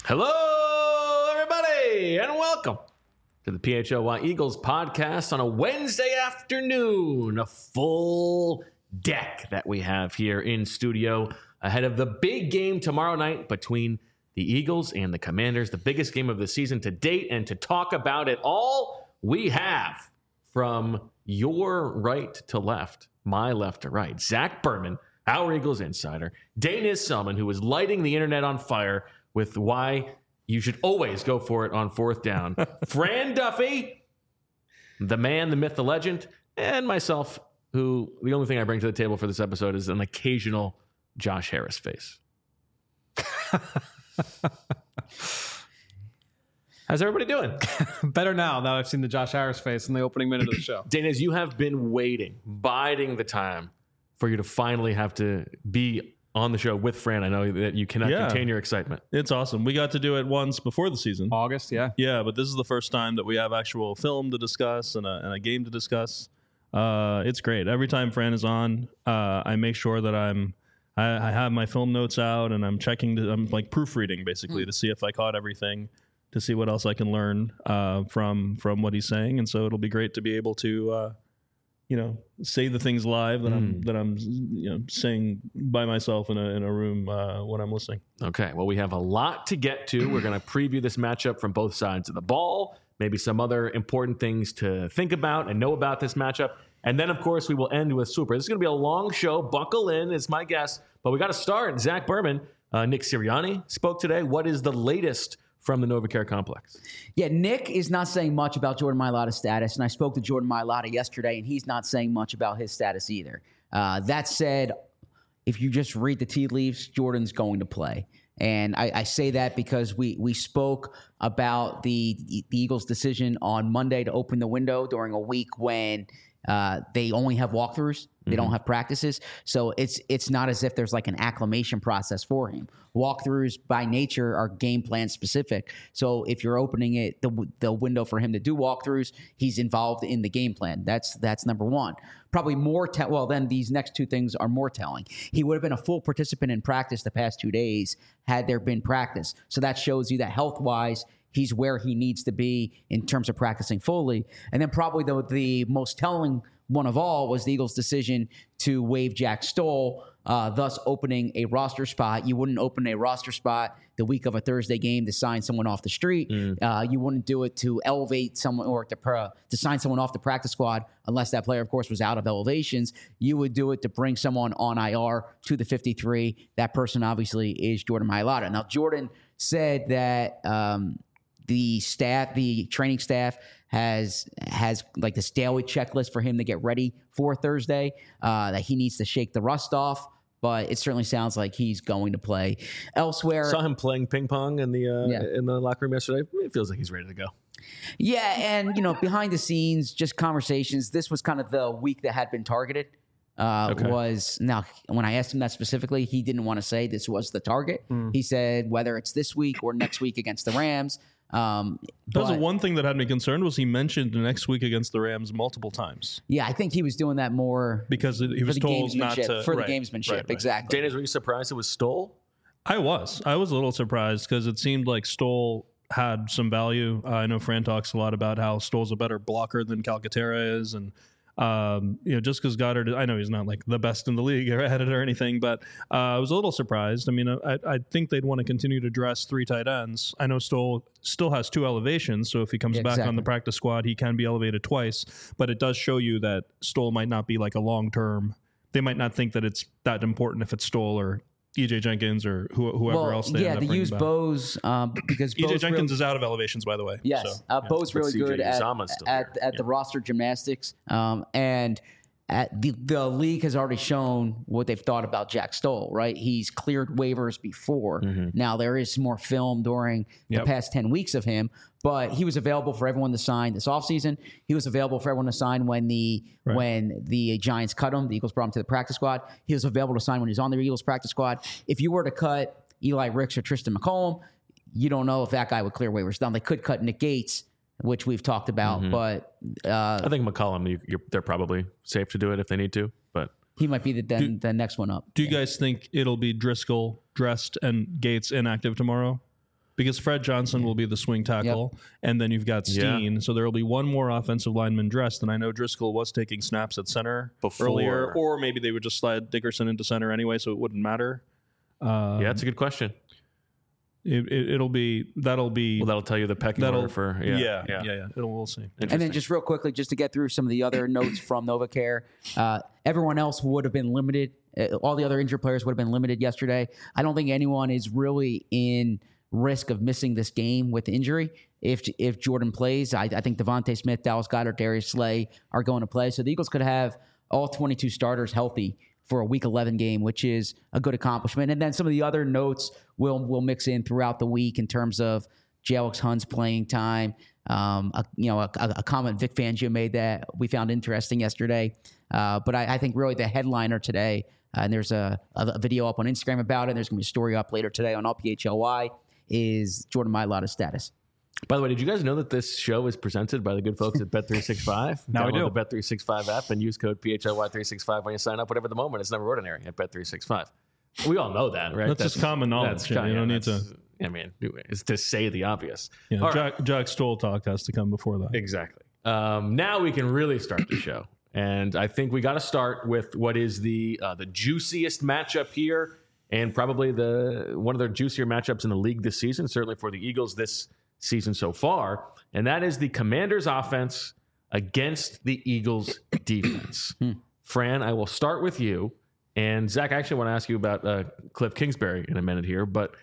Hello, everybody, and welcome to the PHLY Eagles podcast on a Wednesday afternoon. A full deck that we have here in studio ahead of the big game tomorrow night between the Eagles and the Commanders, the biggest game of the season to date. And to talk about it all, we have from your right to left, my left to right, Zach Berman, our Eagles insider, Dana Selman, who is lighting the internet on fire with why you should always go for it on fourth down. Fran Duffy, the man, the myth, the legend, and myself, who the only thing I bring to the table for this episode is an occasional Josh Harris face. How's everybody doing? Better now that I've seen the Josh Harris face in the opening minute of the show. Dana, you have been waiting, biding the time for you to finally have to be on the show with Fran. I know that you cannot contain your excitement. It's awesome. We got to do it once before the season. August, yeah. Yeah, but this is the first time that we have actual film to discuss and a game to discuss. It's great. Every time Fran is on, I make sure that I have my film notes out and I'm checking. I'm like proofreading basically to see if I caught everything, to see what else I can learn from what he's saying. And so it'll be great to be able to say the things live that I'm saying by myself in a room when I'm listening. Okay, well, we have a lot to get to. We're going to preview this matchup from both sides of the ball, maybe some other important things to think about and know about this matchup. And then, of course, we will end with Super. This is going to be a long show. Buckle in, is my guess. But we got to start. Zach Berman, Nick Sirianni spoke today. What is the latest from the NovaCare complex? Yeah, Nick is not saying much about Jordan Mailata's status, and I spoke to Jordan Mailata yesterday, and he's not saying much about his status either. That said, if you just read the tea leaves, Jordan's going to play. And I say that because we spoke about the Eagles' decision on Monday to open the window during a week when they only have walkthroughs. They don't have practices. So it's not as if there's like an acclimation process for him. Walkthroughs by nature are game plan specific. So if you're opening it, the window for him to do walkthroughs, he's involved in the game plan. That's number one. Probably more then these next two things are more telling. He would have been a full participant in practice the past 2 days had there been practice. So that shows you that health-wise, he's where he needs to be in terms of practicing fully. And then probably the most telling one of all was the Eagles' decision to waive Jack Stoll, thus opening a roster spot. You wouldn't open a roster spot the week of a Thursday game to sign someone off the street. You wouldn't do it to elevate someone or to sign someone off the practice squad unless that player, of course, was out of elevations. You would do it to bring someone on IR to the 53. That person obviously is Jordan Mailata. Now, Jordan said that the training staff has like this daily checklist for him to get ready for Thursday, that he needs to shake the rust off, but it certainly sounds like he's going to play. Elsewhere, saw him playing ping pong in the locker room yesterday. It feels like he's ready to go. Yeah, and behind the scenes, just conversations. This was kind of the week that had been targeted. Was now when I asked him that specifically, he didn't want to say this was the target. He said whether it's this week or next week against the Rams. That was the one thing that had me concerned was he mentioned next week against the Rams multiple times. Yeah, I think he was doing that more because he was told not to. For the gamesmanship, right. Exactly. Dana, were you surprised it was Stoll? I was a little surprised because it seemed like Stoll had some value. I know Fran talks a lot about how Stoll's a better blocker than Calcaterra is, and just because Goddard, I know he's not like the best in the league at it or anything, but I was a little surprised. I mean, I think they'd want to continue to dress three tight ends. I know Stoll still has two elevations, so if he comes back on the practice squad, he can be elevated twice, but it does show you that Stoll might not be like a long-term. They might not think that it's that important if it's Stoll or EJ Jenkins or whoever else they end up bringing use back. Bose because EJ Jenkins is out of elevations, by the way. Yes, Bo's really good at the roster gymnastics, and the league has already shown what they've thought about Jack Stoll, right? He's cleared waivers before. Now, there is more film during the past 10 weeks of him, but he was available for everyone to sign this offseason. He was available for everyone to sign when the Giants cut him. The Eagles brought him to the practice squad. He was available to sign when he was on the Eagles practice squad. If you were to cut Eli Ricks or Tristan McCollum, you don't know if that guy would clear waivers. Now, they could cut Nick Gates, which we've talked about, but I think McCollum, they're probably safe to do it if they need to, but he might be the next one up. Do you guys think it'll be Driscoll dressed and Gates inactive tomorrow? because Fred Johnson will be the swing tackle, and then you've got Steen. So there will be one more offensive lineman dressed. And I know Driscoll was taking snaps at center earlier, or maybe they would just slide Dickerson into center anyway, so it wouldn't matter. That's a good question. That'll be. Well, that'll tell you the pecking order for. We'll see. And then just real quickly, just to get through some of the other notes from NovaCare, everyone else would have been limited. All the other injured players would have been limited yesterday. I don't think anyone is really in risk of missing this game with injury. If Jordan plays, I think Devontae Smith, Dallas Goedert, Darius Slay are going to play. So the Eagles could have all 22 starters healthy for a Week 11 game, which is a good accomplishment. And then some of the other notes we'll mix in throughout the week in terms of J.Alex Hunt's playing time. A comment Vic Fangio made that we found interesting yesterday. But I think really the headliner today, and there's a video up on Instagram about it, there's going to be a story up later today on AllPHLY, is Jordan Mailata's status. By the way, did you guys know that this show is presented by the good folks at Bet365? Now we do. Download the Bet365 app and use code PHLY365 when you sign up. Whatever the moment, it's never ordinary at Bet365. We all know that, right? That's just common knowledge. You don't need to. I mean, it's to say the obvious. Jack Stoll talk has to come before that. Exactly. Now we can really start the show. And I think we got to start with what is the juiciest matchup here, and probably one of the juicier matchups in the league this season, certainly for the Eagles this season so far, and that is the Commanders' offense against the Eagles' defense. Fran, I will start with you. And Zach, I actually want to ask you about Cliff Kingsbury in a minute here, but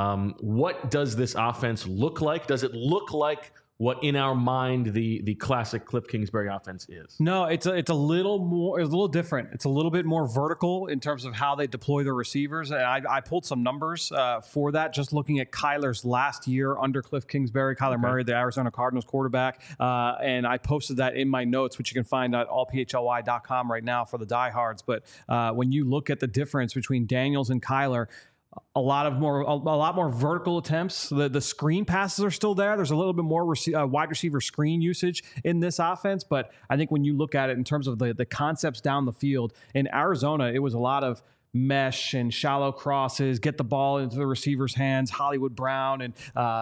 what does this offense look like? Does it look like what in our mind the classic Cliff Kingsbury offense is? No, it's a little different. It's a little bit more vertical in terms of how they deploy their receivers. And I pulled some numbers for that, just looking at Kyler's last year under Cliff Kingsbury, Kyler Murray, the Arizona Cardinals quarterback. And I posted that in my notes, which you can find at allphly.com right now for the diehards. But when you look at the difference between Daniels and Kyler, a lot more vertical attempts. The screen passes are still there. There's a little bit more wide receiver screen usage in this offense. But I think when you look at it in terms of the concepts down the field, in Arizona, it was a lot of mesh and shallow crosses, get the ball into the receiver's hands, Hollywood Brown and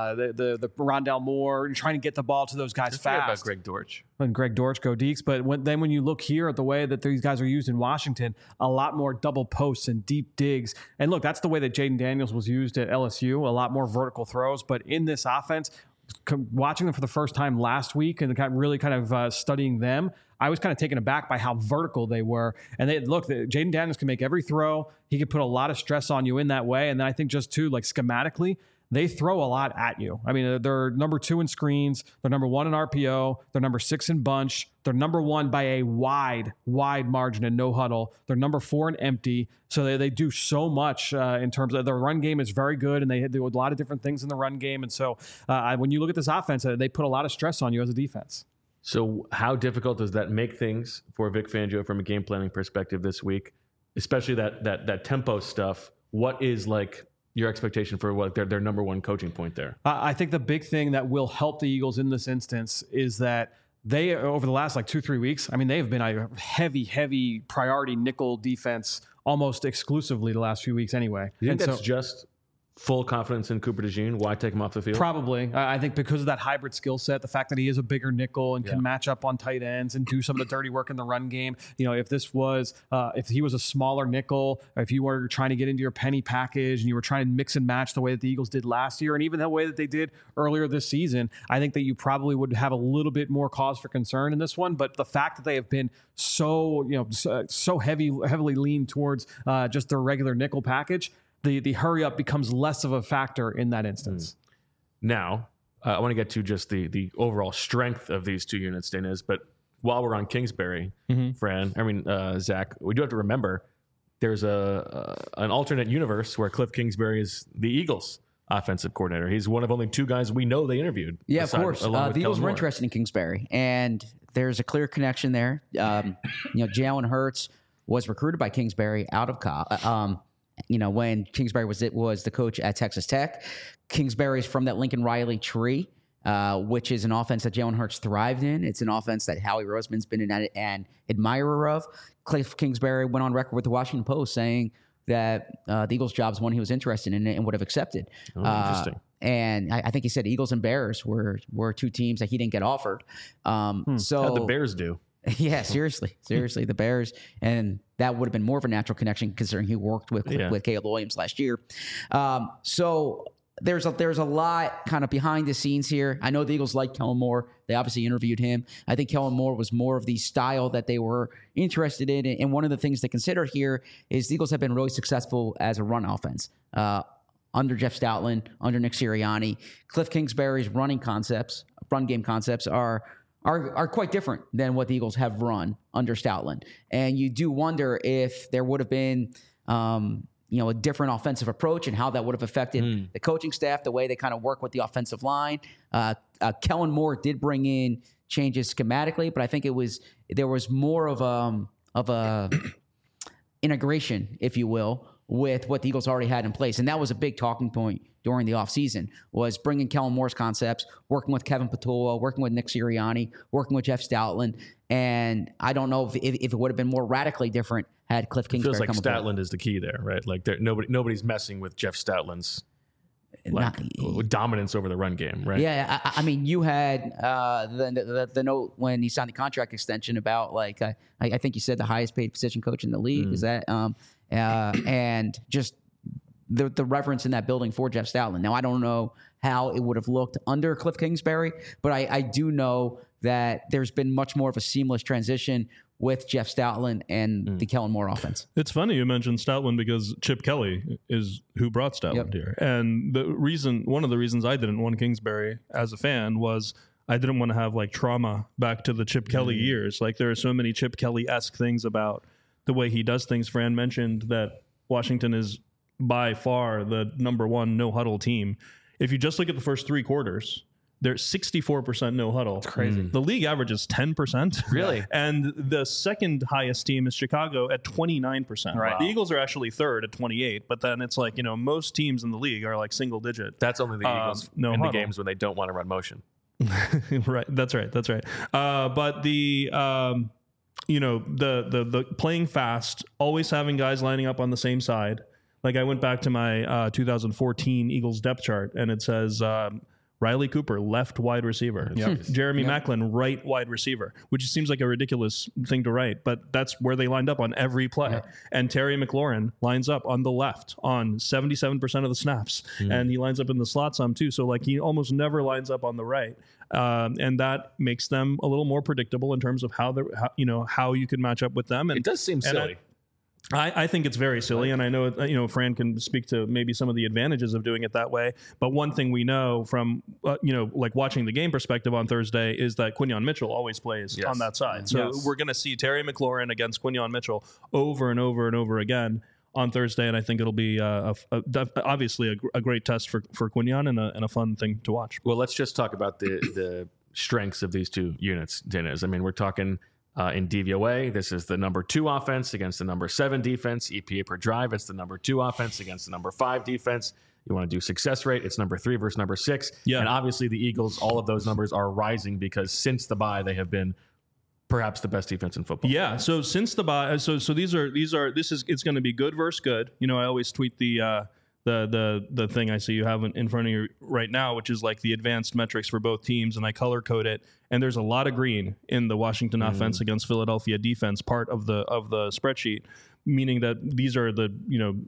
the Rondell Moore, trying to get the ball to those guys fast. About Greg Dortch. And Greg Dortch, go Deeks. But when you look here at the way that these guys are used in Washington, a lot more double posts and deep digs. And look, that's the way that Jaden Daniels was used at LSU, a lot more vertical throws. But in this offense, watching them for the first time last week and really studying them, I was kind of taken aback by how vertical they were. And Jaden Daniels can make every throw. He can put a lot of stress on you in that way. And then I think just too, like schematically, they throw a lot at you. I mean, they're number 2 in screens. They're number 1 in RPO. They're number 6 in bunch. They're number 1 by a wide margin in no huddle. They're number 4 in empty. So they do so much in terms of their run game is very good, and they do a lot of different things in the run game. And so when you look at this offense, they put a lot of stress on you as a defense. So how difficult does that make things for Vic Fangio from a game planning perspective this week, especially that tempo stuff? What is like your expectation for what their number one coaching point there? I think the big thing that will help the Eagles in this instance is that they, over the last 2-3 weeks, I mean, they've been a heavy priority nickel defense almost exclusively the last few weeks anyway. You think that's just full confidence in Cooper DeJean? Why take him off the field? Probably. I think because of that hybrid skill set, the fact that he is a bigger nickel and can match up on tight ends and do some of the dirty work in the run game. You know, if he was a smaller nickel, if you were trying to get into your penny package and you were trying to mix and match the way that the Eagles did last year and even the way that they did earlier this season, I think that you probably would have a little bit more cause for concern in this one. But the fact that they have been so heavily leaned towards just their regular nickel package, the hurry up becomes less of a factor in that instance. Now, I want to get to just the overall strength of these two units, Daniz, but while we're on Kingsbury, Zach, we do have to remember there's an alternate universe where Cliff Kingsbury is the Eagles offensive coordinator. He's one of only 2 guys we know they interviewed. Yeah, of course. The Eagles were interested in Kingsbury, and there's a clear connection there. Jalen Hurts was recruited by Kingsbury out of college. When Kingsbury was the coach at Texas Tech. Kingsbury's from that Lincoln Riley tree, which is an offense that Jalen Hurts thrived in. It's an offense that Howie Roseman's been an admirer of. Cliff Kingsbury went on record with the Washington Post saying that the Eagles' job is one he was interested in and would have accepted. Interesting. And I think he said Eagles and Bears were two teams that he didn't get offered. So How'd the Bears do? Yeah, seriously, the Bears, and that would have been more of a natural connection considering he worked with Caleb Williams last year. So there's a lot kind of behind the scenes here. I know the Eagles like Kellen Moore. They obviously interviewed him. I think Kellen Moore was more of the style that they were interested in. And one of the things to consider here is the Eagles have been really successful as a run offense. Under Jeff Stoutland, under Nick Sirianni, Cliff Kingsbury's run game concepts are quite different than what the Eagles have run under Stoutland. And you do wonder if there would have been, a different offensive approach and how that would have affected the coaching staff, the way they kind of work with the offensive line. Kellen Moore did bring in changes schematically, but I think there was more of a integration, if you will, with what the Eagles already had in place. And that was a big talking point during the offseason, was bringing Kellen Moore's concepts, working with Kevin Patullo, working with Nick Sirianni, working with Jeff Stoutland. And I don't know if it would have been more radically different had Cliff Kingsbury Feels like come aboard. Stoutland is the key there, right? Like nobody's messing with Jeff Stoutland's dominance over the run game, right? Yeah, I mean, you had the note when he signed the contract extension about I think you said the highest paid position coach in the league. Is that and just the reverence in that building for Jeff Stoutland. Now, I don't know how it would have looked under Cliff Kingsbury, but I do know that there's been much more of a seamless transition with Jeff Stoutland and the Kellen Moore offense. It's funny you mentioned Stoutland because Chip Kelly is who brought Stoutland here. And one of the reasons I didn't want Kingsbury as a fan was I didn't want to have trauma back to the Chip Kelly years. Like there are so many Chip Kelly-esque things about the way he does things. Fran mentioned that Washington is by far the number one no huddle team. If you just look at the first three quarters, they're 64% no huddle. That's crazy. The league average is 10%. Really? And the second highest team is Chicago at 29%. Right. The Eagles are actually third at 28, but then it's most teams in the league are single digit. That's only the Eagles no in huddle. the games when they don't want to run motion. Right. That's right. But the the playing fast, always having guys lining up on the same side. Like I went back to my 2014 Eagles depth chart, and it says Riley Cooper, left wide receiver. Yep. Jeremy Maclin, right wide receiver, which seems like a ridiculous thing to write, but that's where they lined up on every play. Yep. And Terry McLaurin lines up on the left on 77% of the snaps, and he lines up in the slot some too. So he almost never lines up on the right. And that makes them a little more predictable in terms of how you can match up with them. And It does seem silly. I think it's very silly, and I know Fran can speak to maybe some of the advantages of doing it that way. But one thing we know from watching the game perspective on Thursday is that Quinyon Mitchell always plays on that side. So we're going to see Terry McLaurin against Quinyon Mitchell over and over and over again on Thursday, and I think it'll be obviously a great test for Quinyon and a fun thing to watch. Well, let's just talk about the strengths of these two units, Dennis. I mean, we're talking. In DVOA, this is the number 2 offense against the number 7 defense. EPA per drive, it's the number 2 offense against the number 5 defense. You want to do success rate, it's number 3 versus number 6. Yeah. And obviously the Eagles, all of those numbers are rising because since the bye, they have been perhaps the best defense in football. Yeah. So since the bye, it's going to be good versus good. I always tweet the thing I see you have in front of you right now, which is the advanced metrics for both teams, and I color code it. And there's a lot of green in the Washington offense against Philadelphia defense part of the spreadsheet, meaning that these are the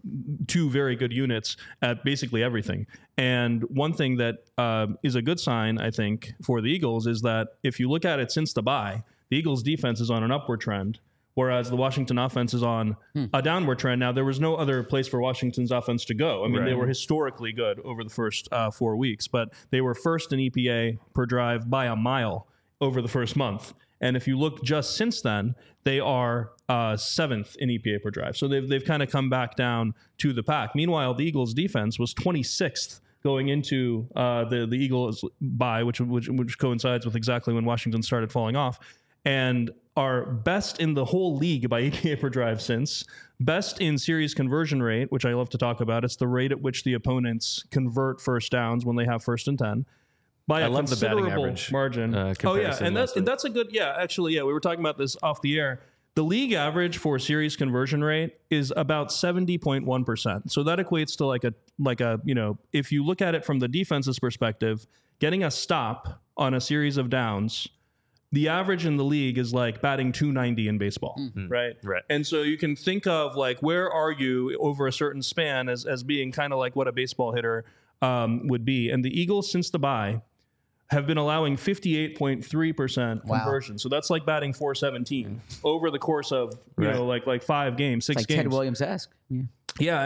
2 very good units at basically everything. And one thing that is a good sign, I think, for the Eagles is that if you look at it since the bye, the Eagles defense is on an upward trend, whereas the Washington offense is on a downward trend. Now, there was no other place for Washington's offense to go. I mean, They were historically good over the first 4 weeks, but they were first in EPA per drive by a mile over the first month. And if you look just since then, they are 7th in EPA per drive. So they've kind of come back down to the pack. Meanwhile, the Eagles defense was 26th going into the Eagles bye, which coincides with exactly when Washington started falling off, and are best in the whole league by EPA per drive since, best in series conversion rate, which I love to talk about. It's the rate at which the opponents convert first downs when they have 1st and 10. By a considerable margin. comparison and that's a good, we were talking about this off the air. The league average for series conversion rate is about 70.1%. So that equates to like a if you look at it from the defense's perspective, getting a stop on a series of downs, the average in the league is like batting 290 in baseball, right? Right. And so you can think of like, where are you over a certain span as being kind of like what a baseball hitter would be. And the Eagles, since the bye, have been allowing 58.3% conversion. So that's like batting 417 over the course of, you know, like 5 games, 6 like games. Ted Williams-esque. Yeah. Yeah,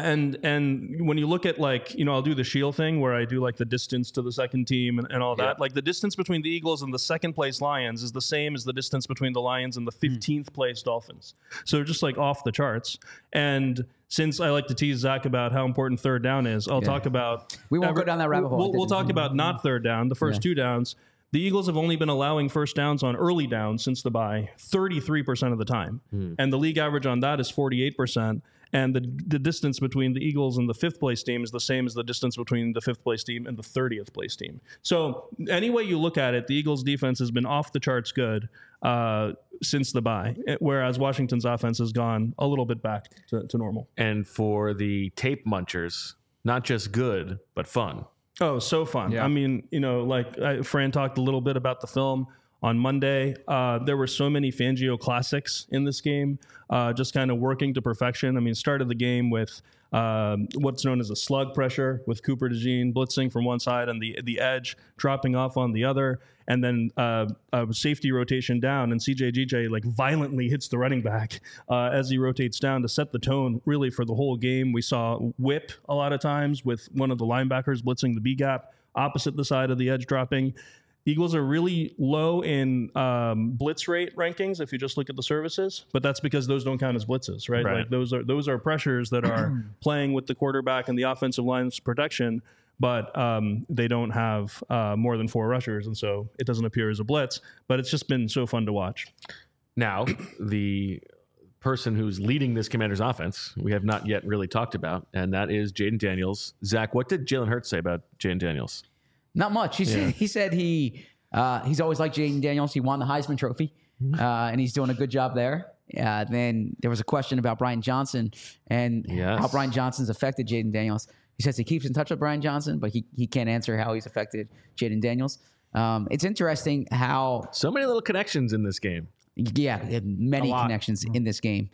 and when you look at like, you know, I'll do the Shield thing where I do like the distance to the second team and all that. Like the distance between the Eagles and the second place Lions is the same as the distance between the Lions and the 15th place Dolphins. So they're just like off the charts. And since I like to tease Zach about how important third down is, I'll talk about... We won't go down that rabbit hole. We'll talk about not third down, the first 2 downs. The Eagles have only been allowing first downs on early downs since the bye 33% of the time. And the league average on that is 48%. And the distance between the Eagles and the 5th place team is the same as the distance between the 5th place team and the 30th place team. So any way you look at it, the Eagles defense has been off the charts good since the bye, whereas Washington's offense has gone a little bit back to normal. And for the tape munchers, not just good, but fun. Oh, so fun. Yeah. I mean, you know, like Fran talked a little bit about the film on Monday. There were so many Fangio classics in this game, just kind of working to perfection. I mean, started the game with what's known as a slug pressure with Cooper DeJean blitzing from one side and the edge dropping off on the other. And then a safety rotation down, and CJ like violently hits the running back as he rotates down to set the tone really for the whole game. We saw whip a lot of times with one of the linebackers blitzing the B gap opposite the side of the edge dropping. Eagles are really low in blitz rate rankings if you just look at the services, but that's because those don't count as blitzes, right? Like those are pressures that are playing with the quarterback and the offensive line's protection, but they don't have more than 4 rushers, and so it doesn't appear as a blitz. But it's just been so fun to watch. Now, the person who's leading this Commanders offense, we have not yet really talked about, and that is Jayden Daniels. Zach, what did Jalen Hurts say about Jayden Daniels? Not much. He said he's always liked Jayden Daniels. He won the Heisman Trophy, and he's doing a good job there. Then there was a question about Brian Johnson and how Brian Johnson's affected Jayden Daniels. He says he keeps in touch with Brian Johnson, but he can't answer how he's affected Jayden Daniels. It's interesting how... So many little connections in this game. Yeah, many connections in this game.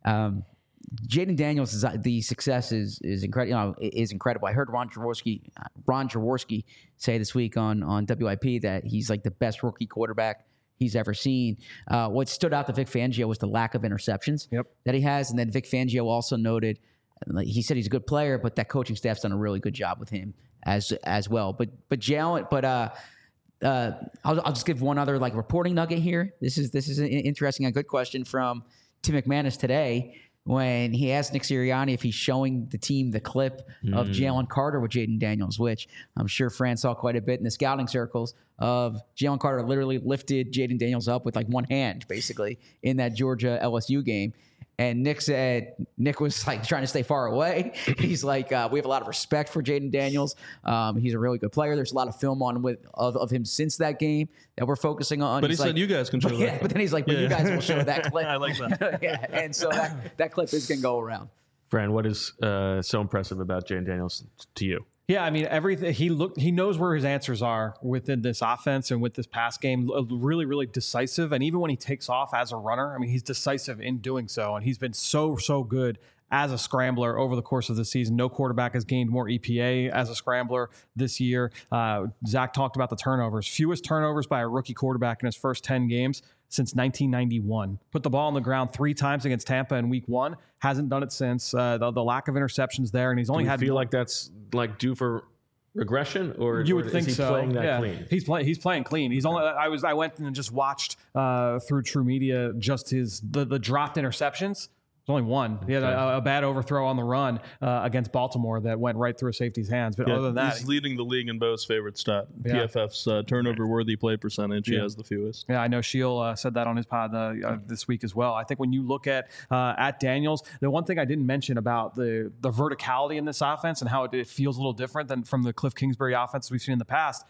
Jayden Daniels, the success is incredible. Is incredible. I heard Ron Jaworski say this week on WIP that he's like the best rookie quarterback he's ever seen. What stood out to Vic Fangio was the lack of interceptions that he has, and then Vic Fangio also noted, he said he's a good player, but that coaching staff's done a really good job with him as well. I'll just give one other like reporting nugget here. This is an interesting, a good question from Tim McManus today, when he asked Nick Sirianni if he's showing the team the clip of Jalen Carter with Jayden Daniels, which I'm sure Fran saw quite a bit in the scouting circles of Jalen Carter literally lifted Jayden Daniels up with like one hand, basically, in that Georgia LSU game. And Nick was like trying to stay far away. He's like, we have a lot of respect for Jayden Daniels. He's a really good player. There's a lot of film on of him since that game that we're focusing on. But he said you guys can show that. Yeah, but then he's like, you guys will show that clip. I like that. Yeah, and so that clip is going to go around. Fran, what is so impressive about Jayden Daniels to you? Yeah, I mean, everything he knows where his answers are within this offense and with this pass game. Really, really decisive. And even when he takes off as a runner, I mean, he's decisive in doing so. And he's been so good as a scrambler over the course of the season. No quarterback has gained more EPA as a scrambler this year. Zach talked about the turnovers. Fewest turnovers by a rookie quarterback in his first 10 games since 1991. Put the ball on the ground 3 times against Tampa in week 1. Hasn't done it since. The lack of interceptions there, and he's only feel like that's like due for regression, or you would think is he so. Playing that clean? He's playing clean. He's only. I went and just watched through True Media just the dropped interceptions. There's only one. He had a bad overthrow on the run against Baltimore that went right through a safety's hands. But other than that, he's leading the league in Bo's favorite stat, PFF's turnover-worthy play percentage. He has the fewest. Yeah, I know Sheil said that on his pod this week as well. I think when you look at Daniels, the one thing I didn't mention about the verticality in this offense and how it feels a little different than from the Cliff Kingsbury offense we've seen in the past,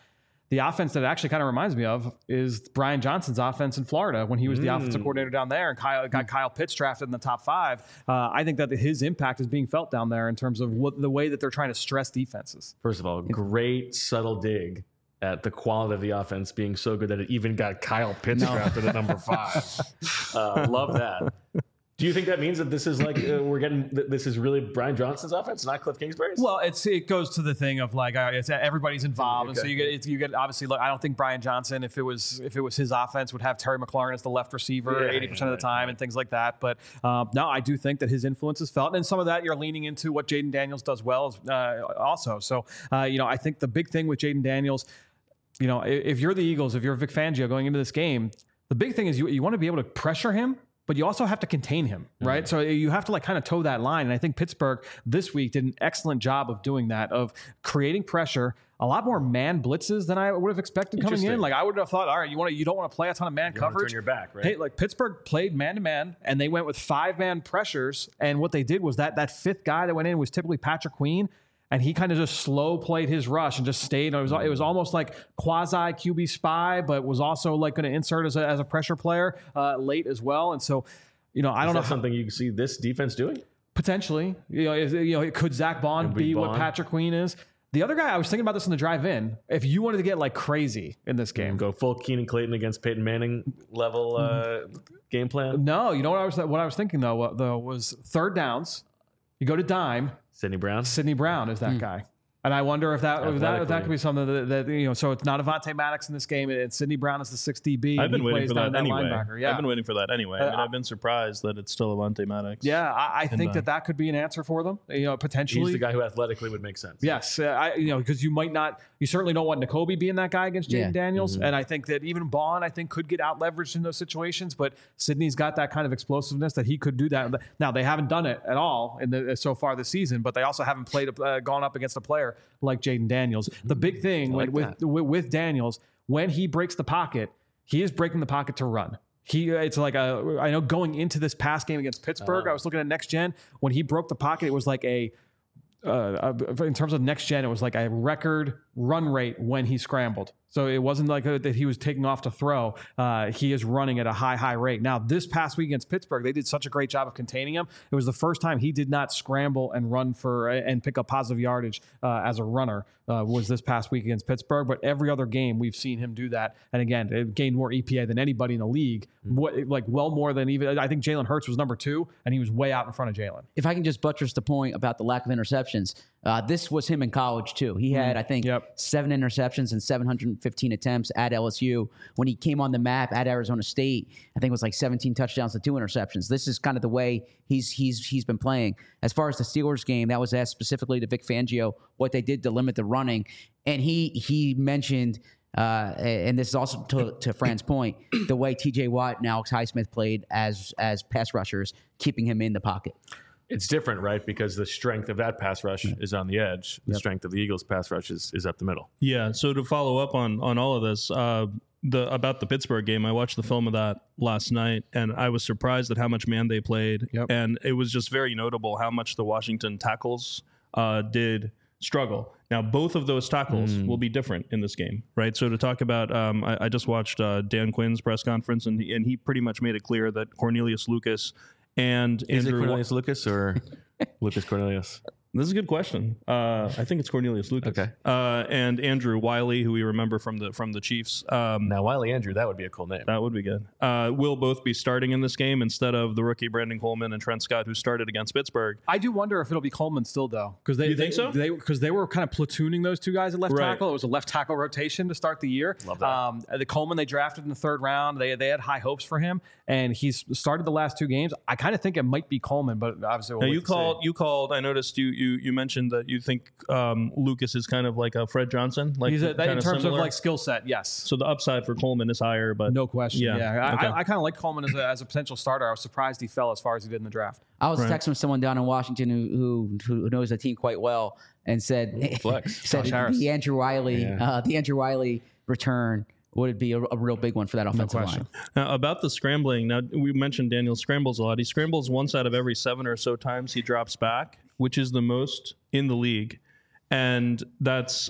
the offense that it actually kind of reminds me of is Brian Johnson's offense in Florida when he was the offensive coordinator down there and got Kyle Pitts drafted in the top 5. I think that his impact is being felt down there in terms of the way that they're trying to stress defenses. First of all, great subtle dig at the quality of the offense being so good that it even got Kyle Pitts drafted at number 5. Love that. Do you think that means that this is like this is really Brian Johnson's offense, not Cliff Kingsbury's? Well, it goes to the thing of like it's everybody's involved, and so you get obviously. Look, I don't think Brian Johnson, if it was his offense, would have Terry McLaurin as the left receiver 80% of the time and things like that. But no, I do think that his influence is felt, and some of that you're leaning into what Jaden Daniels does well also. So I think the big thing with Jaden Daniels, if you're the Eagles, if you're Vic Fangio going into this game, the big thing is you want to be able to pressure him, but you also have to contain him, right? So you have to kind of toe that line. And I think Pittsburgh this week did an excellent job of doing that, of creating pressure, a lot more man blitzes than I would have expected coming in. Like I would have thought, all right, you don't want to play a ton of man coverage. Turn your back, right? Hey, like Pittsburgh played man to man and they went with 5-man pressures. And what they did was that fifth guy that went in was typically Patrick Queen. And he kind of just slow played his rush and just stayed. It was almost like quasi QB spy, but was also like going to insert as a pressure player late as well. And so, I don't know something you see this defense doing potentially. Could Zach Bond be what Patrick Queen is? The other guy, I was thinking about this in the drive-in. If you wanted to get like crazy in this game, go full Keenan Clayton against Peyton Manning level game plan. No, what I was thinking though was third downs. You go to dime. Sidney Brown is that guy. And I wonder if that could be something that so it's not Avonte Maddox in this game. It's Sidney Brown as the 6 DB. I've been waiting for that anyway. Yeah. I've been waiting for that anyway. I've been surprised that it's still Avonte Maddox. Yeah, I think that could be an answer for them. Potentially. He's the guy who athletically would make sense. Yes, because you certainly don't want Nakobe being that guy against Jaden Daniels, and I think that even Bond could get out leveraged in those situations. But Sidney's got that kind of explosiveness that he could do that. Now they haven't done it at all so far this season, but they also haven't gone up against a player like Jaden Daniels. The big thing with Daniels, when he breaks the pocket, he is breaking the pocket to run. It's like I know going into this past game against Pittsburgh, I was looking at Next Gen. When he broke the pocket, it was like in terms of Next Gen, it was like a record run rate when he scrambled. So it wasn't like that he was taking off to throw. He is running at a high rate. Now, this past week against Pittsburgh, they did such a great job of containing him. It was the first time he did not scramble and run and pick up positive yardage as a runner was this past week against Pittsburgh. But every other game, we've seen him do that. And again, it gained more EPA than anybody in the league. Well more than even, I think Jalen Hurts was number 2, and he was way out in front of Jalen. If I can just buttress the point about the lack of interceptions, this was him in college too. He had, I think, 7 interceptions and 715 attempts at LSU. When he came on the map at Arizona State, I think it was like 17 touchdowns to 2 interceptions. This is kind of the way he's been playing. As far as the Steelers game, that was asked specifically to Vic Fangio what they did to limit the running, and he mentioned. And this is also to Fran's point, the way T.J. Watt and Alex Highsmith played as pass rushers, keeping him in the pocket. It's different, right? Because the strength of that pass rush is on the edge. The strength of the Eagles' pass rush is up the middle. Yeah. So to follow up on all of this, about the Pittsburgh game, I watched the film of that last night, and I was surprised at how much man they played. And it was just very notable how much the Washington tackles did struggle. Now, both of those tackles will be different in this game, right? So to talk about, I just watched Dan Quinn's press conference, and he pretty much made it clear that Cornelius Lucas and Is Andrew it Cornelius Lucas or Lucas Cornelius? This is a good question. I think it's Cornelius Lucas. Okay. And Andrew Wiley, who we remember from the Chiefs. Now, Wiley Andrew, that would be a cool name. That would be good. Will both be starting in this game instead of the rookie Brandon Coleman and Trent Scott, who started against Pittsburgh. I do wonder if it'll be Coleman still, though. You think so? Because they were kind of platooning those two guys at left tackle. It was a left tackle rotation to start the year. Love that. The Coleman they drafted in the 3rd round. They had high hopes for him, and he's started the last 2 games. I kind of think it might be Coleman, but obviously we'll you called. I noticed you mentioned that you think Lucas is kind of like a Fred Johnson, like he's in terms similar. of like skill set. Yes. So the upside for Coleman is higher, but no question. Yeah. Okay. I kind of like Coleman as a potential starter. I was surprised he fell as far as he did in the draft. I was texting someone down in Washington who knows the team quite well and said the Andrew Wiley return would be a real big one for that offensive line. Now, about the scrambling, now we mentioned Daniel scrambles a lot. He scrambles once out of every 7 or so times he drops back, which is the most in the league. And that's,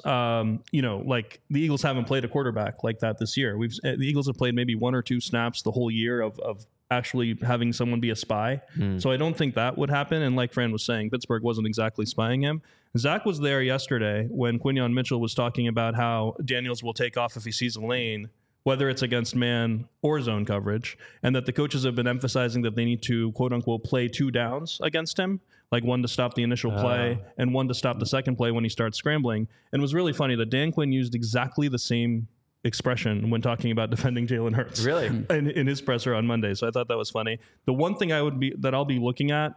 like the Eagles haven't played a quarterback like that this year. The Eagles have played maybe 1 or 2 snaps the whole year of actually having someone be a spy. So I don't think that would happen. And like Fran was saying, Pittsburgh wasn't exactly spying him. Zach was there yesterday when Quinyon Mitchell was talking about how Daniels will take off if he sees a lane, whether it's against man or zone coverage, and that the coaches have been emphasizing that they need to, quote unquote, play 2 downs against him, like 1 to stop the initial play and 1 to stop the second play when he starts scrambling. And it was really funny that Dan Quinn used exactly the same expression when talking about defending Jalen Hurts. Really? In his presser on Monday. So I thought that was funny. The one thing I'll be looking at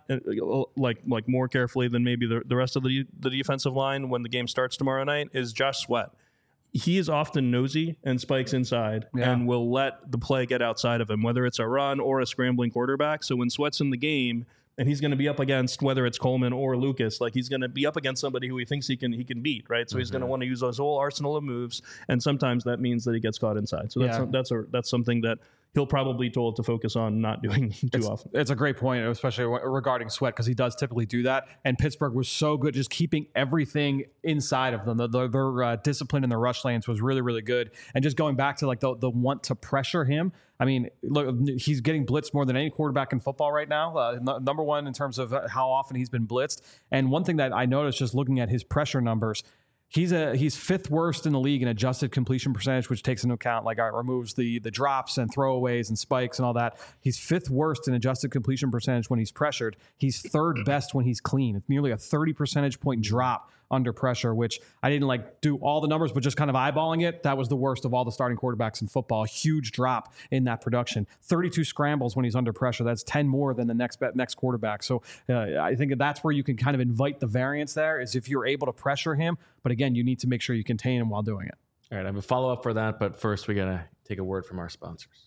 like more carefully than maybe the rest of the defensive line when the game starts tomorrow night is Josh Sweat. He is often nosy and spikes inside and will let the play get outside of him, whether it's a run or a scrambling quarterback. So when Sweat's in the game, and he's going to be up against whether it's Coleman or Lucas, like he's going to be up against somebody who he thinks he can beat, right? So he's going to want to use his whole arsenal of moves, and sometimes that means that he gets caught inside. So that's something that he'll probably be told to focus on not doing too often. It's a great point, especially regarding Sweat, because he does typically do that. And Pittsburgh was so good just keeping everything inside of them. Their discipline in the rush lanes was really, really good. And just going back to like the want to pressure him. I mean, look, he's getting blitzed more than any quarterback in football right now. Number one in terms of how often he's been blitzed. And one thing that I noticed just looking at his pressure numbers, he's 5th worst in the league in adjusted completion percentage, which takes into account removes the drops and throwaways and spikes and all that. He's 5th worst in adjusted completion percentage when he's pressured. He's 3rd best when he's clean. It's nearly a 30 percentage point drop under pressure, which I didn't do all the numbers, but just kind of eyeballing it, that was the worst of all the starting quarterbacks in football. A huge drop in that production. 32 scrambles when he's under pressure. That's 10 more than the next quarterback. So I think that's where you can kind of invite the variance there, is if you're able to pressure him. But again, you need to make sure you contain him while doing it. All right, I have a follow-up for that, but first we got to take a word from our sponsors.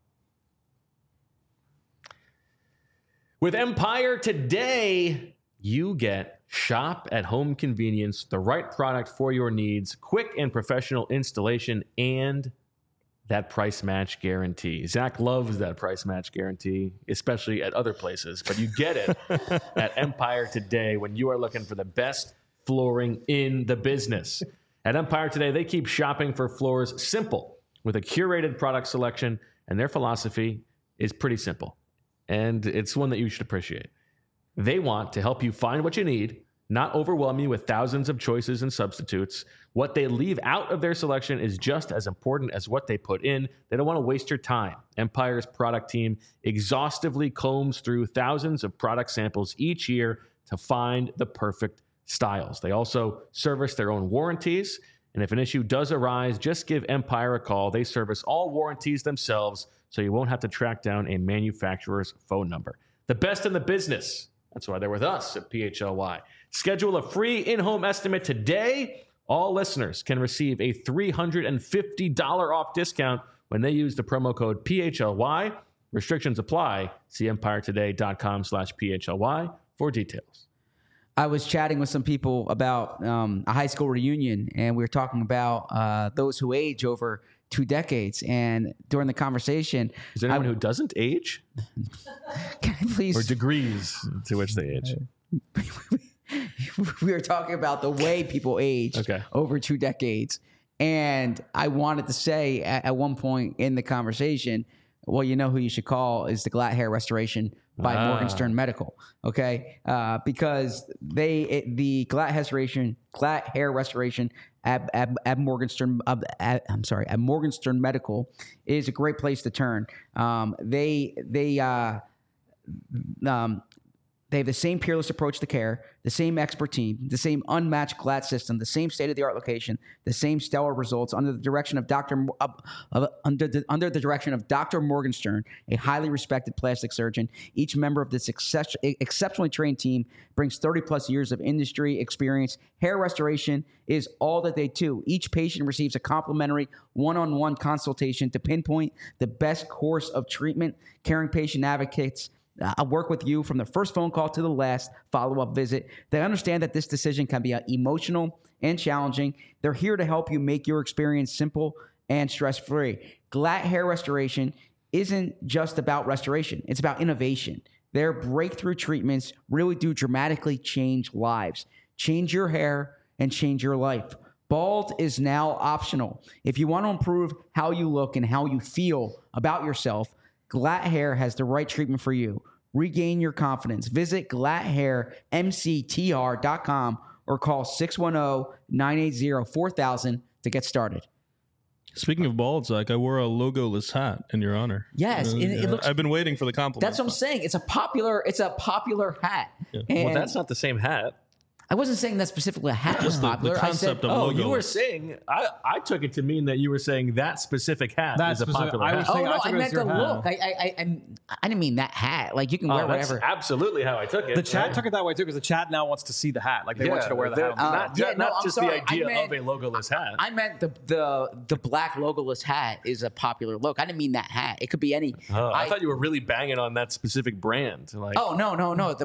With Empire today, you get shop at home convenience, the right product for your needs, quick and professional installation, and that price match guarantee. Zach loves that price match guarantee, especially at other places, but you get it at Empire today when you are looking for the best flooring in the business. At Empire today, they keep shopping for floors simple with a curated product selection, and their philosophy is pretty simple, and it's one that you should appreciate. They want to help you find what you need, not overwhelm you with thousands of choices and substitutes. What they leave out of their selection is just as important as what they put in. They don't want to waste your time. Empire's product team exhaustively combs through thousands of product samples each year to find the perfect styles. They also service their own warranties. And if an issue does arise, just give Empire a call. They service all warranties themselves, so you won't have to track down a manufacturer's phone number. The best in the business. That's why they're with us at PHLY. Schedule a free in-home estimate today. All listeners can receive a $350 off discount when they use the promo code PHLY. Restrictions apply. See empiretoday.com/PHLY for details. I was chatting with some people about a high school reunion, and we were talking about those who age over 2 decades. And during the conversation, is there anyone who doesn't age? Can I please? Or degrees to which they age. We were talking about the way people age over 2 decades. And I wanted to say at one point in the conversation, well, you know who you should call is the Glatt Hair Restoration by Morgenstern Medical, okay? Because the Glatt Hair Restoration at Morgenstern Medical is a great place to turn. They have the same peerless approach to care, the same expert team, the same unmatched Glatt system, the same state-of-the-art location, the same stellar results under the direction of Dr. Morgenstern, a highly respected plastic surgeon. Each member of this exceptionally trained team brings 30-plus years of industry experience. Hair restoration is all that they do. Each patient receives a complimentary one-on-one consultation to pinpoint the best course of treatment. Caring patient advocates I'll work with you from the first phone call to the last follow-up visit. They understand that this decision can be emotional and challenging. They're here to help you make your experience simple and stress-free. Glatt Hair Restoration isn't just about restoration. It's about innovation. Their breakthrough treatments really do dramatically change lives. Change your hair, and change your life. Bald is now optional. If you want to improve how you look and how you feel about yourself, Glatt Hair has the right treatment for you. Regain your confidence. Visit glatthairmctr.com or call 610-980-4000 to get started. Speaking of bald, Zach, I wore a logoless hat in your honor. Yes, it looks. I've been waiting for the compliment. That's what I'm saying. It's a popular hat. Yeah. And Well, that's not the same hat. I wasn't saying that specifically a hat was popular. the concept I said, of Oh, logo. you were saying, I took it to mean that you were saying that specific hat That is a specific- popular I hat. was oh saying- no, I took I it as meant the your hat. look. I didn't mean that hat. Like you can wear That's whatever. absolutely how I took it. The chat right? took it that way too because the chat now wants to see the hat. Like they want you to wear the hat. On the Not, Yeah, no, not I'm just sorry. the idea I meant- of a logoless hat. I meant the black logoless hat is a popular look. I didn't mean that hat. It could be any. I thought you were really banging on that specific brand. Like, Oh no.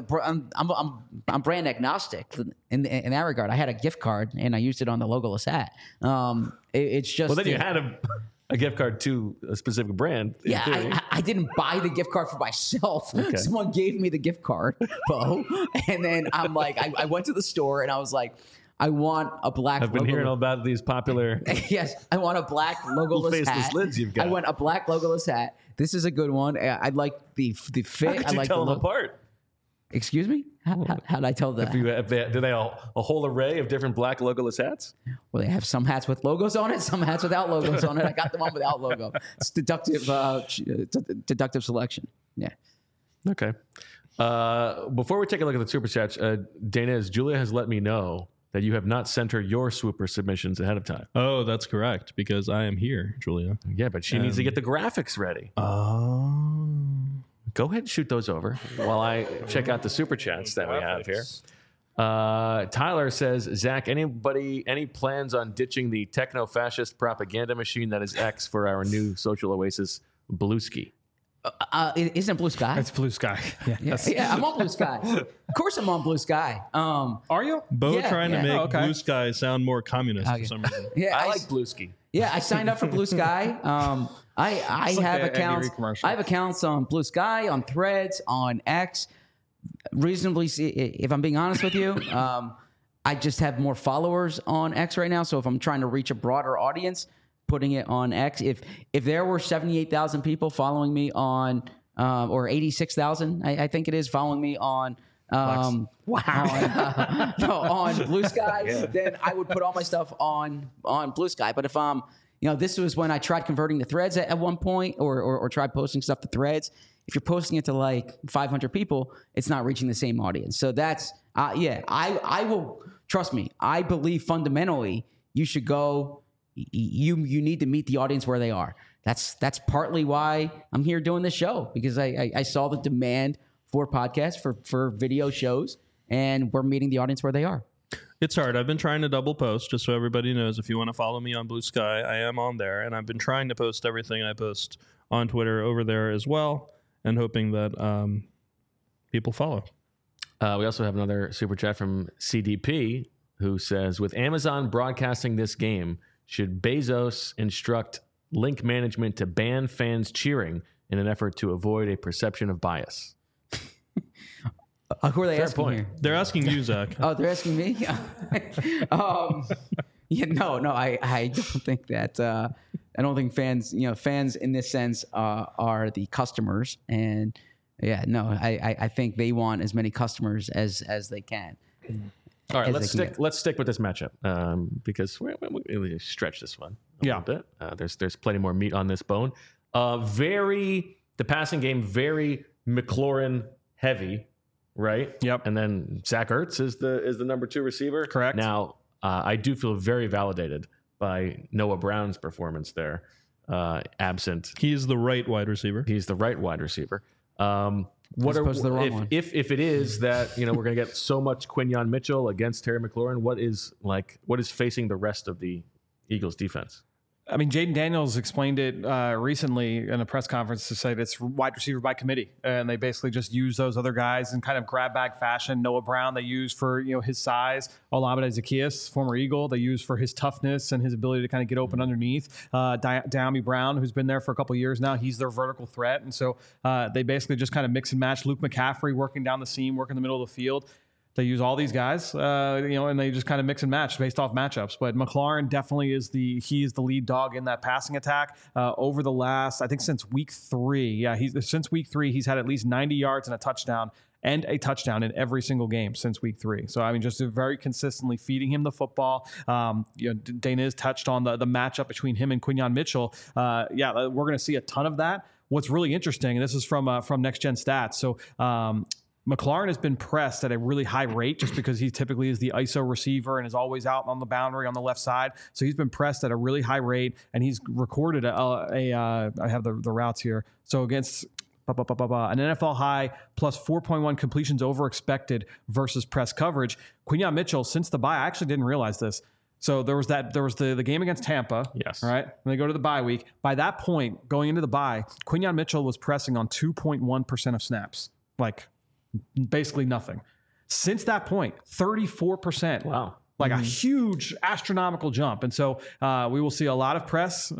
I'm brand agnostic in that regard. I had a gift card and I used it on the logoless hat. It's just well, then you had a gift card to a specific brand. in theory. I didn't buy the gift card for myself. Someone gave me the gift card, Bo, and then I'm like, I went to the store and I was like, I want a black. I've been hearing all about these popular Yes, I want a black logoless faceless hat. lids you've got. I want a black logoless hat. This is a good one. I like the fit. How could I you like tell the them look. apart? Excuse me? How'd I tell that? Do they have a whole array of different black logoless hats? Well, they have some hats with logos on it, some hats without logos on it. I got the one without logo. It's deductive selection. Yeah. Okay. Before we take a look at the super chats, Dana, Julia has let me know that you have not sent her your swooper submissions ahead of time. Oh, that's correct, because I am here, Julia. Yeah, but she needs to get the graphics ready. Oh. Go ahead and shoot those over while I check out the super chats that we have here. Tyler says, Zach, any plans on ditching the techno-fascist propaganda machine that is X for our new social oasis, Bluesky? Isn't it Blue Sky? It's Blue Sky. Yeah. Yeah, I'm on Blue Sky. Of course I'm on Blue Sky. Are you? Bo Yeah, trying yeah. to make Oh, okay. Blue Sky sound more communist Okay. for some reason. Yeah, I like Bluesky. Yeah, I signed up for Blue Sky. I like have the Andy accounts. Reid commercial. I have accounts on Blue Sky, on Threads, on X. Reasonably, if I'm being honest with you, I just have more followers on X right now. So if I'm trying to reach a broader audience, putting it on X. If there were 78,000 people following me on, or 86,000, I think it is, following me on. On Blue Sky, then I would put all my stuff on Blue Sky. But if this was when I tried converting to Threads at one point, or tried posting stuff to Threads. If you're posting it to like 500 people, it's not reaching the same audience. So that's I will, trust me. I believe fundamentally you should go. You need to meet the audience where they are. That's partly why I'm here doing this show, because I saw the demand for podcasts, for video shows, and we're meeting the audience where they are. It's hard. I've been trying to double post, just so everybody knows. If you want to follow me on Blue Sky, I am on there, and I've been trying to post everything I post on Twitter over there as well, and hoping that people follow. We also have another super chat from CDP, who says, with Amazon broadcasting this game, should Bezos instruct link management to ban fans cheering in an effort to avoid a perception of bias? Who are they Fair asking point. here? They're asking you, Zach. Oh, they're asking me? No, I don't think that. I don't think fans in this sense are the customers, and I think they want as many customers as they can. All right, As they can let's stick with this matchup because we stretch this one a little bit. There's plenty more meat on this bone. The passing game very McLaurin heavy, right? Yep. And then Zach Ertz is the number 2 receiver. Correct. Now I do feel very validated by Noah Brown's performance there. Absent, He's the right wide receiver. he's the right wide receiver. As opposed to the wrong one. If it is that we're going to get so much Quinyon Mitchell against Terry McLaurin, what is facing the rest of the Eagles defense? I mean, Jaden Daniels explained it recently in a press conference to say that it's wide receiver by committee, and they basically just use those other guys in kind of grab bag fashion. Noah Brown they use for his size. Olamide Zaccheaus, former Eagle, they use for his toughness and his ability to kind of get open underneath. Diami Brown, who's been there for a couple of years now, he's their vertical threat, and so they basically just kind of mix and match. Luke McCaffrey working down the seam, working in the middle of the field. They use all these guys, and they just kind of mix and match based off matchups. But McLaurin definitely is the lead dog in that passing attack over the last, I think, since week 3. Yeah, since week 3, he's had at least 90 yards and a touchdown in every single game since week 3. So, I mean, just very consistently feeding him the football. Dana has touched on the matchup between him and Quinyon Mitchell. We're going to see a ton of that. What's really interesting, and this is from Next Gen Stats. So, McLaurin has been pressed at a really high rate just because he typically is the ISO receiver and is always out on the boundary on the left side. So he's been pressed at a really high rate, and he's recorded I have the routes here. So against an NFL high plus 4.1 completions over expected versus press coverage. Quinyon Mitchell, since the bye, I actually didn't realize this. So there was the game against Tampa. Yes. All right. And they go to the bye week. By that point, going into the bye, Quinyon Mitchell was pressing on 2.1% of snaps. Like, basically nothing. Since that point, 34%. Wow. Like a huge astronomical jump. And so we will see a lot of press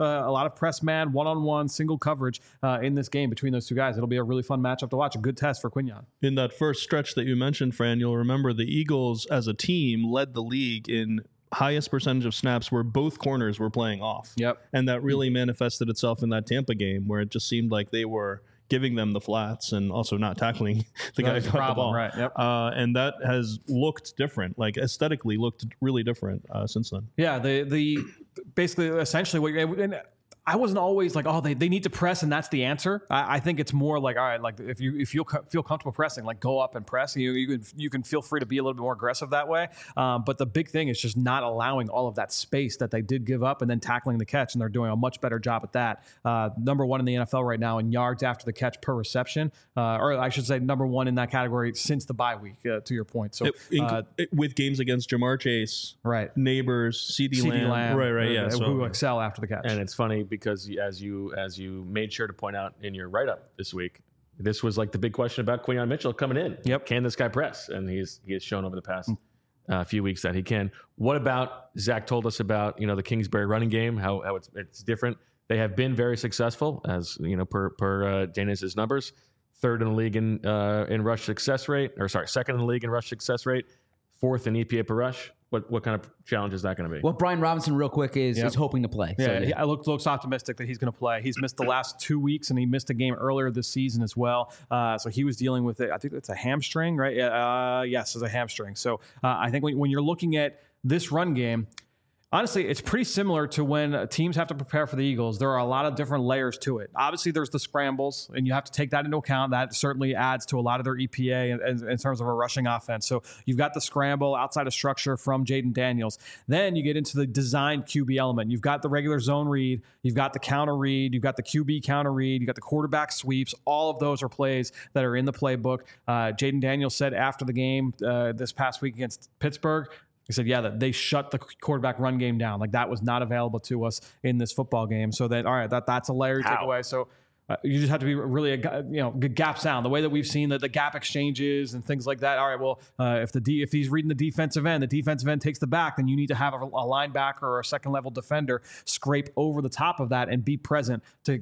man, one-on-one, single coverage in this game between those two guys. It'll be a really fun matchup to watch. A good test for Quinyon. In that first stretch that you mentioned, Fran, you'll remember the Eagles as a team led the league in highest percentage of snaps where both corners were playing off. Yep. And that really manifested itself in that Tampa game where it just seemed like they were giving them the flats and also not tackling the guy who caught the ball. Right. Yep. And that has looked different, like aesthetically looked really different since then. Yeah. The basically, essentially, what I wasn't always like, oh, they need to press and that's the answer. I think it's more like, all right, like if you feel comfortable pressing, like go up and press. You can feel free to be a little bit more aggressive that way. But the big thing is just not allowing all of that space that they did give up and then tackling the catch, and they're doing a much better job at that. Number 1 in the NFL right now in yards after the catch per reception, or I should say number 1 in that category since the bye week. To your point, so with games against Jamar Chase, right, Neighbors, CeeDee Lamb, right, yeah, who excel after the catch, and it's funny because as you made sure to point out in your write-up this week, this was like the big question about Quinyon Mitchell coming in. Yep. Can this guy press? And he has shown over the past few weeks that he can. What about, Zach told us about, the Kingsbury running game, how it's different. They have been very successful, as per Dana's numbers. Third in the league in rush success rate, second in the league in rush success rate, fourth in EPA per rush. What kind of challenge is that going to be? Well, Brian Robinson, real quick, is hoping to play. Yeah, So, I looks optimistic that he's going to play. He's missed the last 2 weeks, and he missed a game earlier this season as well. So he was dealing with it. I think it's a hamstring, right? Yes, it's a hamstring. So I think when you're looking at this run game, honestly, it's pretty similar to when teams have to prepare for the Eagles. There are a lot of different layers to it. Obviously, there's the scrambles, and you have to take that into account. That certainly adds to a lot of their EPA in terms of a rushing offense. So you've got the scramble outside of structure from Jaden Daniels. Then you get into the designed QB element. You've got the regular zone read. You've got the counter read. You've got the QB counter read. You've got the quarterback sweeps. All of those are plays that are in the playbook. Jaden Daniels said after the game this past week against Pittsburgh, he said, that they shut the quarterback run game down. Like that was not available to us in this football game. So then, all right, that's a layer you take away. So you just have to be really, good gap sound. The way that we've seen the gap exchanges and things like that. All right, well, if he's reading the defensive end takes the back, then you need to have a linebacker or a second level defender scrape over the top of that and be present to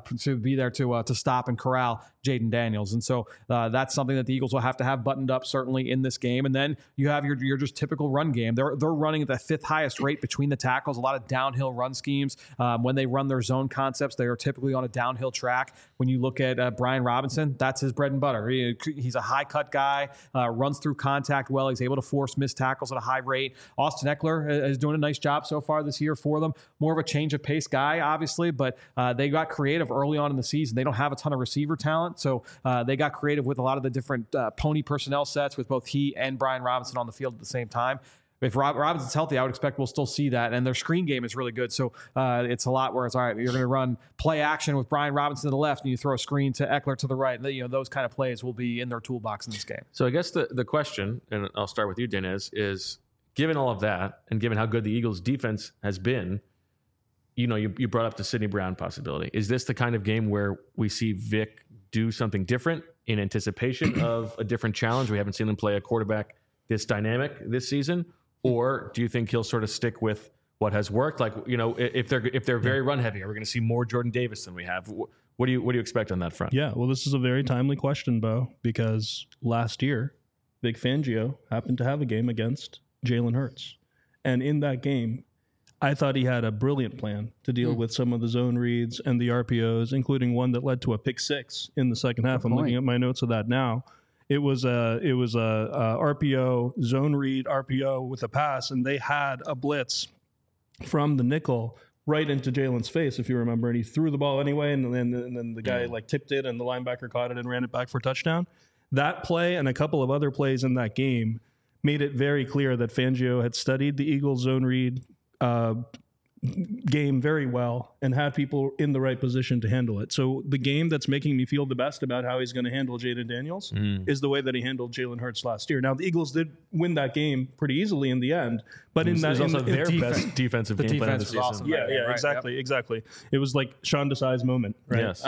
be there to stop and corral Jaden Daniels. And so that's something that the Eagles will have to have buttoned up certainly in this game. And then you have your just typical run game. They're running at the 5th highest rate between the tackles. A lot of downhill run schemes. When they run their zone concepts, they are typically on a downhill track. When you look at Brian Robinson, that's his bread and butter. He's a high cut guy, runs through contact well. He's able to force missed tackles at a high rate. Austin Eckler is doing a nice job so far this year for them. More of a change of pace guy, obviously, but they got creative early on in the season. They don't have a ton of receiver talent, so they got creative with a lot of the different pony personnel sets with both he and Brian Robinson on the field at the same time. If Robinson's healthy, I would expect we'll still see that. And their screen game is really good. So it's a lot where it's, all right, you're going to run play action with Brian Robinson to the left and you throw a screen to Eckler to the right. Those kind of plays will be in their toolbox in this game. So I guess the question, and I'll start with you, Dennis, is given all of that and given how good the Eagles defense has been, you brought up the Sidney Brown possibility. Is this the kind of game where we see Vic do something different in anticipation of a different challenge? We haven't seen him play a quarterback this dynamic this season. Or do you think he'll sort of stick with what has worked? Like, if they're very run heavy, are we going to see more Jordan Davis than we have? What do you expect on that front? Yeah, well, this is a very timely question, Bo, because last year Vic Fangio happened to have a game against Jalen Hurts. And in that game, I thought he had a brilliant plan to deal with some of the zone reads and the RPOs, including one that led to a pick six in the second half. I'm looking at my notes of that now. It was a RPO, zone read RPO with a pass, and they had a blitz from the nickel right into Jalen's face, if you remember, and he threw the ball anyway, and then the guy like tipped it, and the linebacker caught it and ran it back for a touchdown. That play and a couple of other plays in that game made it very clear that Fangio had studied the Eagles zone read game very well and had people in the right position to handle it. So the game that's making me feel the best about how he's going to handle Jaden Daniels is the way that he handled Jalen Hurts last year. Now, the Eagles did win that game pretty easily in the end, but in that, also their best defensive game plan of the season. Awesome. Yeah, exactly. It was like Sean Desai's moment, right? Yes.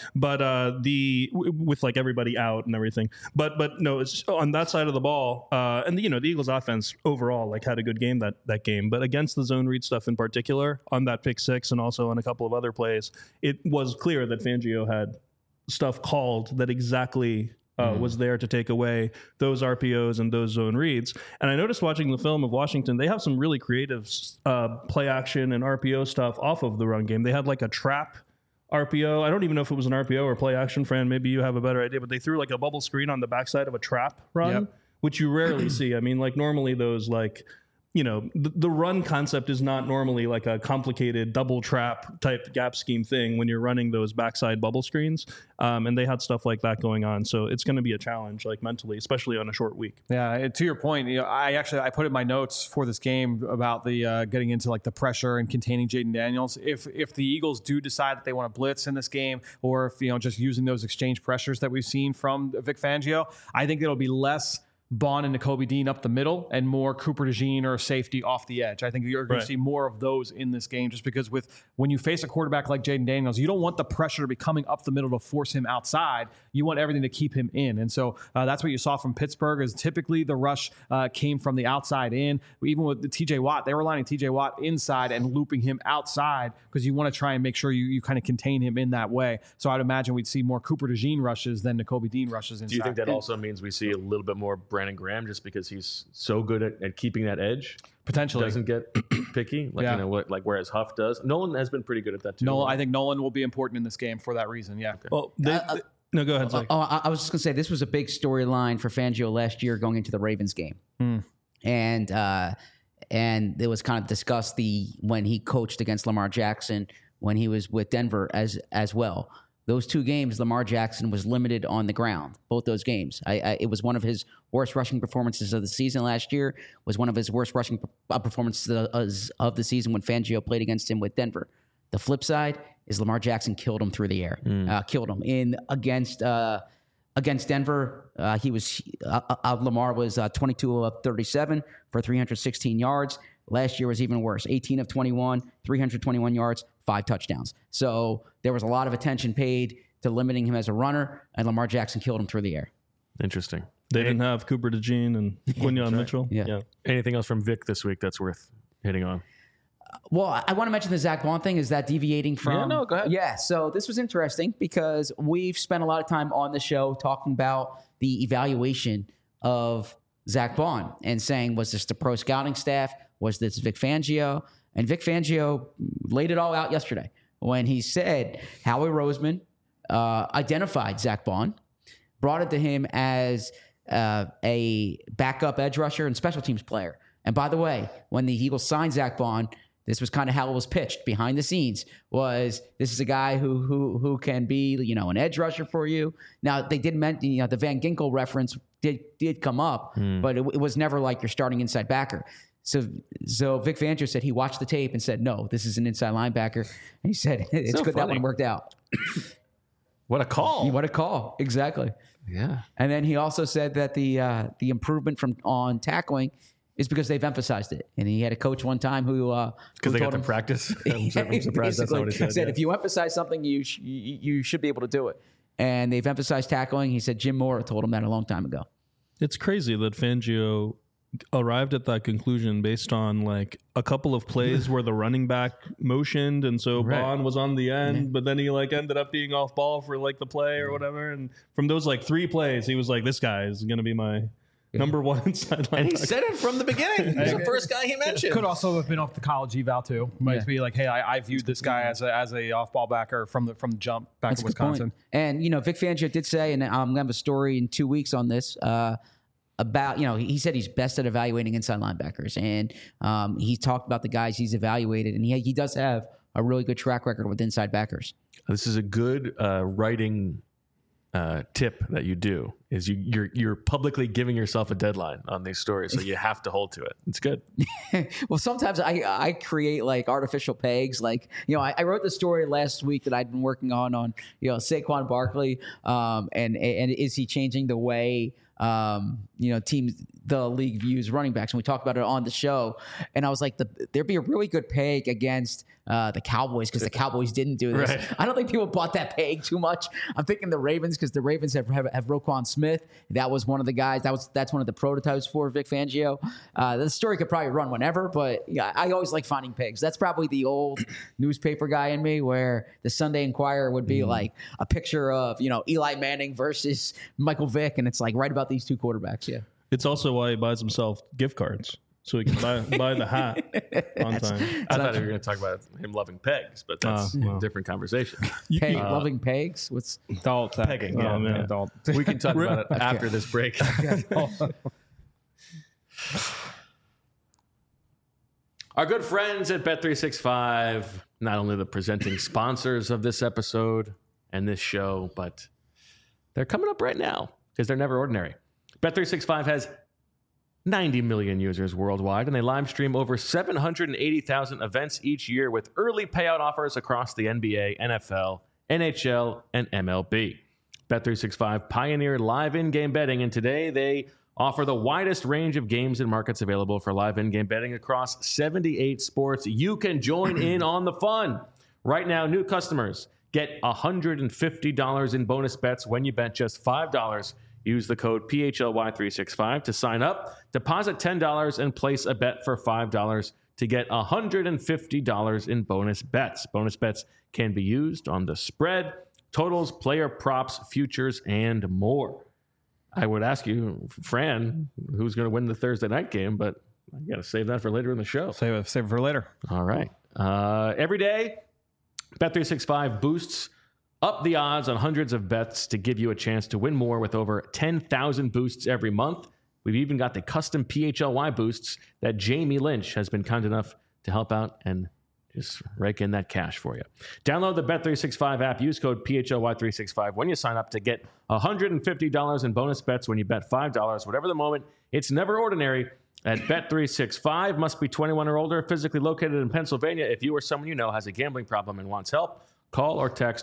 With like everybody out and everything. But no, it's on that side of the ball. And the Eagles offense overall like had a good game that game, but against the zone read stuff in particular, on that pick six and also on a couple of other plays, it was clear that Fangio had stuff called that exactly was there to take away those RPOs and those zone reads. And I noticed watching the film of Washington, they have some really creative play action and RPO stuff off of the run game. They had like a trap RPO. I don't even know if it was an RPO or play action, Fran. Maybe you have a better idea, but they threw like a bubble screen on the backside of a trap run, which you rarely see. I mean, like normally those like, the run concept is not normally like a complicated double trap type gap scheme thing when you're running those backside bubble screens. And they had stuff like that going on. So it's going to be a challenge, like mentally, especially on a short week. Yeah, to your point, I put in my notes for this game about the getting into like the pressure and containing Jaden Daniels. If the Eagles do decide that they want to blitz in this game, or if just using those exchange pressures that we've seen from Vic Fangio, I think it'll be less Bond and Nakobe Dean up the middle and more Cooper DeJean or safety off the edge. I think you're going to see more of those in this game just because when you face a quarterback like Jaden Daniels, you don't want the pressure to be coming up the middle to force him outside. You want everything to keep him in. And so that's what you saw from Pittsburgh is typically the rush came from the outside in. Even with the TJ Watt, they were lining TJ Watt inside and looping him outside because you want to try and make sure you kind of contain him in that way. So I'd imagine we'd see more Cooper DeJean rushes than Nakobe Dean rushes inside. Do you think that also means we see a little bit more Brandon Graham just because he's so good at keeping that edge? Potentially. Doesn't get picky, whereas Huff does. Nolan has been pretty good at that too. I think Nolan will be important in this game for that reason. Yeah. Okay. Well, no, go ahead. I was just going to say this was a big storyline for Fangio last year going into the Ravens game, and it was kind of discussed when he coached against Lamar Jackson when he was with Denver as well. Those two games, Lamar Jackson was limited on the ground. Both those games, it was one of his worst rushing performances of the season last year. Was one of his worst rushing performances of the season when Fangio played against him with Denver. The flip side is Lamar Jackson killed him through the air. Killed him against Denver. Lamar was 22 of 37 for 316 yards. Last year was even worse. 18 of 21, 321 yards, 5 touchdowns. So there was a lot of attention paid to limiting him as a runner, and Lamar Jackson killed him through the air. Interesting. They didn't have Cooper DeJean and Quinyon Mitchell. Yeah. Anything else from Vic this week that's worth hitting on? Well, I want to mention the Zach Bond thing. Is that deviating from? Yeah, no, go ahead. Yeah, so this was interesting because we've spent a lot of time on the show talking about the evaluation of Zach Bond and saying, was this the pro scouting staff? Was this Vic Fangio? And Vic Fangio laid it all out yesterday when he said Howie Roseman identified Zach Bond, brought it to him as a backup edge rusher and special teams player. And by the way, when the Eagles signed Zach Bond, this was kind of how it was pitched behind the scenes. Was this is a guy who can be an edge rusher for you? Now they did mention the Van Ginkel reference did come up, but it was never like your starting inside backer. So Vic Fangio said he watched the tape and said, no, this is an inside linebacker. And he said, it's so good funny. that one worked out. What a call. What a call. Exactly. Yeah. And then he also said that the improvement on tackling is because they've emphasized it. And he had a coach one time who because they got told to him, practice. I'm surprised that's not what he said. If you emphasize something, you should be able to do it. And they've emphasized tackling. He said Jim Mora told him that a long time ago. It's crazy that Fangio arrived at that conclusion based on like a couple of plays where the running back motioned and so Bond was on the end, but then he like ended up being off ball for like the play or whatever. And from those like 3 plays, he was like, this guy is going to be my Number one inside linebacker. And he said it from the beginning. He's the first guy he mentioned. Could also have been off the college eval too. Might be like, hey, I viewed this guy as a off ball backer from the jump back in Wisconsin. And Vic Fangio did say, and I'm gonna have a story in 2 weeks on this. About he said he's best at evaluating inside linebackers, and he talked about the guys he's evaluated, and he does have a really good track record with inside backers. This is a good writing tip that you do. Is you're publicly giving yourself a deadline on these stories, so you have to hold to it. It's good. Well, sometimes I create like artificial pegs. Like I wrote the story last week that I'd been working on Saquon Barkley, and is he changing the way teams, the league views running backs, and we talked about it on the show. And I was like, there'd be a really good peg against the Cowboys because the Cowboys didn't do this. Right. I don't think people bought that peg too much. I'm thinking the Ravens because the Ravens have Roquan Smith. That was one of the guys. That's one of the prototypes for Vic Fangio. The story could probably run whenever, but yeah, I always like finding pegs. That's probably the old newspaper guy in me, where the Sunday Inquirer would be like a picture of Eli Manning versus Michael Vick, and it's like right about these two quarterbacks. Yeah. It's also why he buys himself gift cards so he can buy the hat on time. I thought you were going to talk about him loving pegs, but that's a different conversation. Loving pegs? What's Adult pegging? Oh, Yeah, man. yeah. Adult. We can talk about it after this break. Our good friends at Bet365, not only the presenting sponsors of this episode and this show, but they're coming up right now because they're never ordinary. Bet365 has 90 million users worldwide, and they live stream over 780,000 events each year with early payout offers across the NBA, NFL, NHL, and MLB. Bet365 pioneered live in-game betting, and today they offer the widest range of games and markets available for live in-game betting across 78 sports. You can join in on the fun. Right now, new customers get $150 in bonus bets when you bet just $5. Use the code PHLY365 to sign up, deposit $10, and place a bet for $5 to get $150 in bonus bets. Bonus bets can be used on the spread, totals, player props, futures, and more. I would ask you, Fran, who's going to win the Thursday night game, but I got to save that for later in the show. Save it for later. All right. Every day, Bet365 boosts up the odds on hundreds of bets to give you a chance to win more with over 10,000 boosts every month. We've even got the custom PHLY boosts that Jamie Lynch has been kind enough to help out and just rake in that cash for you. Download the Bet365 app. Use code PHLY365 when you sign up to get $150 in bonus bets when you bet $5. Whatever the moment, it's never ordinary at Bet365. Must be 21 or older, physically located in Pennsylvania. If you or someone you know has a gambling problem and wants help, call or text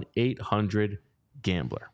1-800-GAMBLER.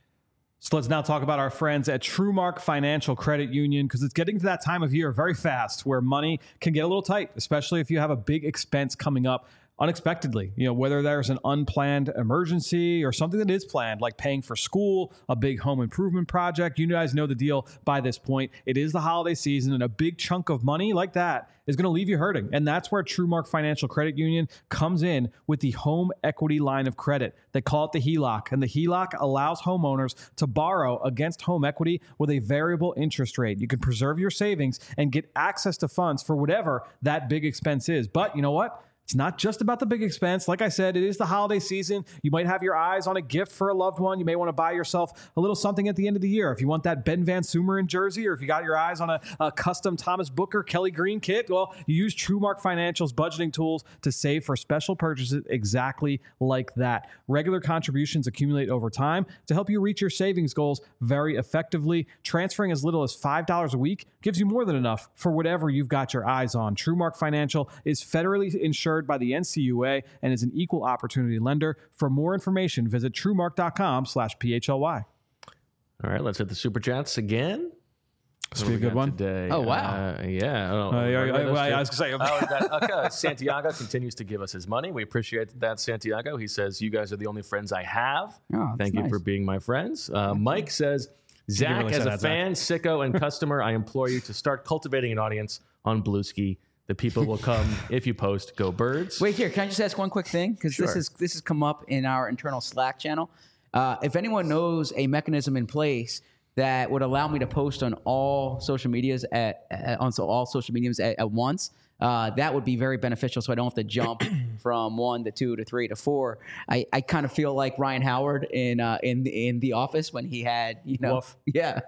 So let's now talk about our friends at TrueMark Financial Credit Union, because it's getting to that time of year very fast where money can get a little tight, especially if you have a big expense coming up unexpectedly. Whether there's an unplanned emergency or something that is planned, like paying for school, a big home improvement project. You guys know the deal by this point. It is the holiday season, and a big chunk of money like that is going to leave you hurting. And that's where TrueMark Financial Credit Union comes in with the home equity line of credit. They call it the HELOC, and the HELOC allows homeowners to borrow against home equity with a variable interest rate. You can preserve your savings and get access to funds for whatever that big expense is. But you know what? It's not just about the big expense. Like I said, it is the holiday season. You might have your eyes on a gift for a loved one. You may want to buy yourself a little something at the end of the year. If you want that Ben Van Sumeren jersey, or if you got your eyes on a custom Thomas Booker, Kelly Green kit, well, you use TrueMark Financial's budgeting tools to save for special purchases exactly like that. Regular contributions accumulate over time to help you reach your savings goals very effectively. Transferring as little as $5 a week gives you more than enough for whatever you've got your eyes on. TrueMark Financial is federally insured by the NCUA and is an equal opportunity lender. For more information, visit TrueMark.com/PHLY. All right, let's hit the Super Chats again. This will be a good one. Today. Oh, wow. Yeah. I was going to say, Okay. Santiago continues to give us his money. We appreciate that, Santiago. He says, you guys are the only friends I have. Oh, Thank you nice. for being my friends. Mike says, Zach, really as say a that, Zach. fan, sicko, and customer, I implore you to start cultivating an audience on Bluesky. The people will come if you post Go Birds. Wait, here, can I just ask one quick thing? Because Sure. this has come up in our internal Slack channel. If anyone knows a mechanism in place that would allow me to post on all social medias at once, that would be very beneficial. So I don't have to jump from 1 to 2 to 3 to 4. I kind of feel like Ryan Howard in The Office when he had, Woof. yeah.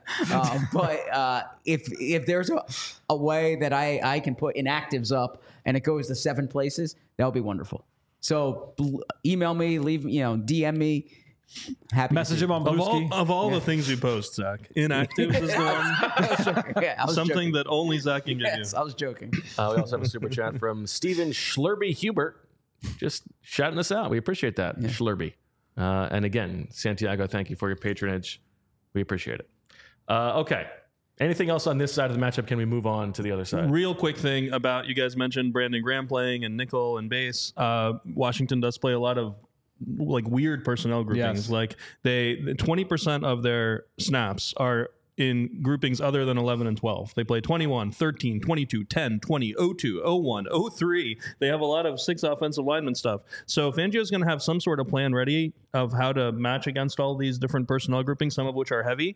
But if there's a way that I can put inactives up and it goes to 7 places, that would be wonderful. So email me, DM me. Happy Message him on Bluesky. Of all the things you post, Zach, inactive is the one. Yeah, I was Something joking. that only Zach can give Yes, you. I was joking. We also have a super chat from Steven Schlurby Hubert, just shouting us out. We appreciate that, Schlurby. And again, Santiago, thank you for your patronage. We appreciate it. Okay. Anything else on this side of the matchup? Can we move on to the other side? Real quick thing about, you guys mentioned Brandon Graham playing and nickel and base. Washington does play a lot of like weird personnel groupings. Yes. Like 20% of their snaps are in groupings other than 11 and 12. They play 21, 13, 22, 10, 20, 02, 01, 03. They have a lot of 6 offensive lineman stuff. So Fangio's going to have some sort of plan ready of how to match against all these different personnel groupings, some of which are heavy.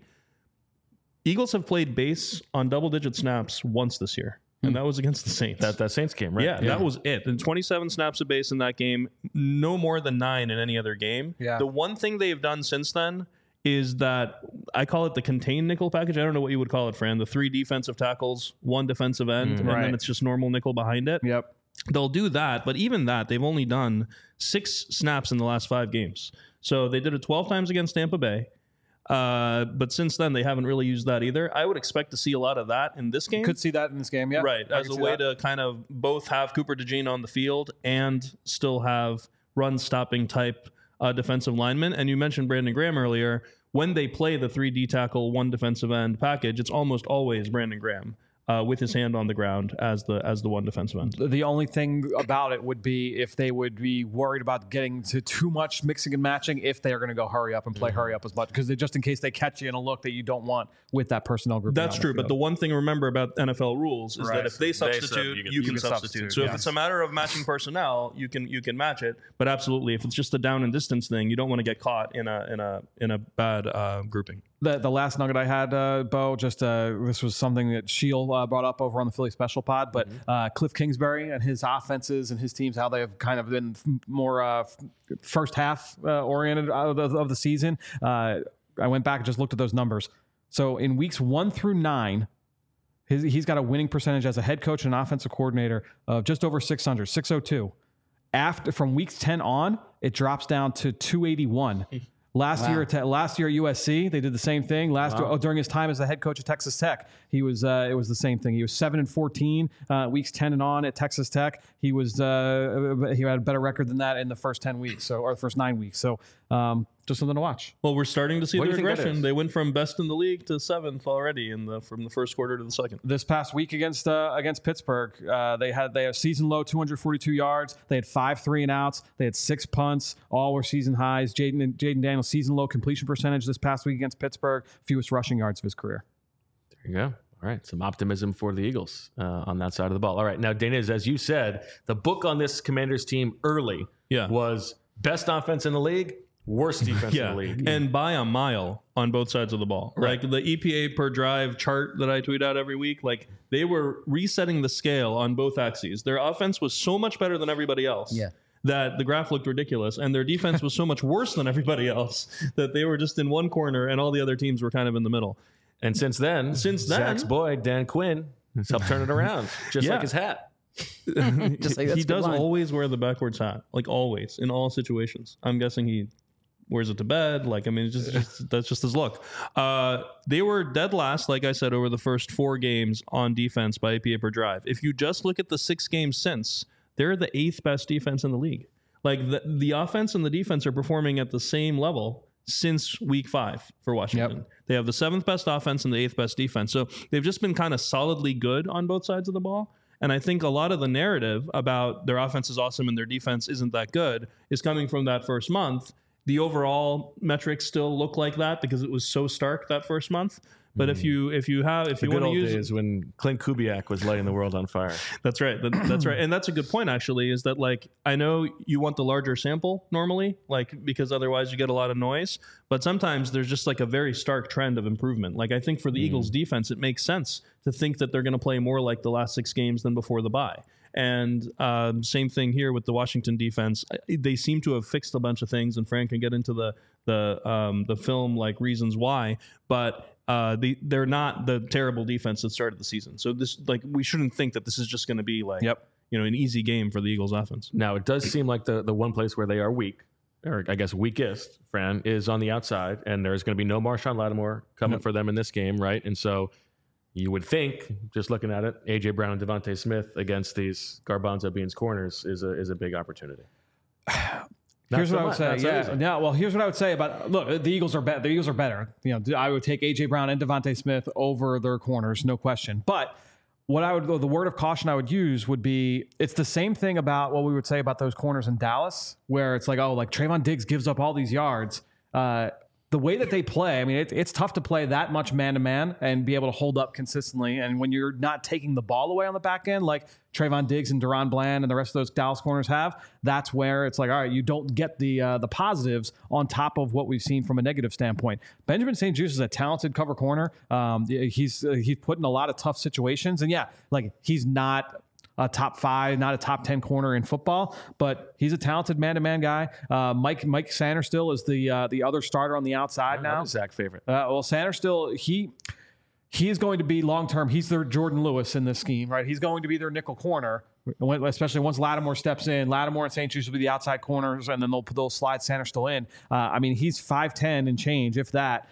Eagles have played base on double-digit snaps once this year, and that was against the Saints. That Saints game, right? Yeah, that was it. And 27 snaps of base in that game, no more than 9 in any other game. Yeah. The one thing they've done since then is that I call it the contained nickel package. I don't know what you would call it, Fran. The 3 defensive tackles, 1 defensive end, and Right. then it's just normal nickel behind it. Yep. They'll do that, but even that, they've only done 6 snaps in the last 5 games. So they did it 12 times against Tampa Bay. But since then, they haven't really used that either. I would expect to see a lot of that in this game. Could see that in this game, yeah. Right, I as can a see way that. to kind of both have Cooper DeJean on the field and still have run-stopping type defensive linemen. And you mentioned Brandon Graham earlier. When they play the 3D tackle, 1 defensive end package, it's almost always Brandon Graham with his hand on the ground as the 1 defensive end. The only thing about it would be if they would be worried about getting to too much mixing and matching if they are going to go hurry up and play hurry up as much, because just in case they catch you in a look that you don't want with that personnel group. That's true, but the one thing to remember about NFL rules is Right. that if they substitute, you can substitute. So if it's a matter of matching personnel, you can match it. But absolutely, if it's just a down and distance thing, you don't want to get caught in a bad grouping. The last nugget I had, Bo, just this was something that Shield brought up over on the Philly Special Pod, but Cliff Kingsbury and his offenses and his teams, how they've kind of been more first half oriented of the season. I went back and just looked at those numbers. So in weeks 1 through 9, he's got a winning percentage as a head coach and offensive coordinator of just over 600, 602. From weeks 10 on, it drops down to 281. Last year at USC, they did the same thing. During his time as the head coach at Texas Tech, it was the same thing. He was 7-14 weeks 10 and on at Texas Tech. He had a better record than that in the first 10 weeks, or the first 9 weeks. So just something to watch. Well, we're starting to see What the do you think that regression. is? They went from best in the league to 7th already from the first quarter to the second. This past week against Pittsburgh, they had season low 242 yards. They had 5 3-and-outs. They had 6 punts. All were season highs. Jaden Daniels season low completion percentage this past week against Pittsburgh. Fewest rushing yards of his career. There you go. All right, some optimism for the Eagles on that side of the ball. All right, now, Daniz, as you said, the book on this Commanders team early was best offense in the league, worst defense in the league. And by a mile on both sides of the ball. Right. Like the EPA per drive chart that I tweet out every week, like they were resetting the scale on both axes. Their offense was so much better than everybody else. Yeah. That the graph looked ridiculous, and their defense was so much worse than everybody else that they were just in one corner and all the other teams were kind of in the middle. And since then, Zach's boy, Dan Quinn, has helped turn it around, just like his hat. Just like, that's He a good does line. always wear the backwards hat, like always, in all situations. I'm guessing he wears it to bed. Like, I mean, that's just his look. They were dead last, like I said, over the first 4 games on defense by EPA per drive. If you just look at the 6 games since, they're the 8th best defense in the league. Like the offense and the defense are performing at the same level since week 5 for Washington. Yep. They have the 7th best offense and the 8th best defense. So they've just been kind of solidly good on both sides of the ball. And I think a lot of the narrative about their offense is awesome and their defense isn't that good is coming from that first month. The overall metrics still look like that because it was so stark that first month. But if you The want good to old use days when Clint Kubiak was lighting the world on fire. That's right. That's right. And that's a good point, actually, is that, like, I know you want the larger sample normally, like, because otherwise you get a lot of noise. But sometimes there's just like a very stark trend of improvement. Like, I think for the Eagles defense, it makes sense to think that they're going to play more like the last 6 games than before the bye. And same thing here with the Washington defense. They seem to have fixed a bunch of things, and Frank can get into the film, like, reasons why. But they're not the terrible defense that started the season. So this, like, we shouldn't think that this is just going to be like, an easy game for the Eagles offense. Now, it does seem like the one place where they are weak, or I guess weakest, Fran, is on the outside, and there's going to be no Marshawn Lattimore coming for them in this game, right? And so you would think, just looking at it, A.J. Brown and Devontae Smith against these Garbanzo Beans corners is a big opportunity. Here's what I would say. Here's what I would say about, look, the Eagles are better. The Eagles are better. I would take A.J. Brown and Devontae Smith over their corners, no question. But the word of caution I would use would be, it's the same thing about what we would say about those corners in Dallas, where it's like, oh, like Trayvon Diggs gives up all these yards. The way that they play, I mean, it's tough to play that much man-to-man and be able to hold up consistently. And when you're not taking the ball away on the back end, like Trayvon Diggs and Deron Bland and the rest of those Dallas corners have, that's where it's like, all right, you don't get the positives on top of what we've seen from a negative standpoint. Benjamin St-Juste is a talented cover corner. He's put in a lot of tough situations. And like, he's not a top 5, not a top 10 corner in football, but he's a talented man-to-man guy. Mike Sanderstill is the other starter on the outside now. Zach's favorite. Well, Sanderstill, he is going to be long-term. He's their Jordan Lewis in this scheme, right? He's going to be their nickel corner, especially once Lattimore steps in. Lattimore and St-Juste will be the outside corners, and then they'll slide Sanderstill in. I mean, he's 5'10" and change, if that,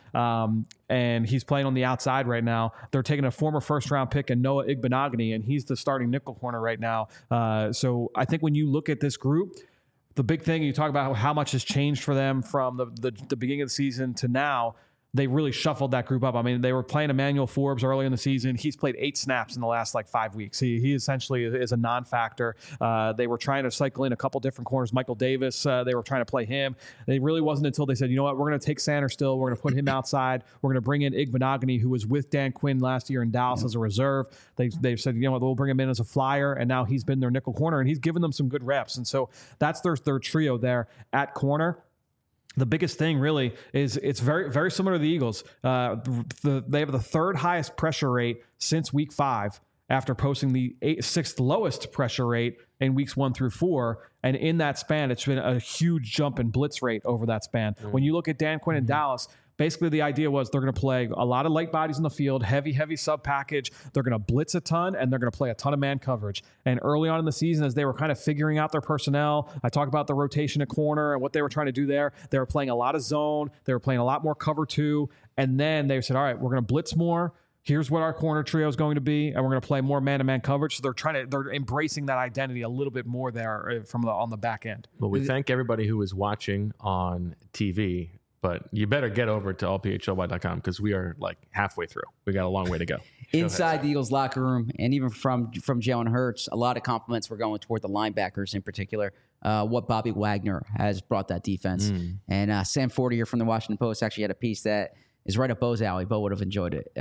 and he's playing on the outside right now. They're taking a former first-round pick in Noah Igbenogany, and he's the starting nickel corner right now. So I think when you look at this group, the big thing, you talk about how much has changed for them from the beginning of the season to now. They really shuffled that group up. I mean, they were playing Emmanuel Forbes early in the season. He's played 8 snaps in the last 5 weeks. He essentially is a non-factor. They were trying to cycle in a couple different corners. Michael Davis, they were trying to play him. It really wasn't until they said, you know what, we're going to take Sanderstill. We're going to put him outside. We're going to bring in Igbenogany, who was with Dan Quinn last year in Dallas as a reserve. They've said, you know what, we'll bring him in as a flyer, and now he's been their nickel corner, and he's given them some good reps. And so that's their trio there at corner. The biggest thing really is it's very, very similar to the Eagles. They have the 3rd highest pressure rate since week 5 after posting the 6th lowest pressure rate in weeks 1 through 4. And in that span, it's been a huge jump in blitz rate over that span. When you look at Dan Quinn in Dallas, basically the idea was they're going to play a lot of light bodies in the field, heavy sub package. They're going to blitz a ton, and they're going to play a ton of man coverage. And early on in the season, as they were kind of figuring out their personnel, I talked about the rotation at corner and what they were trying to do there. They were playing a lot of zone. They were playing a lot more cover 2. And then they said, all right, we're going to blitz more. Here's what our corner trio is going to be, and we're going to play more man-to-man coverage. So they're embracing that identity a little bit more there on the back end. Well, we thank everybody who is watching on TV, but you better get over to allphly.com because we are like halfway through. We got a long way to go. Inside the Eagles locker room, and even from Jalen Hurts, a lot of compliments were going toward the linebackers in particular. What Bobby Wagner has brought that defense. And Sam Fortier from the Washington Post actually had a piece that is right up Bo's alley. Bo would have enjoyed it.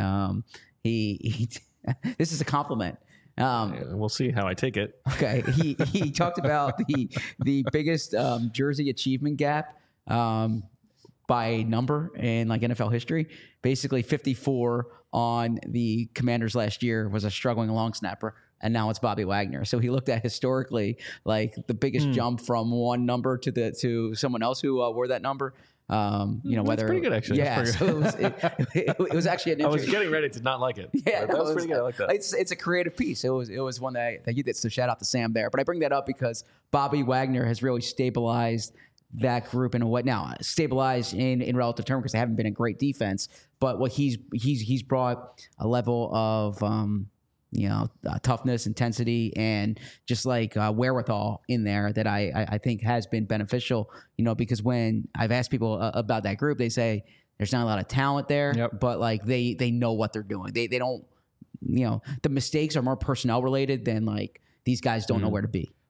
This is a compliment. We'll see how I take it. Okay. He talked about the biggest jersey achievement gap by number in like NFL history. Basically 54 on the Commanders last year was a struggling long snapper, and now it's Bobby Wagner. So he looked at historically like the biggest jump from one number to someone else who wore that number. Whether that's pretty good actually. Yeah, so it was actually an I was getting ready to not like it. Yeah, that was pretty good. I like that. It's a creative piece. It was one that you did. So shout out to Sam there. But I bring that up because Bobby Wagner has really stabilized that group in a way. Now stabilized in relative terms because they haven't been a great defense. But what he's brought a level of toughness, intensity, and just like wherewithal in there that I think has been beneficial, because when I've asked people about that group, they say there's not a lot of talent there, but like they know what they're doing. They don't, the mistakes are more personnel related than like these guys don't know where to be.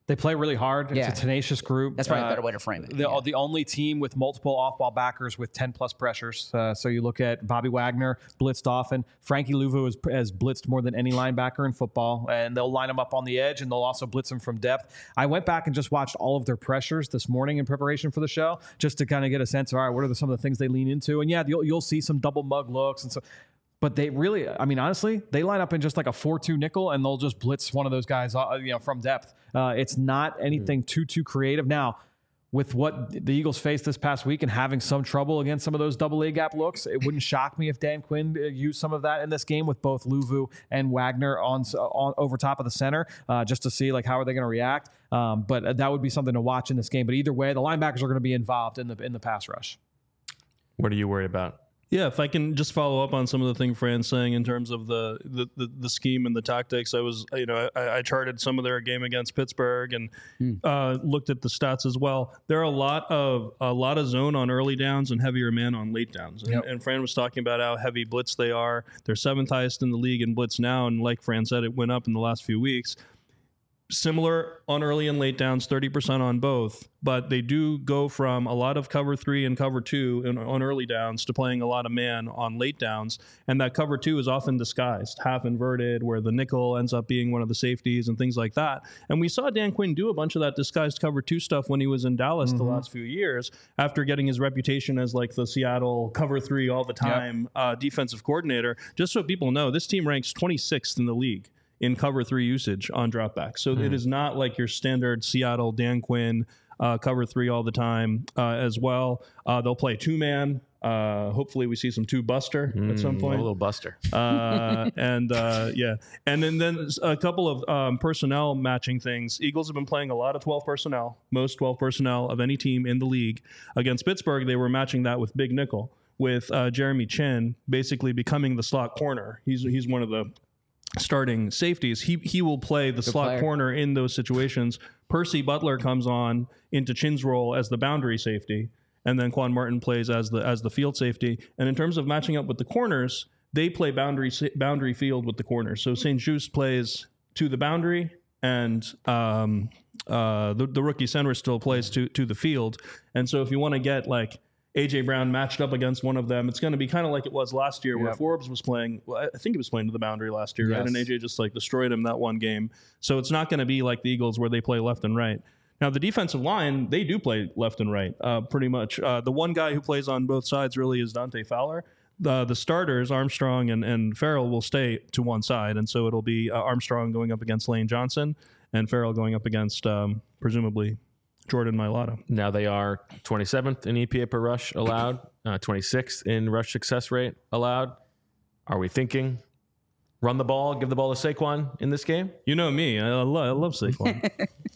They play really hard. Yeah. It's a tenacious group. That's probably a better way to frame it. The only team with multiple off-ball backers with 10-plus pressures. So you look at Bobby Wagner, blitzed often. Frankie Louvu has blitzed more than any linebacker in football, and they'll line him up on the edge, and they'll also blitz him from depth. I went back and just watched all of their pressures this morning in preparation for the show, just to kind of get a sense of, all right, what are some of the things they lean into? And yeah, you'll see some double mug looks and so. But they really, I mean, honestly, they line up in just like a 4-2 nickel, and they'll just blitz one of those guys, from depth. It's not anything too creative. Now, with what the Eagles faced this past week and having some trouble against some of those double A gap looks, it wouldn't shock me if Dan Quinn used some of that in this game with both Louvu and Wagner on over top of the center, just to see like how are they going to react. But that would be something to watch in this game. But either way, the linebackers are going to be involved in the pass rush. What are you worried about? Yeah, if I can just follow up on some of the thing Fran's saying in terms of the scheme and the tactics, I charted some of their game against Pittsburgh and looked at the stats as well. There are a lot of zone on early downs and heavier man on late downs. And Fran was talking about how heavy blitz they are. They're 7th highest in the league in blitz now, and like Fran said, it went up in the last few weeks. Similar on early and late downs, 30% on both, but they do go from a lot of cover 3 and cover 2 on early downs to playing a lot of man on late downs. And that cover 2 is often disguised, half inverted, where the nickel ends up being one of the safeties and things like that. And we saw Dan Quinn do a bunch of that disguised cover 2 stuff when he was in Dallas the last few years, after getting his reputation as like the Seattle cover 3 all the time defensive coordinator. Just so people know, this team ranks 26th in the league in cover 3 usage on dropback. So it is not like your standard Seattle Dan Quinn cover 3 all the time as well. They'll play 2-man. Hopefully we see some 2-buster at some point. A little buster. And then a couple of personnel matching things. Eagles have been playing a lot of 12 personnel, most 12 personnel of any team in the league. Against Pittsburgh, they were matching that with big nickel, with Jeremy Chin basically becoming the slot corner. He's one of the starting safeties. He will play the slot corner in those situations. Percy Butler comes on into Chin's role as the boundary safety, and then Quan Martin plays as the field safety. And in terms of matching up with the corners, they play boundary field with the corners. So St. Juste plays to the boundary, and the rookie center still plays to the field. And so if you want to get like A.J. Brown matched up against one of them, it's going to be kind of like it was last year where Forbes was playing. Well, I think he was playing to the boundary last year, right? And A.J. just like destroyed him that one game. So it's not going to be like the Eagles where they play left and right. Now, the defensive line, they do play left and right pretty much. The one guy who plays on both sides really is Dante Fowler. The starters, Armstrong and Farrell, will stay to one side. And so it'll be Armstrong going up against Lane Johnson and Farrell going up against, presumably, Jordan Mailata. Now they are 27th in EPA per rush allowed, 26th in rush success rate allowed. Are we thinking run the ball, give the ball to Saquon in this game? You know me. I love Saquon.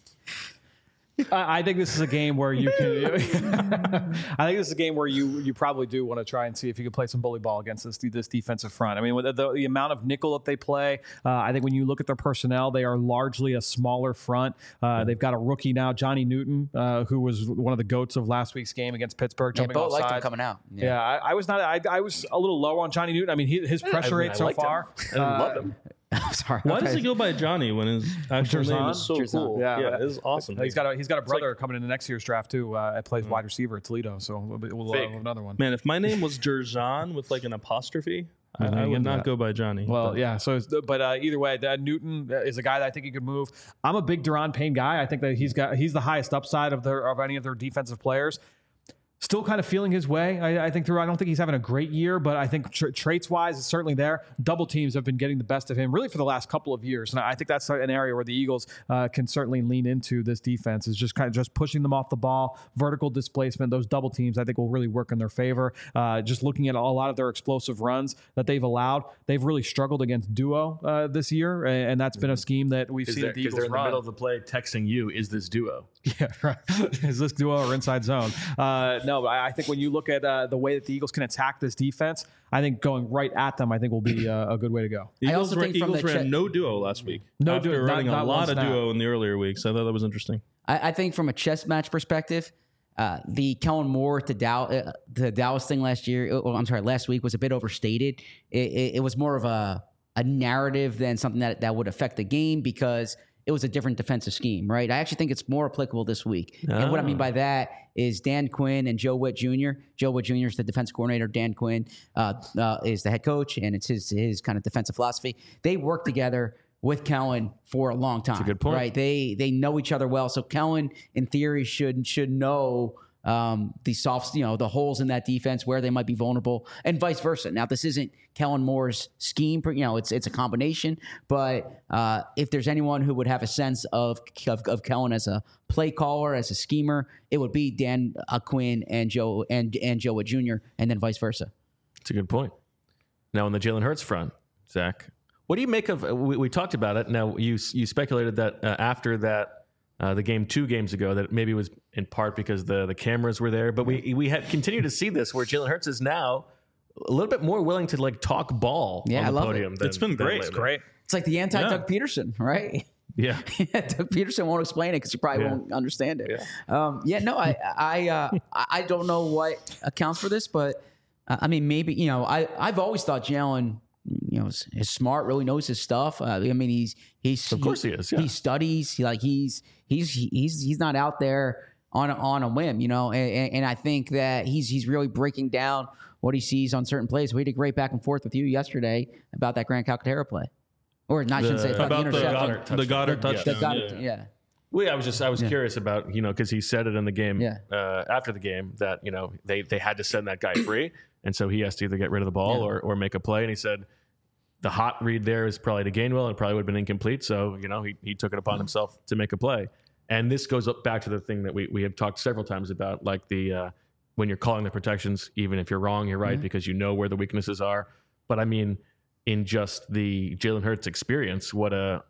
I think this is a game where you can. I think this is a game where you probably do want to try and see if you can play some bully ball against this defensive front. I mean, with the amount of nickel that they play, I think when you look at their personnel, they are largely a smaller front. They've got a rookie now, Johnny Newton, who was one of the goats of last week's game against Pittsburgh. Yeah, Bo liked him coming out. Yeah, I was not. I was a little low on Johnny Newton. I mean, his pressure rate so far. I love him. I'm sorry. Why does he go by Johnny when his actual name is so cool? Yeah, it's awesome. He's got a brother coming in the next year's draft too. Plays wide receiver at Toledo, so we'll have another one. Man, if my name was Jerzan with like an apostrophe, I would not go by Johnny. Well, yeah. So, but either way, Newton is a guy that I think he could move. I'm a big Daron Payne guy. I think that he's the highest upside of any of their defensive players. Still kind of feeling his way. I think I don't think he's having a great year, but I think traits-wise, it's certainly there. Double teams have been getting the best of him really for the last couple of years, and I think that's an area where the Eagles can certainly lean into this defense, is just kind of just pushing them off the ball, vertical displacement. Those double teams I think will really work in their favor. Just looking at a lot of their explosive runs that they've allowed, they've really struggled against duo this year, and that's been a scheme that we've seen the Eagles they're in run. the middle of the play texting you, is this duo? Yeah, right. Is this duo or inside zone? No, but I think when you look at the way that the Eagles can attack this defense, I think going right at them, I think will be a good way to go. Eagles ran no duo last week. No duo, running a lot of duo in the earlier weeks. I thought that was interesting. I think from a chess match perspective, the Kellen Moore to Dallas thing last week was a bit overstated. It was more of a narrative than something that would affect the game, because it was a different defensive scheme, right? I actually think it's more applicable this week. And what I mean by that is Dan Quinn and Joe Witt Jr. Joe Witt Jr. is the defense coordinator. Dan Quinn is the head coach, and it's his kind of defensive philosophy. They work together with Kellen for a long time. That's a good point. Right? They know each other well. So Kellen, in theory, should know the soft, the holes in that defense where they might be vulnerable, and vice versa. Now, this isn't Kellen Moore's scheme, it's a combination. But if there's anyone who would have a sense of Kellen as a play caller, as a schemer, it would be Dan Quinn and Joe Witt Jr. and then vice versa. That's a good point. Now, on the Jalen Hurts front, Zach, what do you make of? We talked about it. Now, you speculated that after that. The game 2 games ago, that maybe was in part because the cameras were there, but we have continued to see this where Jalen Hurts is now a little bit more willing to talk ball on the podium. It's been great. It's great. It's like the anti-Doug Peterson, right? Yeah. Doug Peterson won't explain it because you probably won't understand it. I don't know what accounts for this, but I mean, maybe, I've always thought Jalen, is smart, really knows his stuff. I mean, he's of course he is. Yeah. He studies. He's not out there on a whim, And I think that he's really breaking down what he sees on certain plays. We had a great back and forth with you yesterday about that Grant Calcaterra play, or not. I shouldn't say about the interception. The Goddard touchdown. Yeah. Well, I was curious about, because he said it in the game after the game that, they had to send that guy free. And so he has to either get rid of the ball or make a play. And he said the hot read there is probably to Gainwell and probably would have been incomplete. So, he took it upon himself to make a play. And this goes up back to the thing that we have talked several times about, like when you're calling the protections, even if you're wrong, you're right, because you know where the weaknesses are. But I mean, in just the Jalen Hurts experience, what a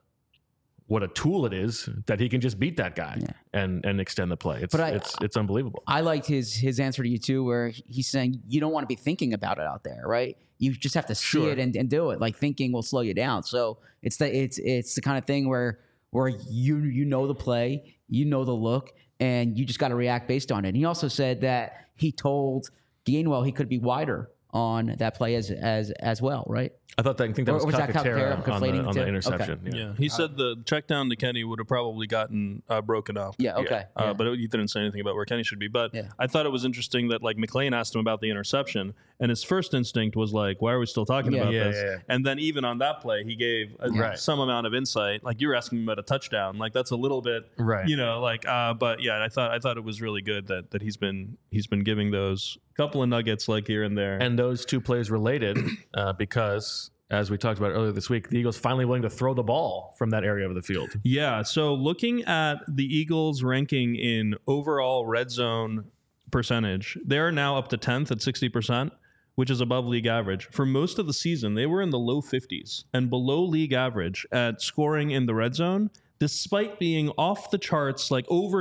tool it is that he can just beat that guy and extend the play. It's unbelievable. I liked his answer to you too, where he's saying you don't want to be thinking about it out there, right? You just have to see it and do it. Like thinking will slow you down. So it's the kind of thing where you know the play, you know the look, and you just got to react based on it. And he also said that he told Gainwell he could be wider on that play as well, right? I think that was Calcaterra on the interception. Okay. Yeah, he said the check down to Kenny would have probably gotten broken up. Yeah, okay. But he didn't say anything about where Kenny should be. But I thought it was interesting that McClain asked him about the interception, and his first instinct was like, "Why are we still talking about this?" Yeah. And then even on that play, he gave some amount of insight. Like you were asking him about a touchdown, like that's a little bit, right? But yeah, I thought it was really good that he's been giving those couple of nuggets here and there. And those two plays related because, as we talked about earlier this week, the Eagles finally willing to throw the ball from that area of the field. Yeah, so looking at the Eagles' ranking in overall red zone percentage, they're now up to 10th at 60%, which is above league average. For most of the season, they were in the low 50s and below league average at scoring in the red zone, despite being off the charts, over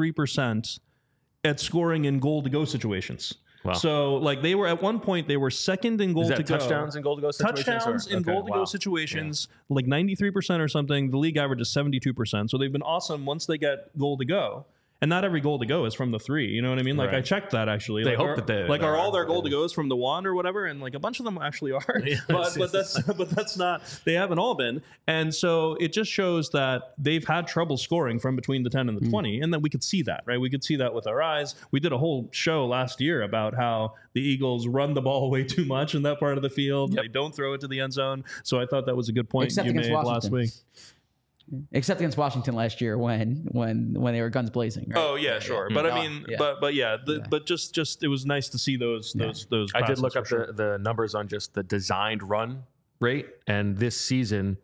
93% at scoring in goal-to-go situations. Wow. So, they were at one point, they were second in goal to go. Touchdowns in goal to go situations? Touchdowns in goal to go situations, 93% or something. The league average is 72%. So they've been awesome once they get goal to go. And not every goal to go is from the 3. You know what I mean? I checked that actually. They hope that they are all their goal to goes from the 1 or whatever, and a bunch of them actually are. but that's not. They haven't all been, and so it just shows that they've had trouble scoring from between the 10 and the 20, and then we could see that, right? We could see that with our eyes. We did a whole show last year about how the Eagles run the ball way too much in that part of the field. Yep. They don't throw it to the end zone. So I thought that was a good point you made last week. Except against Washington last year when they were guns blazing. Right? Oh yeah, sure. But I mean, but just it was nice to see those. I did look up the numbers on just the designed run rate, and this season,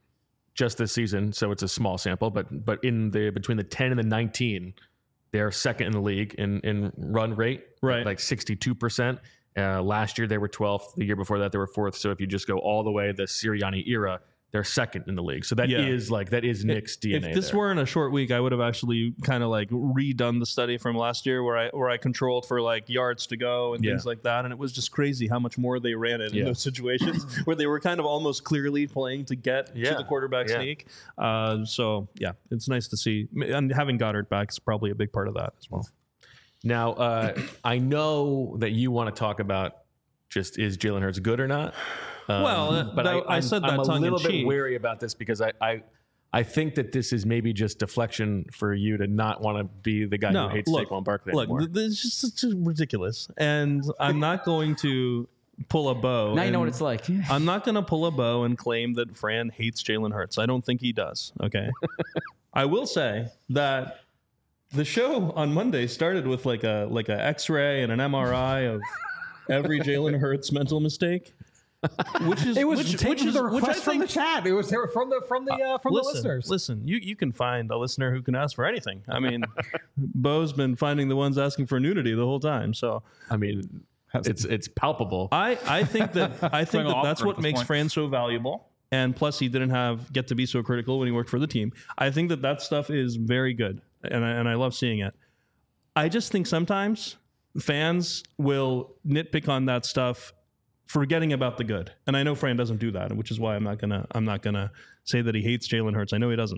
so it's a small sample, but in between the 10 and the 19, they're second in the league in run rate, right? 62%. Last year they were 12th. The year before that they were 4th. So if you just go all the way the Sirianni era, they're second in the league. So that is Nick's DNA. If this weren't a short week, I would have actually kind of redone the study from last year where I controlled for yards to go and things like that. And it was just crazy how much more they ran it in those situations where they were kind of almost clearly playing to get to the quarterback sneak. So yeah, it's nice to see. And having Goddard back is probably a big part of that as well. Now, I know that you want to talk about just is Jalen Hurts good or not? But I said that I'm tongue in cheek. a little bit wary about this because I I think that this is maybe just deflection for you to not want to be the guy who hates Saquon Barkley anymore. This is just ridiculous. And I'm not going to pull a bow. Now you know what it's like. I'm not going to pull a bow and claim that Fran hates Jalen Hurts. I don't think he does. Okay. I will say that the show on Monday started with like a X-ray and an MRI of every Jalen Hurts mental mistake. It was taken the request from the chat. It was from the listeners. Listen, you can find a listener who can ask for anything. I mean, Bo's been finding the ones asking for nudity the whole time. So I mean, it's palpable. I think that's what makes Fran so valuable. And plus, he didn't get to be so critical when he worked for the team. I think that stuff is very good, and I love seeing it. I just think sometimes fans will nitpick on that stuff, forgetting about the good. And I know Fran doesn't do that, which is why I'm not gonna say that he hates Jalen Hurts. I know he doesn't.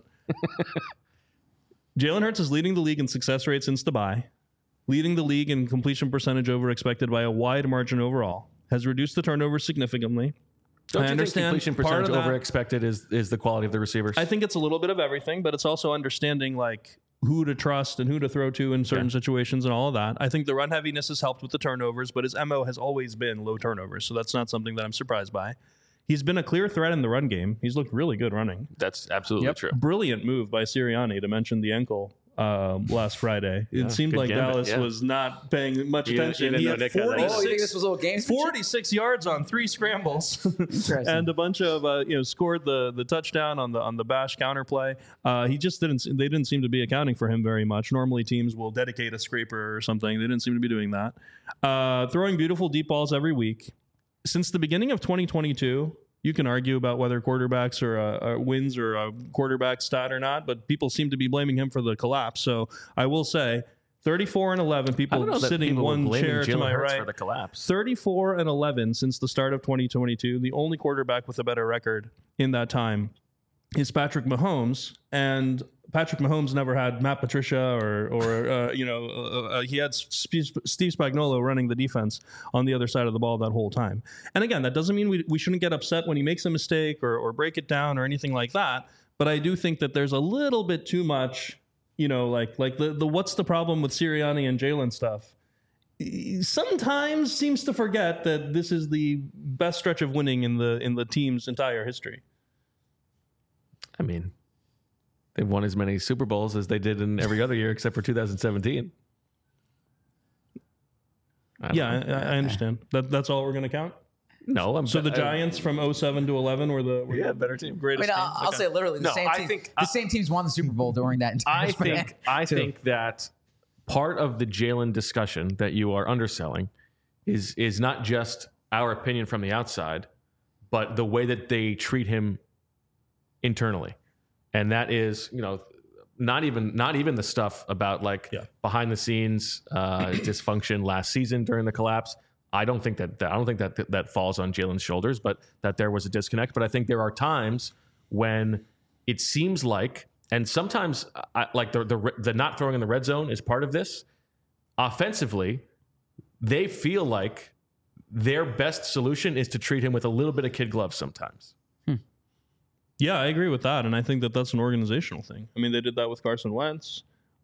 Jalen Hurts is leading the league in success rate since the bye, leading the league in completion percentage over expected by a wide margin overall, has reduced the turnovers significantly. Don't you think completion percentage over expected is the quality of the receivers? I think it's a little bit of everything, but it's also understanding like who to trust and who to throw to in certain situations and all of that. I think the run heaviness has helped with the turnovers, but his MO has always been low turnovers, so that's not something that I'm surprised by. He's been a clear threat in the run game. He's looked really good running. That's absolutely true. Brilliant move by Sirianni to mention the ankle last Friday. It seemed like Dallas was not paying much attention. He had 46, you think this was a little game? 46 yards on 3 scrambles and a bunch of scored the touchdown on the bash counter play. They didn't seem to be accounting for him very much. Normally teams will dedicate a scraper or something. They didn't seem to be doing that. Throwing beautiful deep balls every week. Since the beginning of 2022, you can argue about whether quarterbacks are wins or a quarterback stat or not, but people seem to be blaming him for the collapse. So I will say 34-11, people sitting one chair to my right. For the collapse. 34-11 since the start of 2022. The only quarterback with a better record in that time is Patrick Mahomes, and Patrick Mahomes never had Matt Patricia or he had Steve Spagnuolo running the defense on the other side of the ball that whole time. And again, that doesn't mean we shouldn't get upset when he makes a mistake or break it down or anything like that. But I do think that there's a little bit too much, like the what's the problem with Sirianni and Jalen stuff. Sometimes seems to forget that this is the best stretch of winning in the team's entire history. I mean, they've won as many Super Bowls as they did in every other year except for 2017. I understand. That's all we're going to count? No. So the Giants from 07 to 11 were the better team. Greatest team? I'll say literally the same team. The same teams won the Super Bowl during that entire span. I think that part of the Jalen discussion that you are underselling is not just our opinion from the outside, but the way that they treat him internally. And that is, not even the stuff about behind the scenes dysfunction last season during the collapse. I don't think that falls on Jalen's shoulders, but that there was a disconnect. But I think there are times when it seems like, and sometimes the not throwing in the red zone is part of this. Offensively, they feel like their best solution is to treat him with a little bit of kid gloves sometimes. Yeah, I agree with that, and I think that that's an organizational thing. I mean, they did that with Carson Wentz.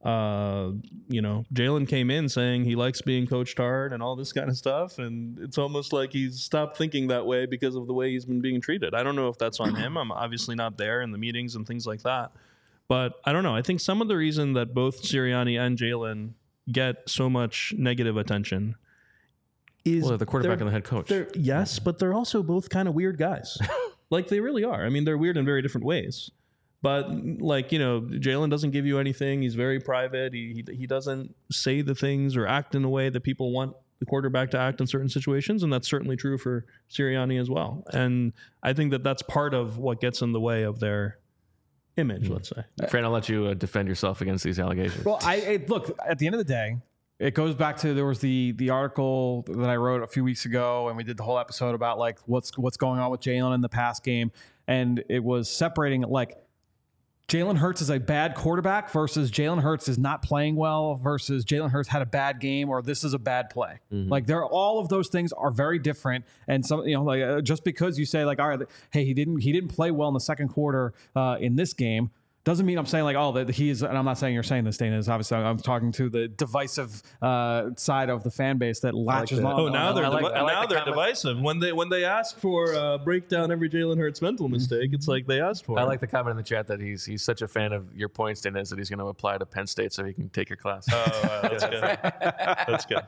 Jalen came in saying he likes being coached hard and all this kind of stuff, and it's almost like he's stopped thinking that way because of the way he's been being treated. I don't know if that's on him. I'm obviously not there in the meetings and things like that, but I don't know. I think some of the reason that both Sirianni and Jalen get so much negative attention is the quarterback and the head coach. Yes, but they're also both kind of weird guys. Like they really are. I mean, they're weird in very different ways. But Jalen doesn't give you anything. He's very private. He doesn't say the things or act in a way that people want the quarterback to act in certain situations, and that's certainly true for Sirianni as well. And I think that that's part of what gets in the way of their image. Let's say. Fran, I'll let you defend yourself against these allegations. Well, look, at the end of the day, it goes back to there was the article that I wrote a few weeks ago, and we did the whole episode about what's going on with Jalen in the past game, and it was separating Jalen Hurts is a bad quarterback versus Jalen Hurts is not playing well versus Jalen Hurts had a bad game or this is a bad play. Mm-hmm. All of those things are very different, and some just because you say all right, hey, he didn't play well in the second quarter in this game. doesn't mean I'm saying like, oh, that he is, and I'm not saying you're saying this, Dana, is obviously I'm talking to the divisive side of the fan base that latches on. Oh, now they're divisive. When they ask for break down every Jalen Hurts mental mistake, it's like they asked for. I like the comment in the chat that he's such a fan of your points, Dana, that he's going to apply to Penn State so he can take your class. Oh, that's good. That's good.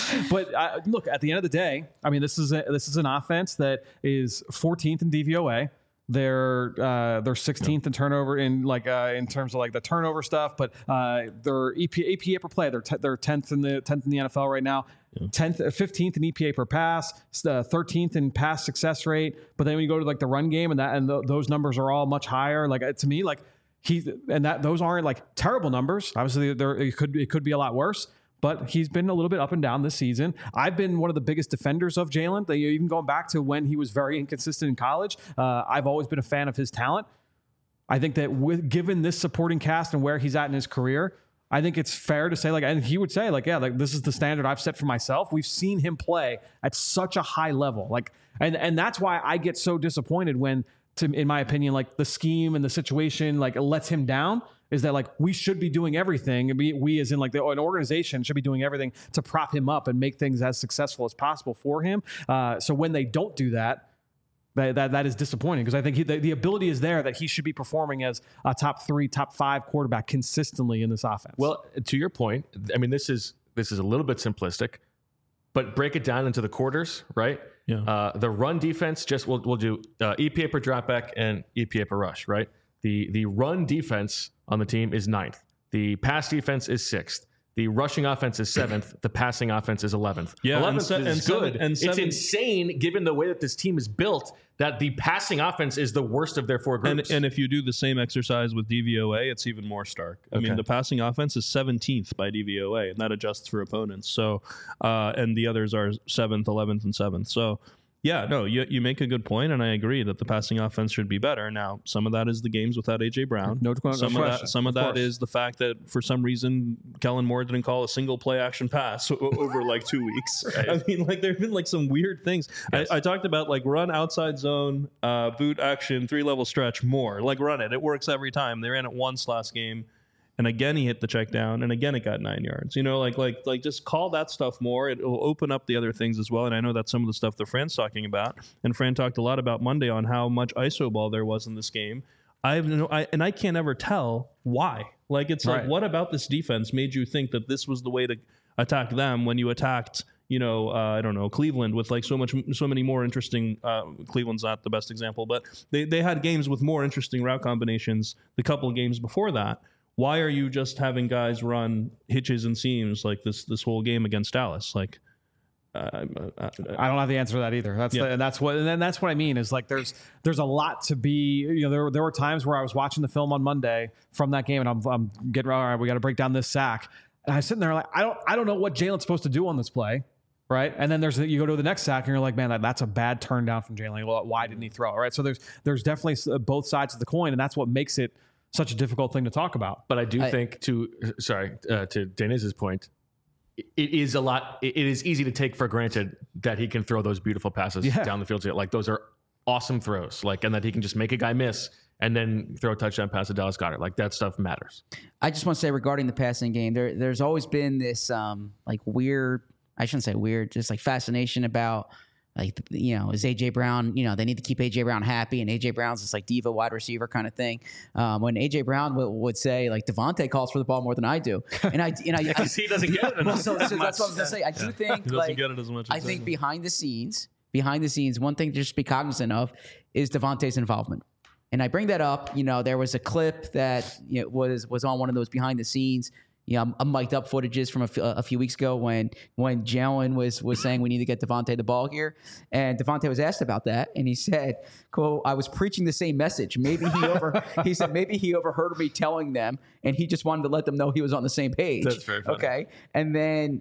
But look, at the end of the day, I mean, this is an offense that is 14th in DVOA. They're 16th in turnover in terms of like the turnover stuff, but their EPA per play, they're 10th in the NFL right now. 15th in EPA per pass, 13th in pass success rate. But then when you go to like the run game and those numbers are all much higher. Like to me, like those aren't like terrible numbers. Obviously, it could be a lot worse. But he's been a little bit up and down this season. I've been one of the biggest defenders of Jalen, even going back to when he was very inconsistent in college. I've always been a fan of his talent. I think that given this supporting cast and where he's at in his career, I think it's fair to say, like, and he would say, like, yeah, like this is the standard I've set for myself. We've seen him play at such a high level, like, and that's why I get so disappointed when, in my opinion, like the scheme and the situation like lets him down. Is that like we should be doing everything? We as in like an organization should be doing everything to prop him up and make things as successful as possible for him. So when they don't do that, that is disappointing because I think the ability is there that he should be performing as a top 3, top 5 quarterback consistently in this offense. Well, to your point, I mean this is a little bit simplistic, but break it down into the quarters, right? Yeah. The run defense, we'll do EPA per dropback and EPA per rush, right? The run defense on the team is 9th. The pass defense is 6th. The rushing offense is 7th. The passing offense is 11th. Yeah, 11th is good. It's insane, given the way that this team is built, that the passing offense is the worst of their 4 groups. And if you do the same exercise with DVOA, it's even more stark. I mean, the passing offense is 17th by DVOA, and that adjusts for opponents. So, and the others are 7th, 11th, and 7th. So, yeah, no, you make a good point, and I agree that the passing offense should be better. Now, some of that is the games without A.J. Brown. Some of that is the fact that for some reason Kellen Moore didn't call a single play action pass over like 2 weeks. Right. I mean, like there have been like some weird things. Yes. I talked about like run outside zone, boot action, 3-level stretch more. Like run it. It works every time. They ran it once last game. And again, he hit the check down, and again, it got 9 yards. You know, like just call that stuff more. It will open up the other things as well. And I know that's some of the stuff that Fran's talking about. And Fran talked a lot about Monday on how much ISO ball there was in this game. I can't ever tell why. Like, it's like, what about this defense made you think that this was the way to attack them when you attacked, I don't know, Cleveland with like so many more interesting. Cleveland's not the best example, but they had games with more interesting route combinations the couple of games before that. Why are you just having guys run hitches and seams like this whole game against Dallas? Like, I don't have the answer to that either. That's what I mean is like there's a lot to be. There were times where I was watching the film on Monday from that game, and I'm getting all right. We got to break down this sack, and I was sitting there like I don't know what Jalen's supposed to do on this play. Right. And then you go to the next sack and you're like, man, that's a bad turn down from Jalen. Well, why didn't he throw? Right. So there's definitely both sides of the coin, and that's what makes it such a difficult thing to talk about. But I do think to Deniz's point, it is easy to take for granted that he can throw those beautiful passes down the field. Like those are awesome throws, like, and that he can just make a guy miss and then throw a touchdown pass to Dallas Goedert. Like that stuff matters. I just want to say regarding the passing game, there's always been this like weird, I shouldn't say weird, just like fascination about like, is A.J. Brown, they need to keep A.J. Brown happy, and A.J. Brown's this like diva wide receiver kind of thing. When A.J. Brown would say, like, Devontae calls for the ball more than I do. And I he doesn't get it enough. So that's what I was going to say. I do think, he doesn't get it as much. I think behind the scenes, one thing to just be cognizant of is Devontae's involvement. And I bring that up, there was a clip that was on one of those behind the scenes, mic'd up footages from a few weeks ago when Jalen was saying we need to get Devontae the ball here. And Devontae was asked about that. And he said, cool, I was preaching the same message. He said, maybe he overheard me telling them and he just wanted to let them know he was on the same page. That's very funny. Okay. And then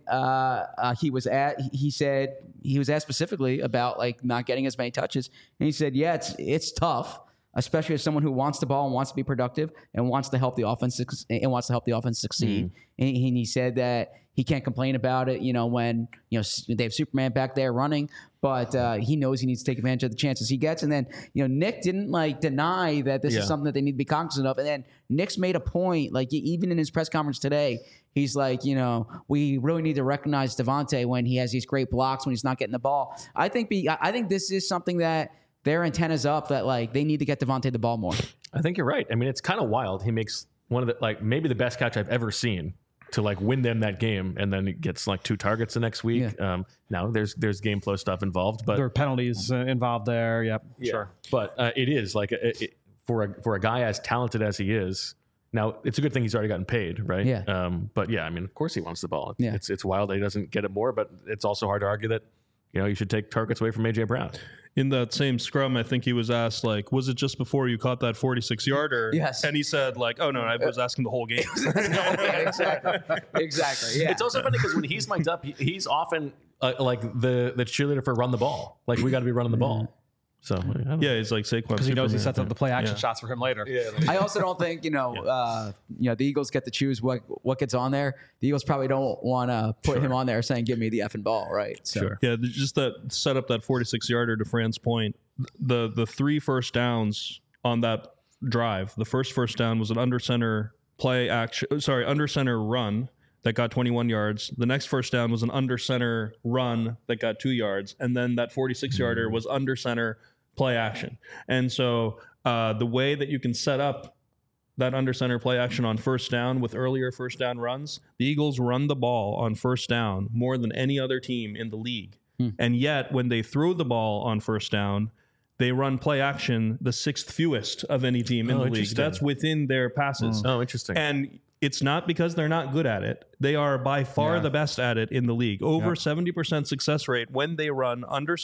he said he was asked specifically about like not getting as many touches. And he said, yeah, it's tough. especially as someone who wants the ball and wants to be productive and wants to help the offense succeed. And he said that he can't complain about it, when they have Superman back there running, but he knows he needs to take advantage of the chances he gets. And then Nick didn't deny that this is something that they need to be cognizant of. And then Nick's made a point, even in his press conference today, he's like, we really need to recognize Devontae when he has these great blocks when he's not getting the ball. I think this is something that their antenna's up, that they need to get Devontae the ball more. I think you're right. I mean, it's kind of wild. He makes one of the maybe the best catch I've ever seen to win them that game, and then it gets 2 targets the next week. Yeah. Now there's game flow stuff involved, but there are penalties involved there. Yep, yeah. Sure. But it is for a guy as talented as he is. Now it's a good thing he's already gotten paid, right? Yeah. But yeah, I mean, of course he wants the ball. Yeah. It's wild that he doesn't get it more, but it's also hard to argue that you should take targets away from AJ Brown. In that same scrum, I think he was asked, was it just before you caught that 46-yarder? Yes. And he said, oh, no, I was asking the whole game. Exactly. Yeah. It's also funny because when he's mic'd up, he's often the cheerleader for run the ball. We got to be running the ball. So Yeah, he's like Saquon. Because he knows he Superman. sets up the play action shots for him later. Yeah. I also don't think the Eagles get to choose what gets on there. The Eagles probably don't want to put him on there saying, "Give me the effing ball," right? So. Sure. Yeah, just that set up that 46-yarder to Fran's point. The 3 first downs on that drive. The first down was an under center run that got 21 yards. The next first down was an under center run that got 2 yards, and then that 46-yarder was under center play action. And so the way that you can set up that under center play action on first down with earlier first down runs, the Eagles run the ball on first down more than any other team in the league. And yet when they throw the ball on first down, they run play action the 6th fewest of any team in the league. That's within their passes. Oh, interesting. And it's not because they're not good at it. They are by far the best at it in the league. Over 70% success rate when they run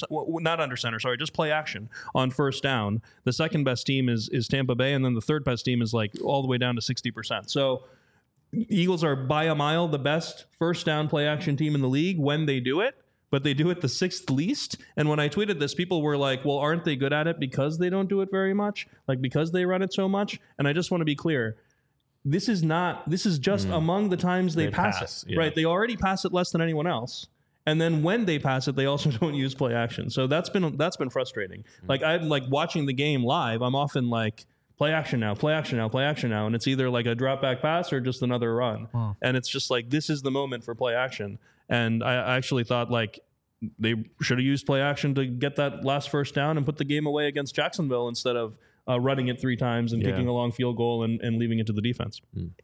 just play action on first down. The second best team is Tampa Bay, and then the third best team is all the way down to 60%. So Eagles are by a mile the best first down play action team in the league when they do it, but they do it the 6th least. And when I tweeted this, people were like, well, aren't they good at it because they don't do it very much? Because they run it so much? And I just want to be clear. This is just among the times they pass it, right? They already pass it less than anyone else. And then when they pass it, they also don't use play action. So that's been frustrating. I'm watching the game live. I'm often play action now, play action now, play action now. And it's either a drop back pass or just another run. And it's just this is the moment for play action. And I actually thought they should have used play action to get that last first down and put the game away against Jacksonville instead of running it 3 times and kicking a long field goal and leaving it to the defense.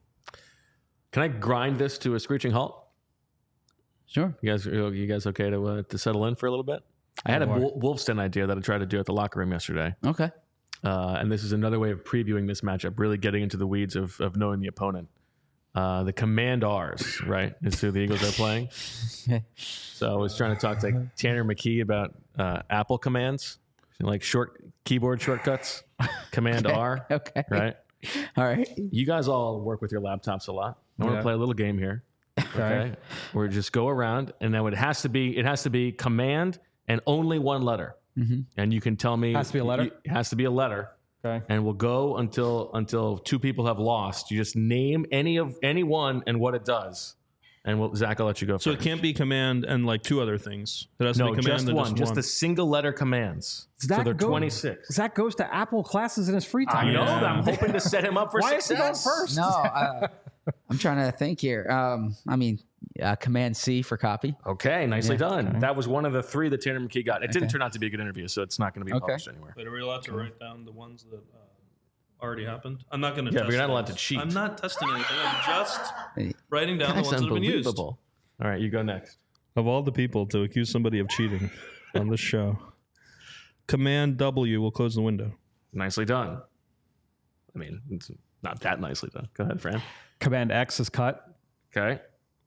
Can I grind this to a screeching halt? Sure. You guys okay to settle in for a little bit? I had a Wolfston idea that I tried to do at the locker room yesterday. Okay. And this is another way of previewing this matchup, really getting into the weeds of knowing the opponent. The Command R's, right, is who the Eagles are playing. So I was trying to talk to Tanner McKee about Apple commands, short keyboard shortcuts. Command R. Okay. Right. All right. You guys all work with your laptops a lot. I want to play a little game here. Okay. Where just go around, and then it has to be command and only one letter. And you can tell me Has to be a letter? It has to be a letter. Okay. And we'll go until 2 people have lost. You just name any one and what it does. And Zach, I'll let you go So first. it can't be command and 2 other things. It has to be command just and one. Just the single letter commands. So they're 26. Zach goes to Apple classes in his free time. I know. I'm hoping to set him up for Why success. is he going first? No, I'm trying to think here. Command C for copy. Okay, nicely done. That was one of the 3 that Tanner McKee got. It didn't turn out to be a good interview, so it's not going to be published anywhere. Wait, are we allowed to write down the ones that already happened? I'm not going to Yeah, test but you're not things. allowed to cheat. I'm not testing anything. I'm just writing down the That's ones that have been used. unbelievable. All right, you go next. Of all the people to accuse somebody of cheating on this show, Command W will close the window. Nicely done. I mean, it's not that nicely done. Go ahead, Fran. Command X is cut. Okay.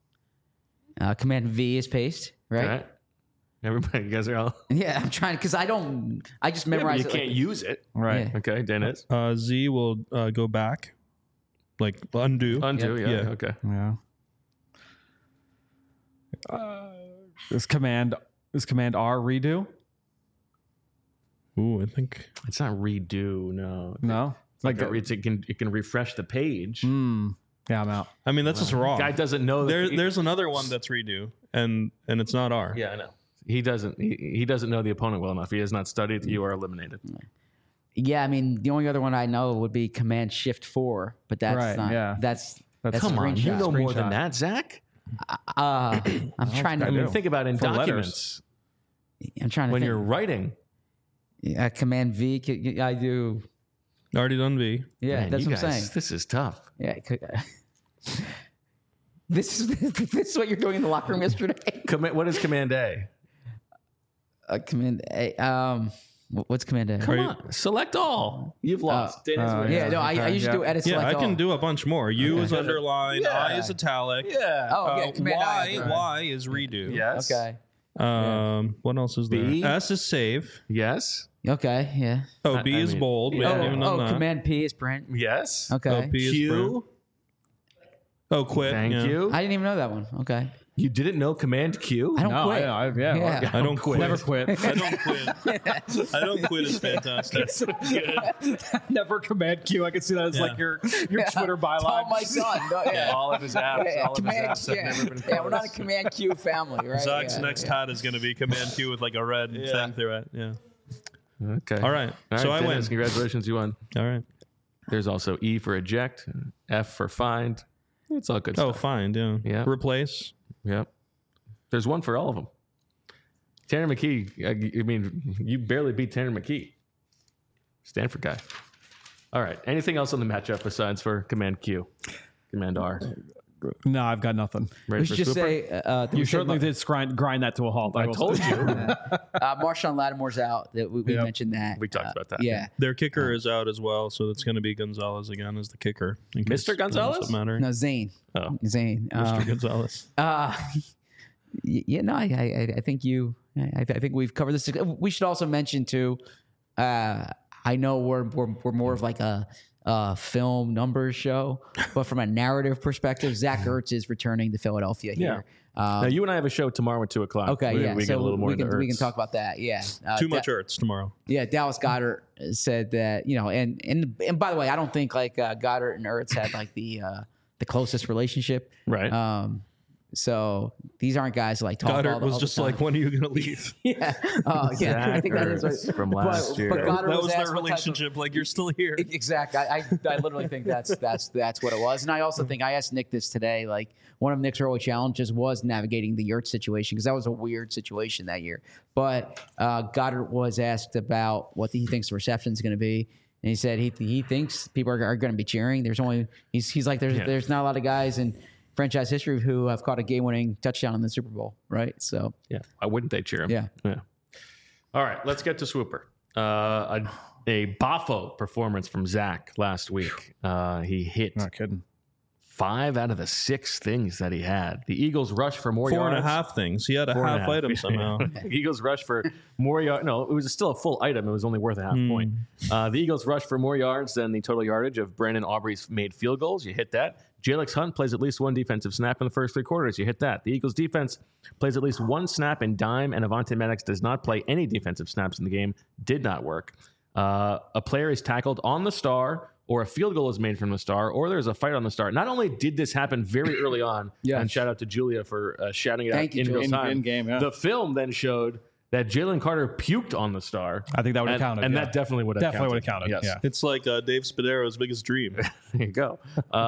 Command V is paste, right? All right. Everybody, you guys are all. Yeah, I'm trying because I just memorize you it. can't use it. Right. Yeah. Okay, Dennis. Z will go back, undo. Undo, Yep. yeah. Yeah. Okay. Yeah. Is command R redo? Ooh, I think. It's not redo. No. No, Like it can refresh the page. Yeah, I'm out. I mean, that's just wrong. Guy doesn't know that There's another one that's redo, and it's not R. Yeah, I know. He doesn't know the opponent well enough. He has not studied. You are eliminated. Yeah, I mean, the only other one I know would be Command Shift 4, but that's Right, not. yeah. That's Come on, you screenshot. know more Screenshot. than that, Zach. I'm trying to. I mean, think about it in For letters. documents I'm trying to when think. you're writing. Command V. I do. Already done V. Yeah, Man, that's you what I'm guys, saying. This is tough. Yeah. This is what you're doing in the locker room yesterday. What is Command A? Command A. What's Command A? Come on, select all. You've lost. Dana's winning. Yeah, no, I usually do edit Yeah, select I can all. do a bunch more. U is underlined. I is italic. Yeah. Oh, yeah, Command I. Y is redo. Yes. Okay. What else is there? B. S is save. Yes. Okay. Yeah. Oh, B I is mean- bold. We haven't even done that. Command P is print. Yes. Okay. Oh, P is print. Q. Oh, quit. Thank yeah. you. I didn't even know that one. Okay. You didn't know Command Q? I don't No, quit. yeah. I don't quit. Never quit. I don't quit. I don't quit is fantastic. Never Command Q. I can see that as like your Twitter byline. Oh my son. No, yeah. All of his apps. Yeah, All of his Command, apps have yeah. never been Yeah, we're not a closed. Command Q family, right? Zach's Yeah, next yeah. hat is going to be Command Q with like a red thing through it. Yeah. Okay. All right. All So right, I win. Dennis, congratulations, you won. All right. There's also E for eject, F for find. It's all good Oh, stuff. fine. Yeah. Yeah. Replace. Yep. There's one for all of them. Tanner McKee, I mean, you barely beat Tanner McKee. Stanford guy. All right. Anything else on the matchup besides for Command Q? Command R. No, I've got nothing. Ready We for should just Swooper? say You certainly did grind that to a halt. I will told say. you. Marshawn Lattimore's out. That we Yep. mentioned that. We talked about that. Yeah. Their kicker is out as well, so it's going to be Gonzalez again as the kicker. in case Mr. Gonzalez? it doesn't matter. No, Zane. Oh. Zane. Mr. Gonzalez. Yeah, no, I think I think we've covered this. We should also mention too. I know we're more of like a film numbers show, but from a narrative perspective, Zach Ertz is returning to Philadelphia here. Now, you and I have a show tomorrow at 2:00. Okay, we, yeah. We so get a little more we can into we can Ertz. talk about that. Yeah, Too much Ertz tomorrow. Yeah, Dallas Goddard said that, you know, and by the way, I don't think like Goddard and Ertz had like the closest relationship. Right. So these aren't guys who like talk Goddard all the, was all the just time. like, when are you going to leave? Yeah. Oh, yeah. I think that is Zach Ertz from last year. But Goddard That was asked their what type of- relationship. Like, you're still here. Exactly. I literally think that's what it was. And I also think I asked Nick this today. Like one of Nick's early challenges was navigating the Ertz situation because that was a weird situation that year. But Goddard was asked about what he thinks the reception is going to be, and he said he thinks people are going to be cheering. There's only he's like there's not a lot of guys in franchise history who have caught a game-winning touchdown in the Super Bowl, right? So Yeah. Why wouldn't they cheer him? Yeah. All right. Let's get to Swooper. A Boffo performance from Zach last week. He hit Not kidding. 5 out of the 6 things that he had. The Eagles rushed for more 4.5 yards. things. He had a 4.5. half item somehow. Eagles rushed for more yards. No, it was still a full item. It was only worth a half point. The Eagles rushed for more yards than the total yardage of Brandon Aubrey's made field goals. You hit that. Jalex Hunt plays at least one defensive snap in the first 3 quarters. You hit that. The Eagles defense plays at least one snap in dime, and Avonte Maddox does not play any defensive snaps in the game. Did not work. A player is tackled on the star, or a field goal is made from the star, or there's a fight on the star. Not only did this happen very early on, Yeah. and shout out to Julia for shouting it Thank out you, in real Julia. time. In-game, yeah. The film then showed that Jalen Carter puked on the star. I think that would have and, counted. and yeah. that definitely would have Definitely would have counted. Yes. Yeah. It's like Dave Spadero's biggest dream. There you go.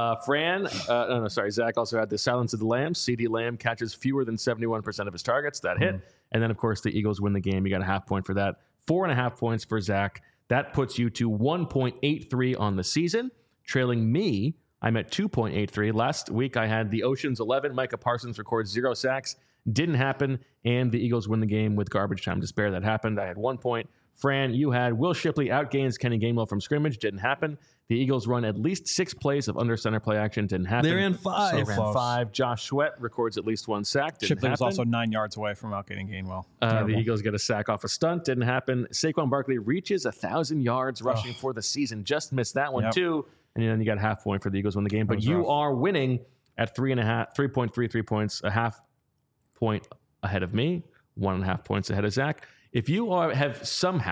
Zach also had the silence of the Lambs. CD Lamb catches fewer than 71% of his targets. That hit. And then, of course, the Eagles win the game. You got a half point for that. 4.5 points for Zach. That puts you to 1.83 on the season. Trailing me, I'm at 2.83. Last week, I had the Oceans 11. Micah Parsons records 0 sacks. Didn't happen. And the Eagles win the game with garbage time to spare. That happened. I had 1 point. Fran, you had Will Shipley outgains Kenny Gainwell from scrimmage. Didn't happen. The Eagles run at least 6 plays of under center play action. Didn't happen. They ran 5. They ran 5. Josh Sweat records at least 1 sack. Didn't Shipley was happen. also 9 yards away from outgaining Gainwell. The Terrible. Eagles get a sack off a stunt. Didn't happen. Saquon Barkley reaches 1,000 yards rushing for the season. Just missed that one, Yep. too. And then you got a half point for the Eagles win the game. But was you rough. are winning at 3.33 points, a half point ahead of me, 1.5 points ahead of Zach. If you have somehow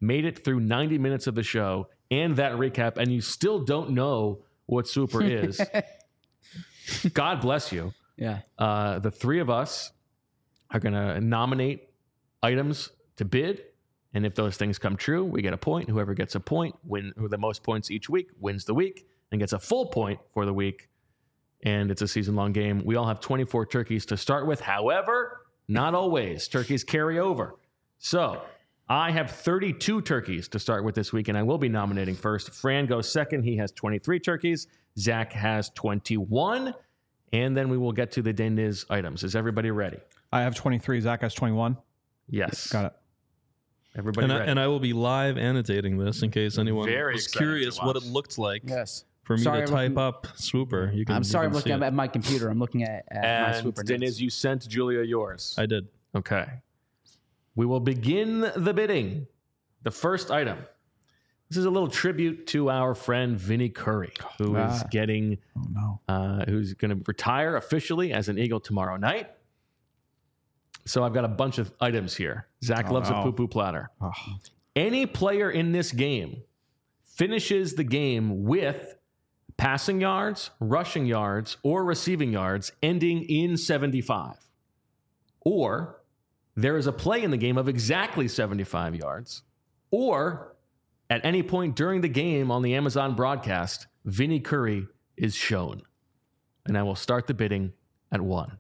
made it through 90 minutes of the show and that recap, and you still don't know what Swooper is, God bless you. Yeah. The three of us are going to nominate items to bid. And if those things come true, we get a point. Whoever gets a point, who the most points each week, wins the week and gets a full point for the week. And it's a season-long game. We all have 24 turkeys to start with. However, not always. Turkeys carry over. So I have 32 turkeys to start with this week, and I will be nominating first. Fran goes second. He has 23 turkeys. Zach has 21. And then we will get to the Deniz items. Is everybody ready? I have 23. Zach has 21. Yes. Got it. Everybody ready? And I will be live annotating this in case anyone Very was excited curious to what it watch. looked like. Yes. For me Sorry, to I'm type looking- up Swooper. You can, I'm sorry, you I'm can looking see it. at my computer. I'm looking at my And Swooper Deniz, notes. you sent Julia yours. I did. Okay. We will begin the bidding. The first item. This is a little tribute to our friend Vinny Curry, who is getting, who's going to retire officially as an Eagle tomorrow night. So I've got a bunch of items here. Zach loves a poo-poo platter. Any player in this game finishes the game with passing yards, rushing yards, or receiving yards ending in 75. Or there is a play in the game of exactly 75 yards. Or at any point during the game on the Amazon broadcast, Vinny Curry is shown. And I will start the bidding at 1.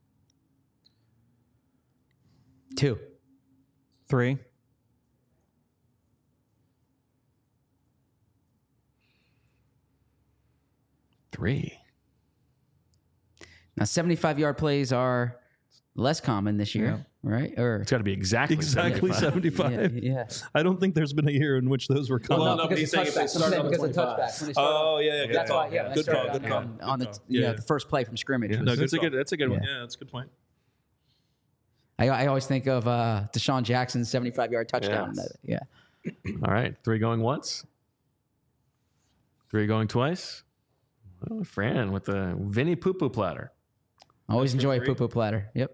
2. 3. 3. Now, 75-yard plays are less common this year, right? Or It's got to be exactly 75. yeah. I don't think there's been a year in which those were common. Well, no, but he's saying if they started on the 25. Yeah. That's why, yeah. Good call. Good call. On the, the first play from scrimmage. No, That's a good one. Yeah, that's a good point. I always think of Deshaun Jackson's 75-yard touchdown. Yes. Yeah. All right. 3 going once. 3 going twice. Oh, Fran with the Vinny poo-poo platter. Always enjoy a poo-poo platter. Yep.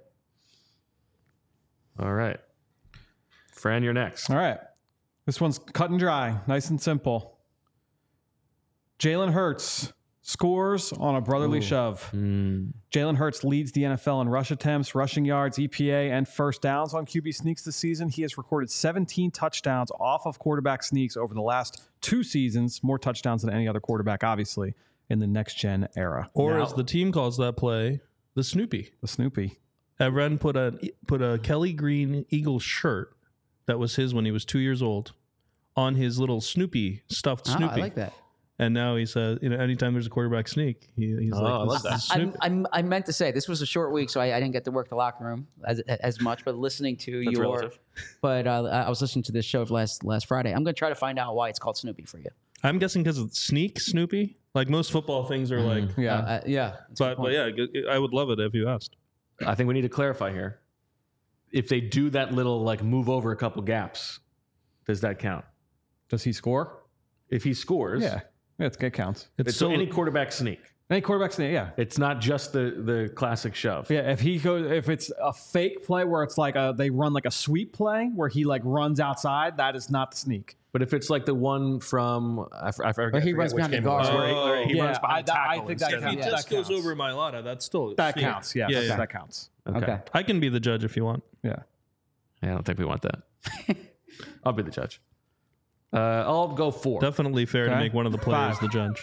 All right. Fran, you're next. All right. This one's cut and dry, nice and simple. Jalen Hurts scores on a brotherly shove. Jalen Hurts leads the NFL in rush attempts, rushing yards, EPA, and first downs on QB sneaks this season. He has recorded 17 touchdowns off of quarterback sneaks over the last 2 seasons, more touchdowns than any other quarterback, obviously, in the next-gen era. Or Now- as the team calls that play, the Snoopy. The Snoopy. Evren put a Kelly Green Eagles shirt that was his when he was 2 years old on his little Snoopy, stuffed Oh, Snoopy. I like that. And now he says, anytime there's a quarterback sneak, he's I love like, that. this is Snoopy. I meant to say this was a short week, so I didn't get to work the locker room as much. But listening to That's your, relative. but I was listening to this show last Friday. I'm going to try to find out why it's called Snoopy for you. I'm guessing because of sneak Snoopy. Like most football things are like, Yeah. Yeah. that's a good but point. yeah, I would love it if you asked. I think we need to clarify here. If they do that little like move over a couple gaps, does that count? Does he score? If he scores, Yeah. It counts. it's so any quarterback sneak. Any quarterback sneak, yeah. It's not just the classic shove. Yeah, if it's a fake play where it's like they run like a sweep play where he like runs outside, that is not the sneak. But if it's like the one from I forget, Or he I forget runs which behind the game it was, guard. where he Yeah, runs behind I tackle think that instead of- counts. If he Yeah, just that goes counts. over Mailata, that's still That sneak. counts. Yeah, Yeah. that counts. Okay. I can be the judge if you want. Yeah. I don't think we want that. I'll be the judge. I'll go 4. Definitely fair to Okay. make one of the players 5. the judge.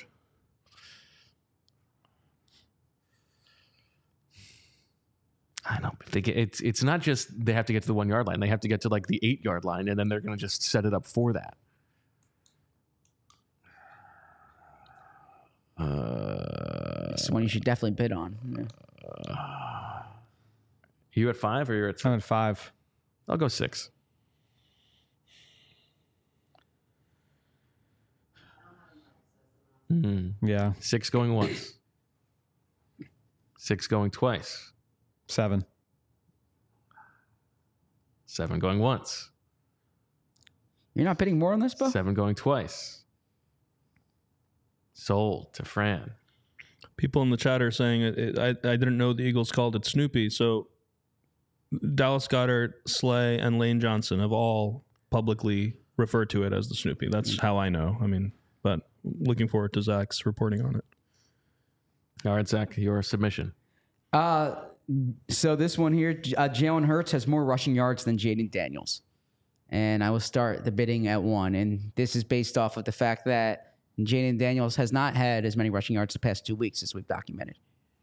I know. If they get, it's not just they have to get to the 1 yard line. They have to get to like the 8 yard line, and then they're going to just set it up for that. It's one you should definitely bid on. Yeah. You at 5 or you're at? I'm at 5. I'll go 6. Yeah. 6 going once. 6 going twice. 7. 7 going once. You're not bidding more on this, Bo? 7 going twice. Sold to Fran. People in the chat are saying I didn't know the Eagles called it Snoopy. So Dallas Goedert, Slay, and Lane Johnson have all publicly refer to it as the Snoopy. That's how I know. I mean, but looking forward to Zach's reporting on it. All right, Zach, your submission. So this one here, Jalen Hurts has more rushing yards than Jaden Daniels. And I will start the bidding at 1. And this is based off of the fact that Jaden Daniels has not had as many rushing yards the past 2 weeks as we've documented.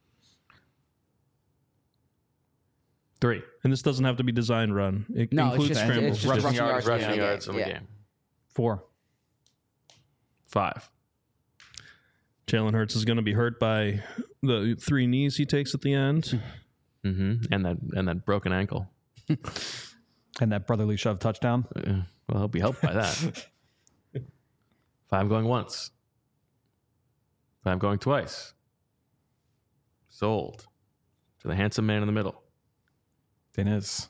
3. And this doesn't have to be design run. It No, includes it's just, scrambles. it's just rushing yards. Rushing in the yards game. in the Yeah. game. 4. 5. Jalen Hurts is going to be hurt by the 3 knees he takes at the end. Mm-hmm. And that broken ankle. And that brotherly shove touchdown. Well, he'll be helped by that. 5 going once. 5 going twice. Sold to the handsome man in the middle. Dennis.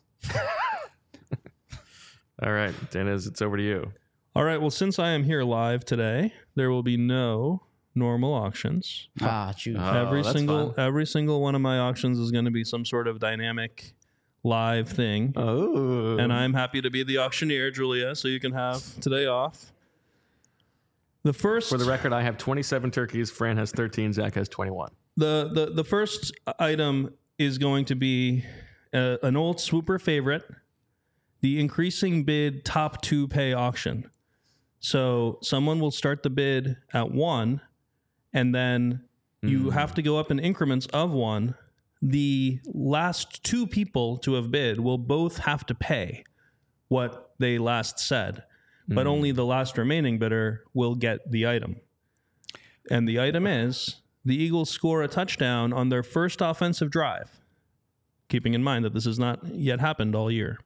All right, Dennis, it's over to you. All right. Well, since I am here live today, there will be no normal auctions. Shoot. Oh, that's fun. Every single one of my auctions is going to be some sort of dynamic live thing. Oh. And I'm happy to be the auctioneer, Julia, so you can have today off. The first, For the record, I have 27 turkeys. Fran has 13. Zach has 21. the first item is going to be an old swooper favorite, the increasing bid top 2 pay auction. So someone will start the bid at 1, and then you have to go up in increments of 1. The last 2 people to have bid will both have to pay what they last said, but only the last remaining bidder will get the item. And the item is the Eagles score a touchdown on their first offensive drive, keeping in mind that this has not yet happened all year.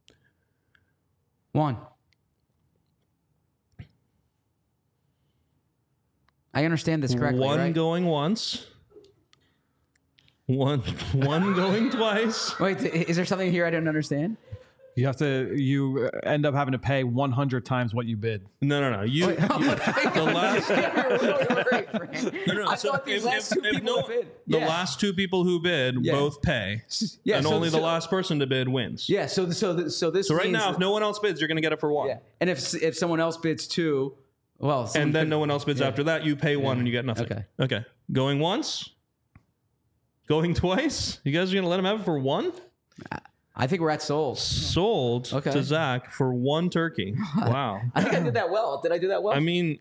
1. I understand this correctly, One right? going once. One going twice. Wait, is there something here I don't understand? You end up having to pay 100 times what you bid. No. The last. No. I So thought these if- last if- 2 if people no- have bid. The Yeah. last 2 people who bid Yeah. both pay, Yeah, and so- only the so- last person to bid wins. Yeah, so this So right means now, if no one else bids, you're going to get it for 1. yeah, and if someone else bids 2, well, someone And then could- no one else bids after that. You pay 1 and you get nothing. Okay. Going once. Going twice. You guys are going to let him have it for 1? I think we're at sold. Sold Okay. to Zach for 1 turkey. Wow. I think I did that well. Did I do that well? I mean,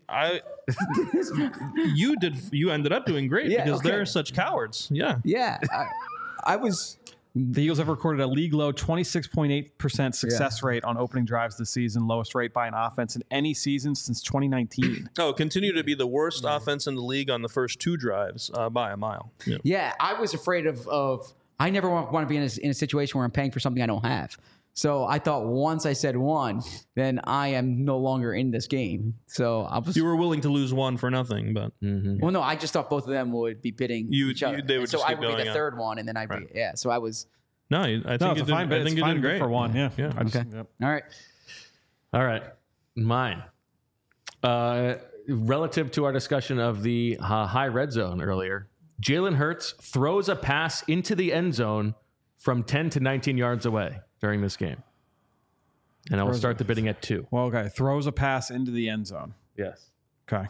you ended up doing great Yeah, because okay. they're such cowards. Yeah. yeah, I was. The Eagles have recorded a league low 26.8% success rate on opening drives this season, lowest rate by an offense in any season since 2019. Oh, continue to be the worst offense in the league on the first 2 drives by a mile. Yeah. Yeah, I was afraid of. I never want to be in a situation where I'm paying for something I don't have. So I thought once I said 1, then I am no longer in this game. So I was. You were willing to lose 1 for nothing, but Well, no, I just thought both of them would be bidding each other. they would And so just I keep would be going the up. third one, and then I'd be yeah. So I was no, I think No, you it's a did, fine bid. I think It's you fine did bid great for 1. Yeah. Yeah. I just- Okay. yep. all right. All right. Mine. Relative to our discussion of the high red zone earlier, Jalen Hurts throws a pass into the end zone from 10 to 19 yards away during this game. And I will start the bidding at 2. Well, okay. Throws a pass into the end zone. Yes. Okay.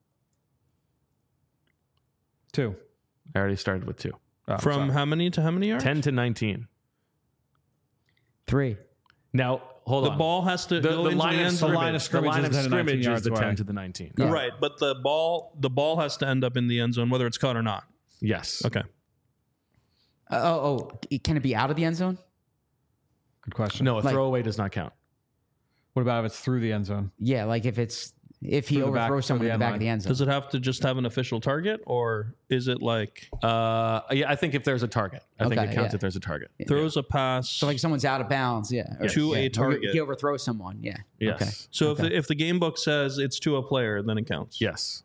2. I already started with 2. Oh, From sorry. how many to how many yards? 10 to 19. 3. Now, hold The on. ball has to The go into line the of end scrimmage, zone. line of scrimmage the line is of 10 to 19 scrimmage is yards the 10 away. to the 19. Yeah. Right, but the ball has to end up in the end zone, whether it's caught or not. Yes. Okay. Can it be out of the end zone? Good question. No, a Like- throwaway does not count. What about if it's through the end zone? Yeah, like if he Through the back- overthrows through someone the in the end back line. of the end zone. Does it have to just have an official target, or is it like Yeah, I think if there's a target, I think Okay, it counts yeah. if there's a target. throws a pass? So like someone's out of bounds, yeah. Or- To a yeah. Or target. He overthrows someone, yeah. Yes. Okay. So if the game book says it's to a player, then it counts. Yes.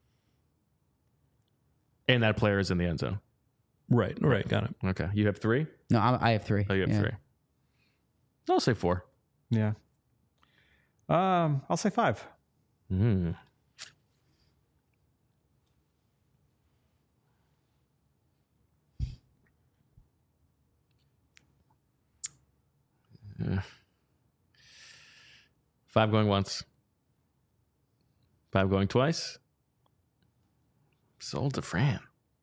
And that player is in the end zone. Right. Got it. Okay. You have 3? No, I have 3. Oh, you have yeah. 3. I'll say 4. Yeah. I'll say 5. Mm. 5 going once. 5 going twice. Sold to Fran.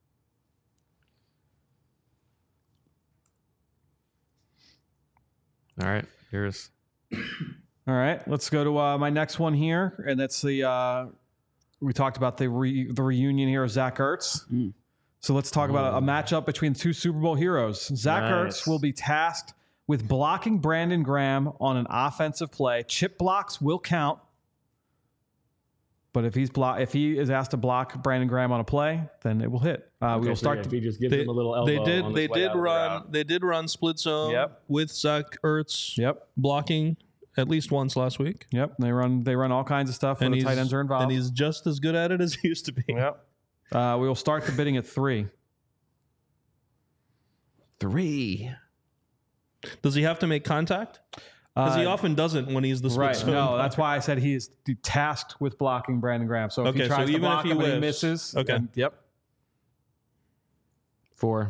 All right, here's. All right, let's go to my next one here, and that's the we talked about the reunion here of Zach Ertz. So let's talk about a matchup between two Super Bowl heroes. Zach Ertz will be tasked with blocking Brandon Graham on an offensive play. Chip blocks will count, but if he is asked to block Brandon Graham on a play, then it will hit. We will start. If he just gives him a little elbow. They did run split zone with Zach Ertz. Blocking at least once last week. They run all kinds of stuff when the tight ends are involved. And he's just as good at it as he used to be. We will start the bidding at 3. 3. Does he have to make contact? Because he often doesn't when he's the split zone. No, that's why I said he is tasked with blocking Brandon Graham. So if he tries to block him and he misses, then, 4.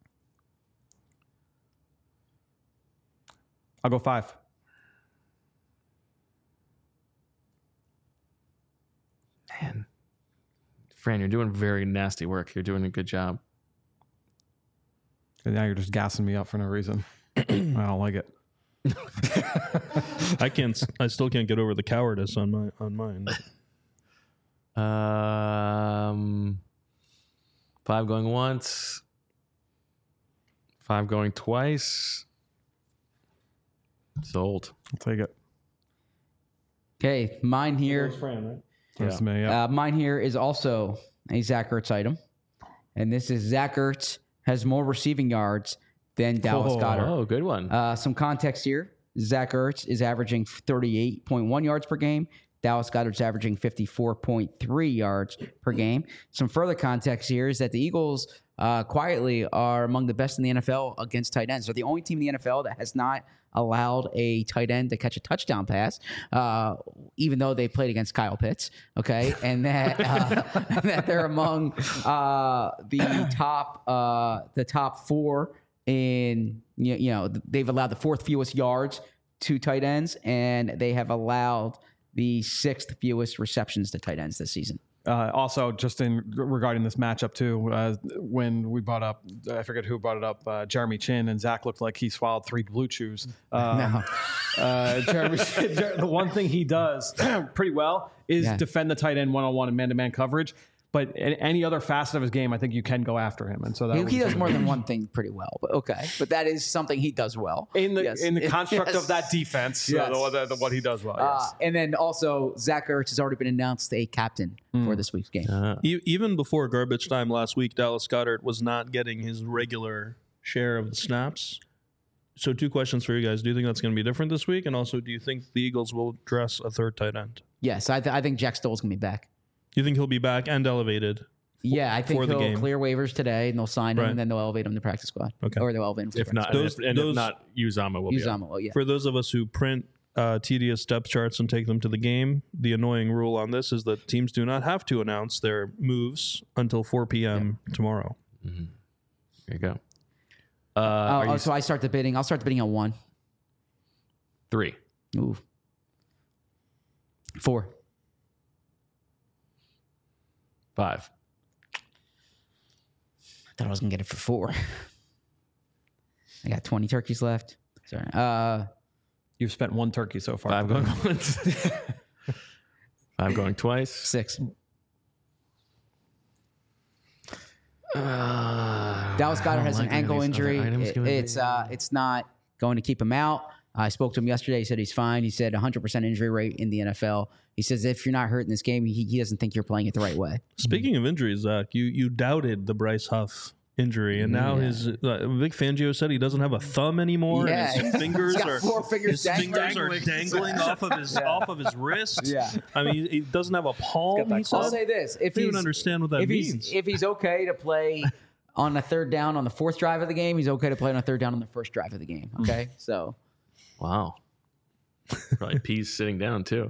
I'll go 5. Man. Fran, you're doing very nasty work. You're doing a good job. And now you're just gassing me up for no reason. I don't like it. I still can't get over the cowardice on mine. 5 going once. 5 going twice. Sold. I'll take it. Okay, mine here. That's me, yeah. Mine here is also a Zach Ertz item. And this is Zach Ertz has more receiving yards than Dallas Goedert. Oh, good one. Some context here. Zach Ertz is averaging 38.1 yards per game. Dallas Goedert's averaging 54.3 yards per game. Some further context here is that the Eagles quietly are among the best in the NFL against tight ends. They're the only team in the NFL that has not allowed a tight end to catch a touchdown pass, even though they played against Kyle Pitts. Okay, and that that they're among the top 4 in they've allowed the 4th fewest yards to tight ends, and they have allowed the 6th fewest receptions to tight ends this season. Also, just regarding this matchup too, when we brought up, I forget who brought it up, Jeremy Chin, and Zach looked like he swallowed 3 Blue Chews. Jeremy, the one thing he does pretty well is defend the tight end one-on-one and man-to-man coverage. But in any other facet of his game, I think you can go after him, and so that he does more than one thing pretty well. But okay, but that is something he does well in the construct of that defense. What he does well. And then also, Zach Ertz has already been announced a captain for this week's game. Even before garbage time last week, Dallas Goedert was not getting his regular share of the snaps. So 2 questions for you guys: do you think that's going to be different this week? And also, do you think the Eagles will dress a 3rd tight end? Yes, I think Jack Stoll's going to be back. You think he'll be back and elevated? Yeah, I think he'll clear waivers today, and they'll sign him, Right. and then they'll elevate him to practice squad. Okay. Or they'll elevate him to If not, Those- if not, Uzama will be. Uzama will, yeah. For those of us who print tedious depth charts and take them to the game, the annoying rule on this is that teams do not have to announce their moves until 4 p.m. tomorrow. Mm-hmm. There you go. So I start the bidding. I'll start the bidding at 1. 3. Ooh. 4. 5. I thought I was going to get it for 4. I got 20 turkeys left. Sorry. You've spent 1 turkey so far. 5 going once. 5 going twice. 6. Dallas Goedert has an ankle injury. It's not going to keep him out. I spoke to him yesterday. He said he's fine. He said 100% injury rate in the NFL. He says if you're not hurt in this game, he doesn't think you're playing it the right way. Speaking of injuries, Zach, you doubted the Bryce Huff injury, and now his Vic Fangio said he doesn't have a thumb anymore, and his fingers he's got 4 fingers dangling off of his wrist. Yeah. I mean, he doesn't have a palm. He said. I'll say this: if I don't he's even understand what that means. If he's okay to play on a 3rd down on the 4th drive of the game, he's okay to play on a 3rd down on the 1st drive of the game. Okay, so Wow. Probably peas sitting down too.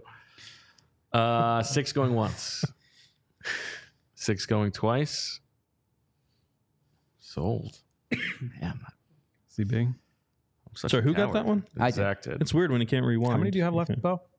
6 going once. 6 going twice. Sold. Man, CB. I'm such Sorry, a who got coward. that one? I did. Zach did. It's weird when you can't rewind. How many do you have left, Okay. Bo?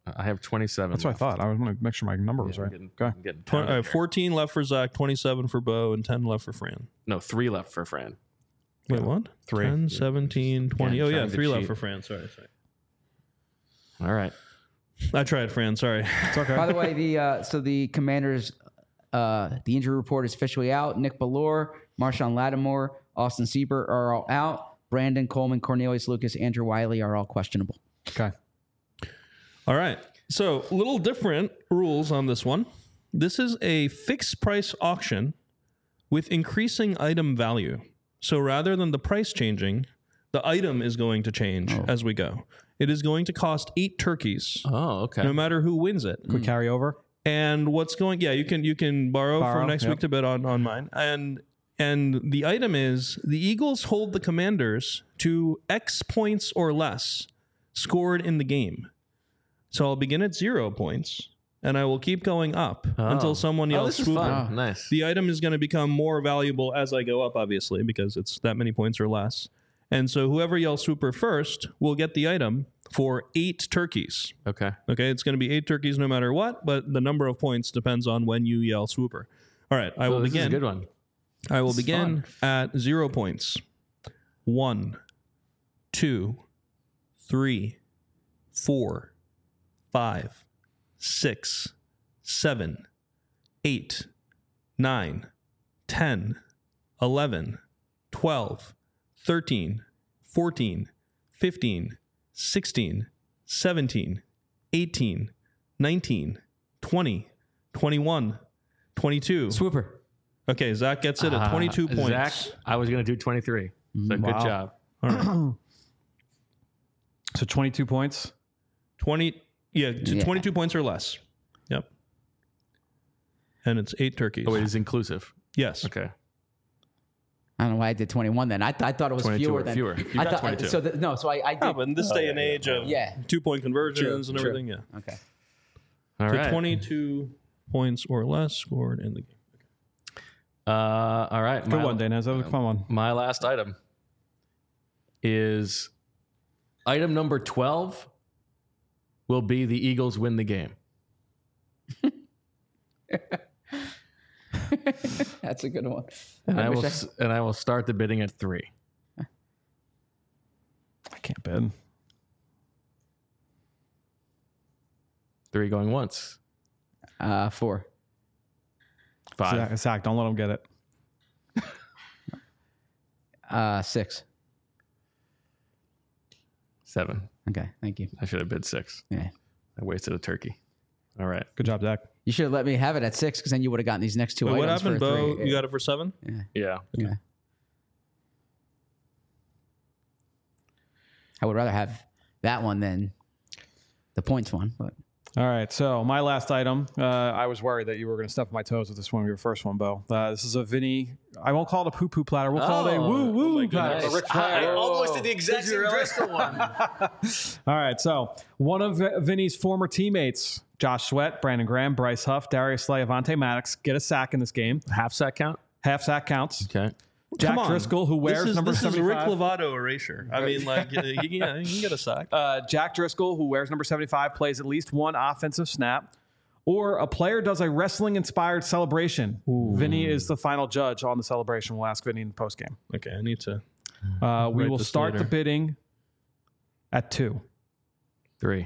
I have 27. That's what I thought. I was going to make sure my number was I'm right. getting, Okay. I'm getting tired here. 14 left for Zach, 27 for Bo, and 10 left for Fran. No, 3 left for Fran. Wait, what? 3. 10, 17, 20. Again, Oh, yeah, trying to 3 left cheat. for Fran. Sorry. All right. I tried, Fran. Sorry. It's okay. By the way, the Commanders, the injury report is officially out. Nick Ballore, Marshawn Lattimore, Austin Siebert are all out. Brandon Coleman, Cornelius Lucas, Andrew Wiley are all questionable. Okay. All right. So, a little different rules on this one. This is a fixed price auction with increasing item value. So, rather than the price changing, the item is going to change as we go. It is going to cost 8 turkeys, Oh, okay. no matter who wins it. Quick carry over. And what's going? Yeah, you can borrow from next yep. week to bet on mine. And the item is the Eagles hold the Commanders to X points or less scored in the game. So I'll begin at 0 points, and I will keep going up until someone Oh, yells this is "Swooper." fun. Nice. The item is going to become more valuable as I go up, obviously, because it's that many points or less. And so whoever yells "Swooper" first will get the item for 8 turkeys. Okay. Okay, it's going to be 8 turkeys no matter what, but the number of points depends on when you yell "Swooper." All right, I will This is a begin. good one. I will begin at 0 points. 1, 2, 3, 4, 5, 6, 7, 8, 9, 10, 11, 12, 13, 14, 15, 16, 17, 18, 19, 20, 21, 22. Swooper. Okay, Zach gets it at 22 points. Zach, I was going to do 23. So good job. So 22 points. 20, yeah, 22 points or less. Yep. And it's 8 turkeys. Oh, it is inclusive. Yes. Okay. I don't know why I did 21 then. I thought it was 22 fewer or than fewer. You I got thought 22. so. So I did. Oh, but in this day and age of 2-point conversions and everything, yeah. Okay. All So right. 22 points or less scored in the game. All right. Good one, Dana. That was a fun one. My last item is item number 12 will be the Eagles win the game. That's a good one. And I wish will start the bidding at 3. I can't bid. 3 going once. 4. 5. Zach, don't let him get it. 6. 7. Okay, thank you. I should have bid 6. Yeah. I wasted a turkey. All right. Good job, Zach. You should have let me have it at 6 because then you would have gotten these next 2 Wait, items what happened, for Bo? 3. You got it for 7? Yeah. Yeah. I would rather have that one than the points one, but All right. So my last item, I was worried that you were going to step on my toes with this one, your first one, Bo. This is a Vinny. I won't call it a poo-poo platter. We'll call it a woo-woo platter. Nice. I almost did the exact same Driscoll one. All right. So one of Vinny's former teammates, Josh Sweat, Brandon Graham, Bryce Huff, Darius Slay, Avante Maddox, get a sack in this game. Half sack count? Half sack counts. Okay. Jack Come on. Driscoll, who wears number this 75. is Rick Lovato erasure. I mean, like, you can get a sack. Jack Driscoll, who wears number 75, plays at least one offensive snap. Or a player does a wrestling-inspired celebration. Vinny is the final judge on the celebration. We'll ask Vinny in the postgame. Okay, I need to. We Write will this start later. the bidding at 2. 3.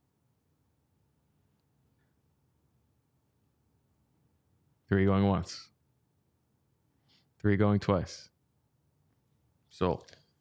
3 going once. 3 going twice. Sold.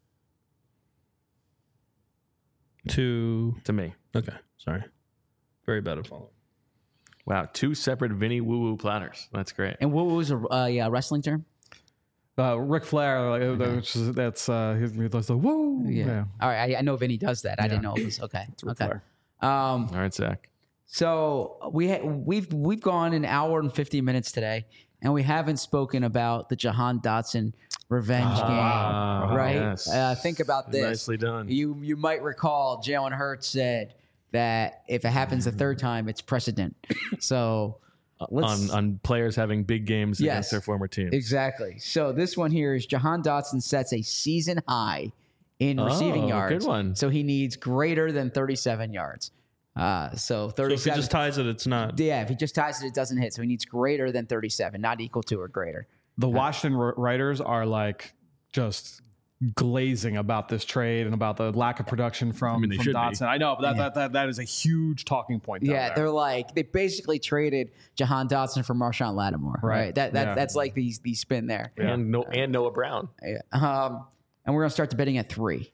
To me. Okay, sorry. Very bad at following. Wow. 2 separate Vinny woo-woo platters. That's great. and what was a wrestling term? Ric Flair, that's he does the woo. Yeah. All right, I know Vinny does that. I didn't know it was okay. Ric Okay. Flair. All right, Zach. So we've gone an hour and 50 minutes today, and we haven't spoken about the Jahan Dotson revenge game, right? yes. Think about this. Nicely done. You might recall Jalen Hurts said that if it happens the third time, it's precedent. So let's on players having big games Yes. against their former teams. exactly. So this one here is Jahan Dotson sets a season high in receiving yards. Good one. So he needs greater than 37 yards. So So 37. if he just ties it, it's not. Yeah, if he just ties it, it doesn't hit. So he needs greater than 37, not equal to or greater. The Washington writers are like just glazing about this trade and about the lack of production from they should be. Dotson. I know, but that is a huge talking point. Down Yeah, there. they're like they basically traded Jahan Dotson for Marshawn Lattimore, right? That's like the spin there. And Noah Brown. Yeah. And we're gonna start the betting at 3.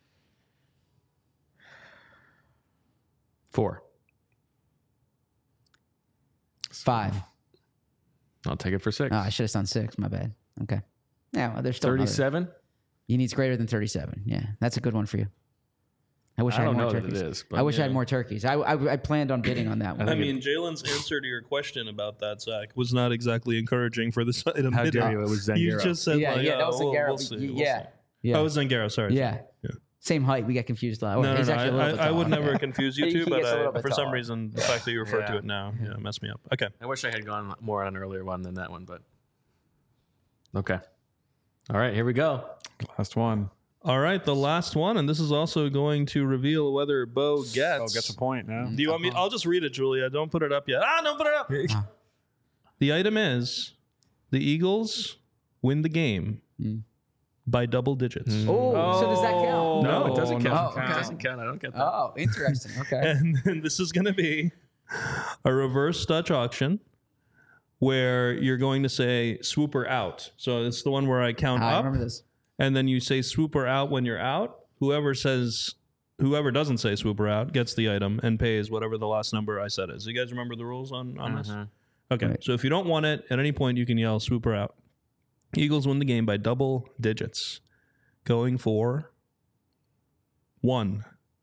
4. 5. I'll take it for 6. Oh, I should have done 6. My bad. Okay. Yeah, well, there's still 37. He needs greater than 37. Yeah, that's a good one for you. I wish I, I had don't more know that turkeys. it is, but I wish I had more turkeys. I planned on bidding on that one. I mean, Jalen's answer to your question about that, Zach, was not exactly encouraging for this item. How dare you? It was You Zangaro. just said, yeah, like, that was Zangaro. We'll see, we'll yeah, see. yeah, Oh, it was Zangaro. Sorry. yeah. Same height. We got confused a lot. No, He's actually a little bit I would taller. never Yeah. confuse you He two, gets a little but bit for some taller. reason, the fact that you refer Yeah. to it now, messed me up. Okay. I wish I had gone more on an earlier one than that one, but okay. All right, here we go. Last one. All right, the last one, and this is also going to reveal whether Bo gets. Oh, gets a point now. Do you want me? I'll just read it, Julia. Don't put it up yet. Don't put it up. The item is the Eagles win the game by double digits. Oh, so does that count? No, it doesn't count. Oh, okay. It doesn't count. I don't get that. Oh, interesting. Okay. And then this is going to be a reverse Dutch auction where you're going to say swooper out. So it's the one where I count I up, remember this. and then you say swooper out when you're out. Whoever doesn't say swooper out gets the item and pays whatever the last number I said is. You guys remember the rules on this? Okay. Right. So if you don't want it, at any point you can yell swooper out. Eagles win the game by double digits. Going for 1,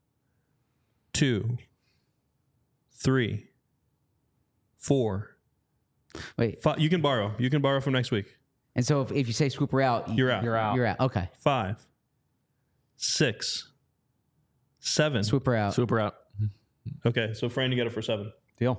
2, 3, 4, Wait. 5. You can borrow. You can borrow from next week. And so if you say swooper out, You're out. You're out. You're out. Okay. 5, 6, 7. Swooper out. Super out. Okay, so Fran, you get it for 7. Deal.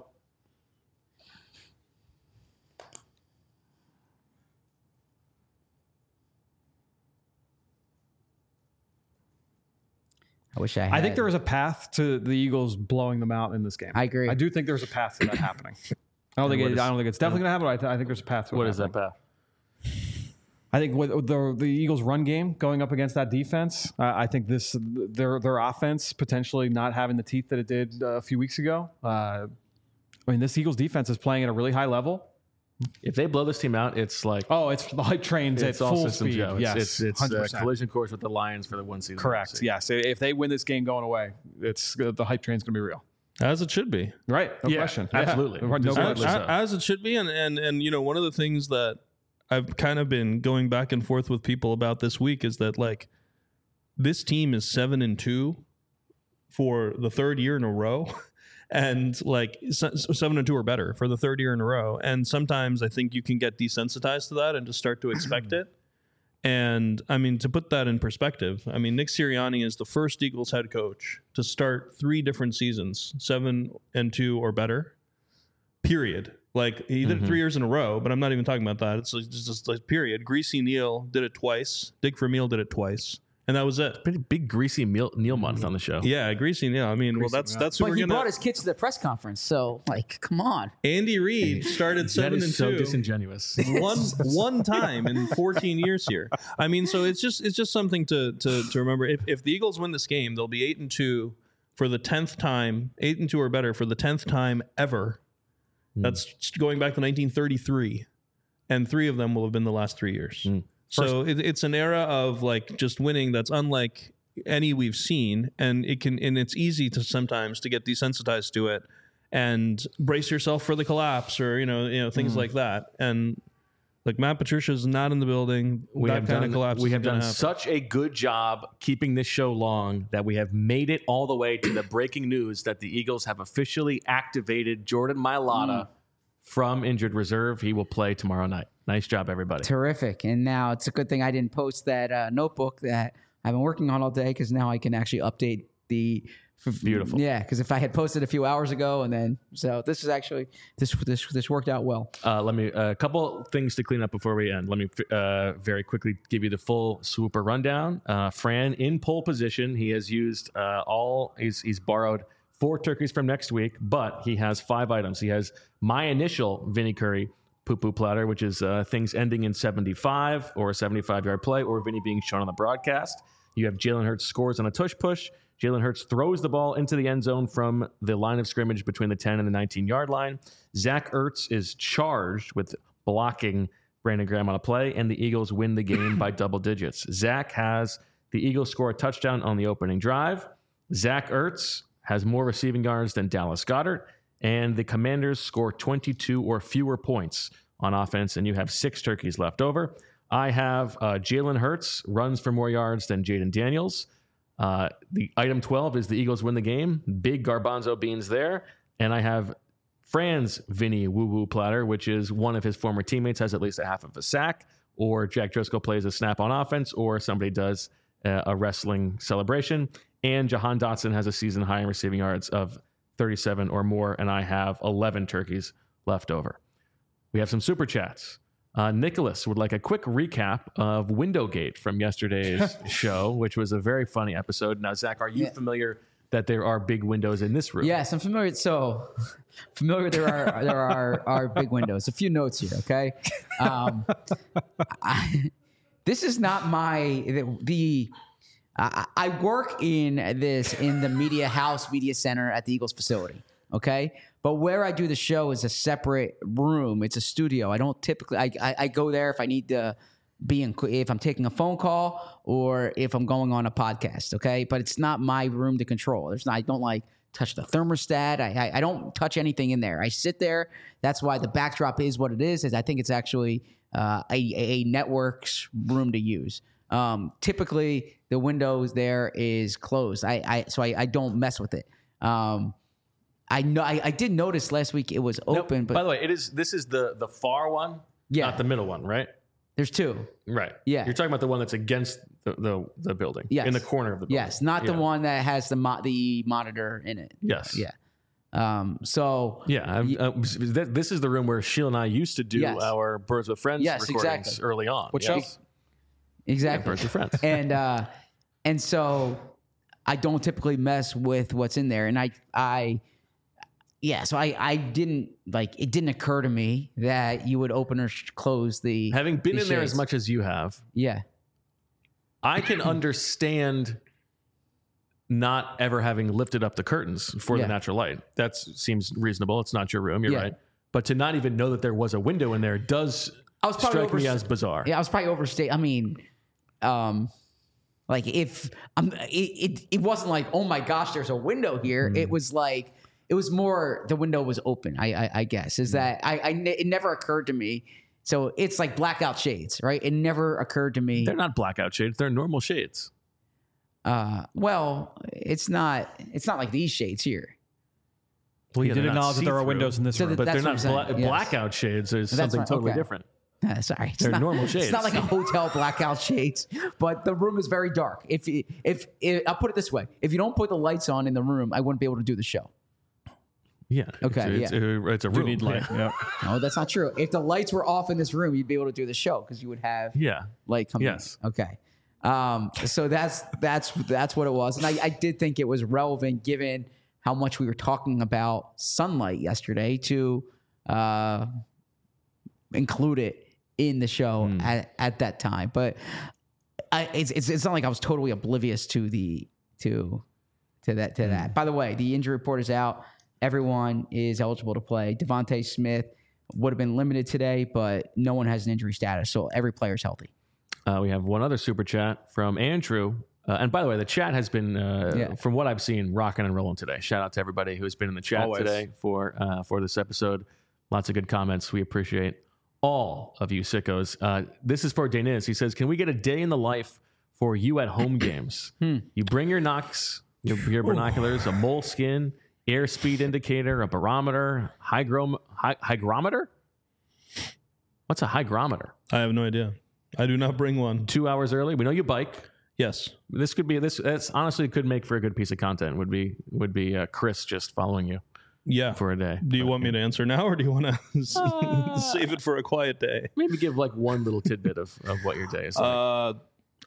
I wish I had. I think there is a path to the Eagles blowing them out in this game. I agree. I do think there's a path to that happening. I don't think it's definitely going to happen. But I think there's a path to it. What is that happening. path? I think with the Eagles' run game going up against that defense, I think their offense potentially not having the teeth that it did a few weeks ago. I mean, this Eagles defense is playing at a really high level. If they blow this team out, it's like Oh, it's the hype trains at it's all full systems speed. go. Yes, It's 100%. collision course with the Lions for the 1 season. Correct. Yes. If they win this game going away, it's the hype train's going to be real. As it should be. Right. No Yeah, question. absolutely. Yeah. No Deservedly question. so. As it should be. And you know, one of the things that I've kind of been going back and forth with people about this week is that, like, this team is 7-2 for the third year in a row. And like 7-2 or better for the third year in a row. And sometimes I think you can get desensitized to that and just start to expect it. And I mean, to put that in perspective, I mean, Nick Sirianni is the first Eagles head coach to start 3 different seasons, 7-2 or better, period. Like, he did it 3 years in a row, but I'm not even talking about that. It's just like period. Greasy Neal did it twice. Dick Vermeil did it twice. And that was it. Pretty big greasy Neil month on the show. Yeah, Greasy Neal. I mean, well, that's who But we're he gonna. brought his kids to the press conference, so like, come on. Andy Reid started That 7-2. is so disingenuous. one time in 14 years here. I mean, so it's just something to remember. If the Eagles win this game, they'll be 8-2 for the 10th time, 8-2 or better for the 10th time ever. That's going back to 1933, and 3 of them will have been the last 3 years. So it's an era of like just winning that's unlike any we've seen, and it's easy to sometimes to get desensitized to it and brace yourself for the collapse or you know things like that. And like, Matt Patricia's not in the building. We have kind of collapse. We isn't have gonna done happen. such a good job keeping this show long that we have made it all the way to the breaking news that the Eagles have officially activated Jordan Mailata from injured reserve. He will play tomorrow night. Nice job, everybody. Terrific. And now it's a good thing I didn't post that notebook that I've been working on all day, because now I can actually update the. Beautiful. Yeah, because if I had posted a few hours ago, and then so this is actually this worked out well. Let me a couple things to clean up before we end. Let me very quickly give you the full swooper rundown. Fran in pole position. He has used he's borrowed 4 turkeys from next week, but he has 5 items. He has my initial Vinny Curry poo-poo platter, which is things ending in 75 or a 75-yard play or Vinny being shown on the broadcast. You have Jalen Hurts scores on a tush push. Jalen Hurts throws the ball into the end zone from the line of scrimmage between the 10 and the 19-yard line. Zach Ertz is charged with blocking Brandon Graham on a play, and the Eagles win the game by double digits. Zach has the Eagles score a touchdown on the opening drive. Zach Ertz has more receiving yards than Dallas Goedert, and the Commanders score 22 or fewer points on offense, and you have 6 turkeys left over. I have Jalen Hurts runs for more yards than Jaden Daniels. The item 12 is the Eagles win the game. Big garbanzo beans there. And I have Fran's Vinny woo-woo platter, which is one of his former teammates has at least a half of a sack, or Jack Driscoll plays a snap on offense, or somebody does a wrestling celebration. And Jahan Dotson has a season high in receiving yards of 37 or more, and I have 11 turkeys left over. We have some super chats. Nicholas would like a quick recap of Windowgate from yesterday's show, which was a very funny episode. Now, Zach, are you familiar that there are big windows in this room? Yes, I'm familiar. So familiar there are big windows. A few notes here, okay? This is not I work in the media house, media center at the Eagles facility, okay? But where I do the show is a separate room. It's a studio. I don't typically, I go there if I need to if I'm taking a phone call or if I'm going on a podcast, okay? But it's not my room to control. I don't touch the thermostat. I don't touch anything in there. I sit there. That's why the backdrop is what it is I think it's actually a network's room to use. Typically the windows there is closed. So I don't mess with it. I know I did notice last week it was open. But by the way, this is the far one, not the middle one, right? There's 2. Right. Yeah. You're talking about the one that's against the building. Yes. In the corner of the building. Yes, not the one that has the monitor in it. Yes. Yeah. This is the room where Sheila and I used to do our Birds with Friends recordings early on. Which show? Exactly. Yeah, Birds with Friends. And so I don't typically mess with what's in there. And so I didn't it didn't occur to me that you would open or close the having been in shades. there as much as you have. Yeah. I can understand not ever having lifted up the curtains for the natural light. That seems reasonable. It's not your room. You're right. But to not even know that there was a window in there does strike me as bizarre. Yeah, I was probably overstating. I mean, if it wasn't like, oh my gosh, there's a window here. It was like, it was more the window was open. I guess is that it never occurred to me. So it's like blackout shades, right? It never occurred to me. They're not blackout shades. They're normal shades. Well, it's not like these shades here. Well, you did acknowledge that there are windows in this room. But they're not yes. blackout shades. There's something totally different. Sorry, they're normal shades. It's not like a hotel blackout shades, but the room is very dark. If I'll put it this way, if you don't put the lights on in the room, I wouldn't be able to do the show. Yeah. Okay. It's a room. You need light. Yeah. No, that's not true. If the lights were off in this room, you'd be able to do the show because you would have light coming. Yes. In. Okay. So that's what it was, and I did think it was relevant given how much we were talking about sunlight yesterday to include it in the show at that time. But it's not like I was totally oblivious to that. By the way, the injury report is out. Everyone is eligible to play. Devontae Smith would have been limited today, but no one has an injury status, so every player is healthy. We have one other super chat from Andrew. And by the way, the chat has been, from what I've seen, rocking and rolling today. Shout out to everybody who has been in the chat today for this episode. Lots of good comments. We appreciate all of you sickos. This is for Deniz. He says, can we get a day in the life for you at home games? You bring your Knox, your binoculars, a moleskin, airspeed indicator, a barometer, hygrometer? What's a hygrometer? I have no idea. I do not bring one. 2 hours early. We know you bike. Yes. This honestly could make for a good piece of content. Would be Chris just following you. Yeah. For a day. Do you want me to answer now, or do you want to save it for a quiet day? Maybe give like one little tidbit of what your day is like.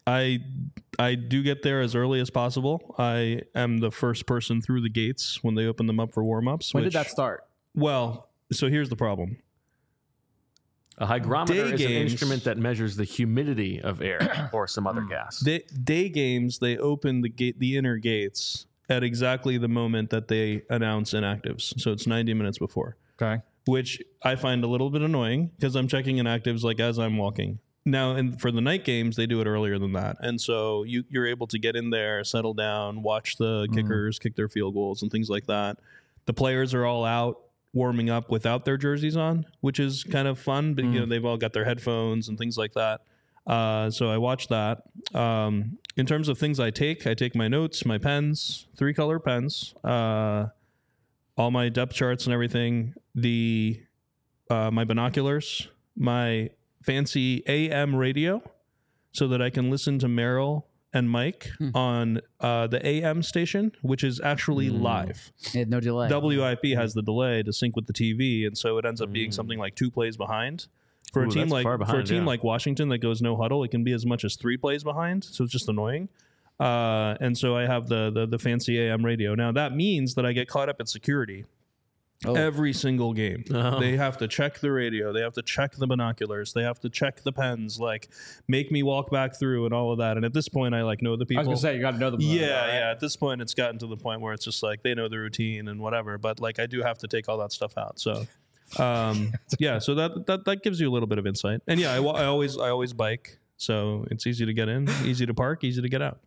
I do get there as early as possible. I am the first person through the gates when they open them up for warm-ups. When did that start? Well, so here's the problem. A hygrometer Day is an games- instrument that measures the humidity of air or some other gas. Day games, they open the inner gates at exactly the moment that they announce inactives. So it's 90 minutes before, Okay. which I find a little bit annoying because I'm checking inactives like as I'm walking. Now, and for the night games, they do it earlier than that. And so you're able to get in there, settle down, watch the kickers kick their field goals and things like that. The players are all out warming up without their jerseys on, which is kind of fun. But, you know, they've all got their headphones and things like that. So I watch that. In terms of things I take my notes, my pens, 3-color pens, all my depth charts and everything, my binoculars, my fancy AM radio so that I can listen to Merrill and Mike on the AM station, which is actually live. Yeah, no delay. WIP has the delay to sync with the TV, and so it ends up being something like 2 plays behind. For a Ooh, team that's like far behind, yeah. like Washington that goes no huddle, it can be as much as 3 plays behind. So it's just annoying. And so I have the fancy AM radio. Now that means that I get caught up at security. Every single game. They have to check the radio. They have to check the binoculars. They have to check the pens, like make me walk back through and all of that. And at this point, I like know the I people. was gonna say you got to know them. Yeah. At this point, it's gotten to the point where it's just like they know the routine and whatever. But like I do have to take all that stuff out. So, yeah. So that gives you a little bit of insight. And yeah, I always bike, so it's easy to get in, easy to park, easy to get out.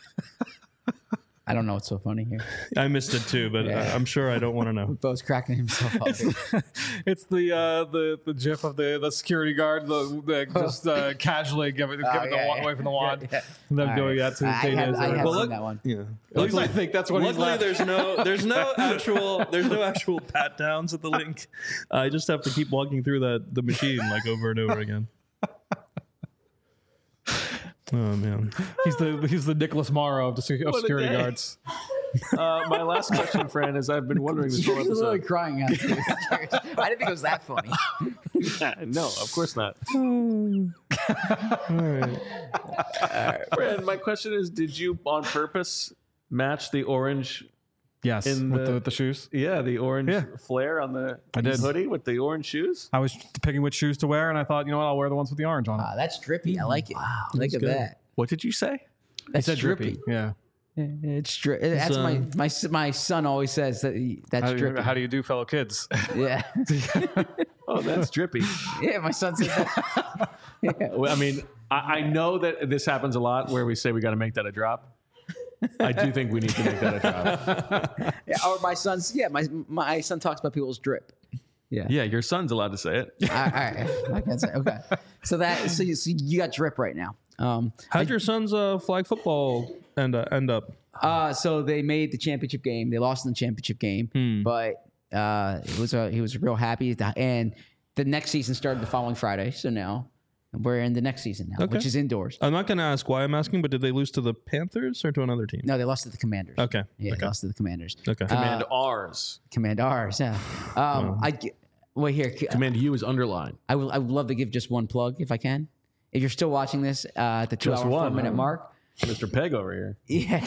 I don't know what's so funny here. I missed it too, but I'm sure I don't want to know. Bo's cracking himself up. Here. It's the gif of the security guard just casually giving the walk away from the wand. Yeah. And them All doing right. that to I have Well, seen look- that one. Yeah. At least I think that's what he's Luckily, laughing. there's no actual pat downs at the link. I just have to keep walking through the machine like over and over again. Oh man, He's the Nicholas Morrow of security day. guards. My last question, Fran, is I've been wondering this whole You're literally episode. crying out. I didn't think it was that funny. No, of course not. Fran, my question is, did you on purpose match the orange? Yes, In with the shoes. Yeah, the orange Yeah. flare on the I did. hoodie with the orange shoes. I was picking which shoes to wear, and I thought, you know what, I'll wear the ones with the orange on. That's drippy. I like it. Look at that. What did you say? That's drippy. Yeah. It's drippy. That's my son always says that's drippy. How do you do, fellow kids? Yeah. Oh, that's drippy. Yeah, my son says that. Well, I mean, I know that this happens a lot where we say we got to make that a drop. I do think we need to make that a drop. Yeah, or my son's, my son talks about people's drip. Yeah. Yeah, your son's allowed to say it. All right. I can say, okay. So you got drip right now. how'd your son's flag football end up? So they made the championship game. They lost in the championship game, but he was real happy. And the next season started the following Friday. So now we're in the next season now, which is indoors. I'm not going to ask why I'm asking, but did they lose to the Panthers or to another team? No, they lost to the Commanders. Okay. Yeah, Okay. they lost to the Commanders. Okay. Command R's. Commanders. Yeah. Well, here, Command U is underlined. I would love to give just one plug if I can. If you're still watching this at the 2 Just hour, one, 4 minute huh? mark, Mr. Peg over here. yeah.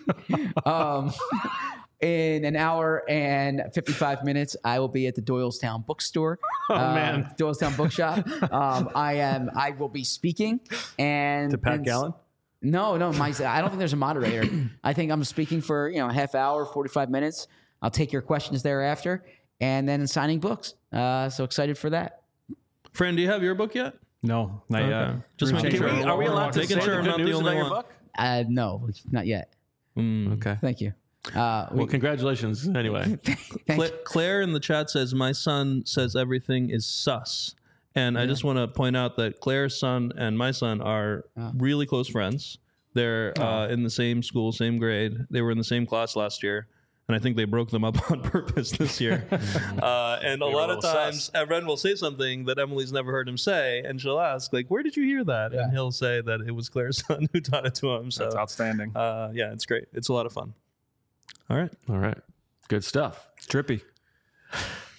In an hour and 55 minutes, I will be at the Doylestown Bookstore. Man. Doylestown Bookshop. I will be speaking. And To Pat Gallen? No, I don't think there's a moderator. I think I'm speaking for a half hour, 45 minutes. I'll take your questions thereafter, and then signing books. So excited for that. Fran, do you have your book yet? No, not yet. Okay. Just making sure. Are we allowed to Making say sure the I'm good not the news only about your one. book? No, not yet. Okay. Thank you. Well, congratulations anyway. Claire in the chat says, my son says everything is sus. And I just want to point out that Claire's son and my son are really close friends. They're in the same school, same grade. They were in the same class last year. And I think they broke them up on purpose this year. And a lot of times, Ren will say something that Emily's never heard him say. And she'll ask, like, where did you hear that? And he'll say that it was Claire's son who taught it to him. So, That's outstanding. yeah, it's great. It's a lot of fun. All right. All right. Good stuff. Drippy.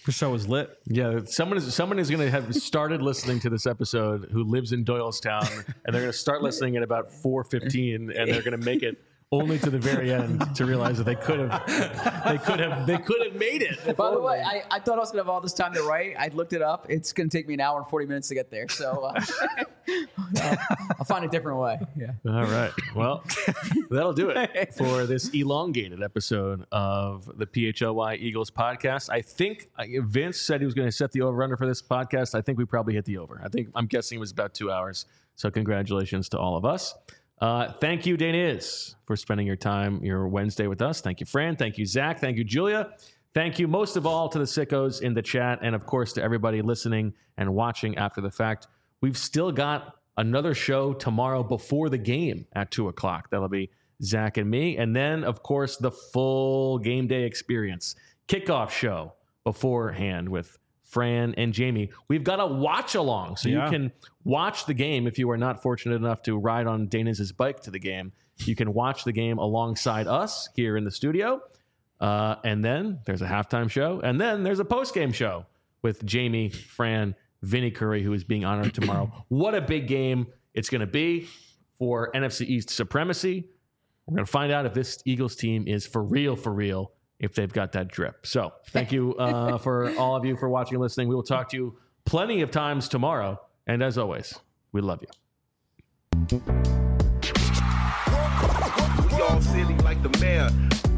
The show is lit. Yeah, someone is going to have started listening to this episode who lives in Doylestown, and they're going to start listening at about 4:15, and they're going to make it only to the very end to realize that they could have made it. By the way, I thought I was gonna have all this time to write. I looked it up. It's gonna take me an hour and 40 minutes to get there. So I'll find a different way. Yeah. All right. Well, that'll do it for this elongated episode of the PHLY Eagles podcast. I think Vince said he was going to set the over-under for this podcast. I think we probably hit the over. I'm guessing it was about 2 hours. So congratulations to all of us. Thank you, Daniz, for spending your Wednesday with us. Thank you, Fran. Thank you, Zach. Thank you, Julia. Thank you most of all to the sickos in the chat, and of course to everybody listening and watching after the fact. We've still got another show tomorrow before the game at 2:00. That'll be Zach and me. And then, of course, the full game day experience kickoff show beforehand with Fran and Jamie. We've got a watch along, so you can watch the game if you are not fortunate enough to ride on Daniz's bike to the game. You can watch the game alongside us here in the studio. And then there's a halftime show. And then there's a post-game show with Jamie, Fran, Vinny Curry, who is being honored tomorrow. What a big game it's going to be for NFC East supremacy. We're going to find out if this Eagles team is for real, if they've got that drip. So thank you for all of you for watching and listening. We will talk to you plenty of times tomorrow. And as always, we love you. We all silly like the mayor.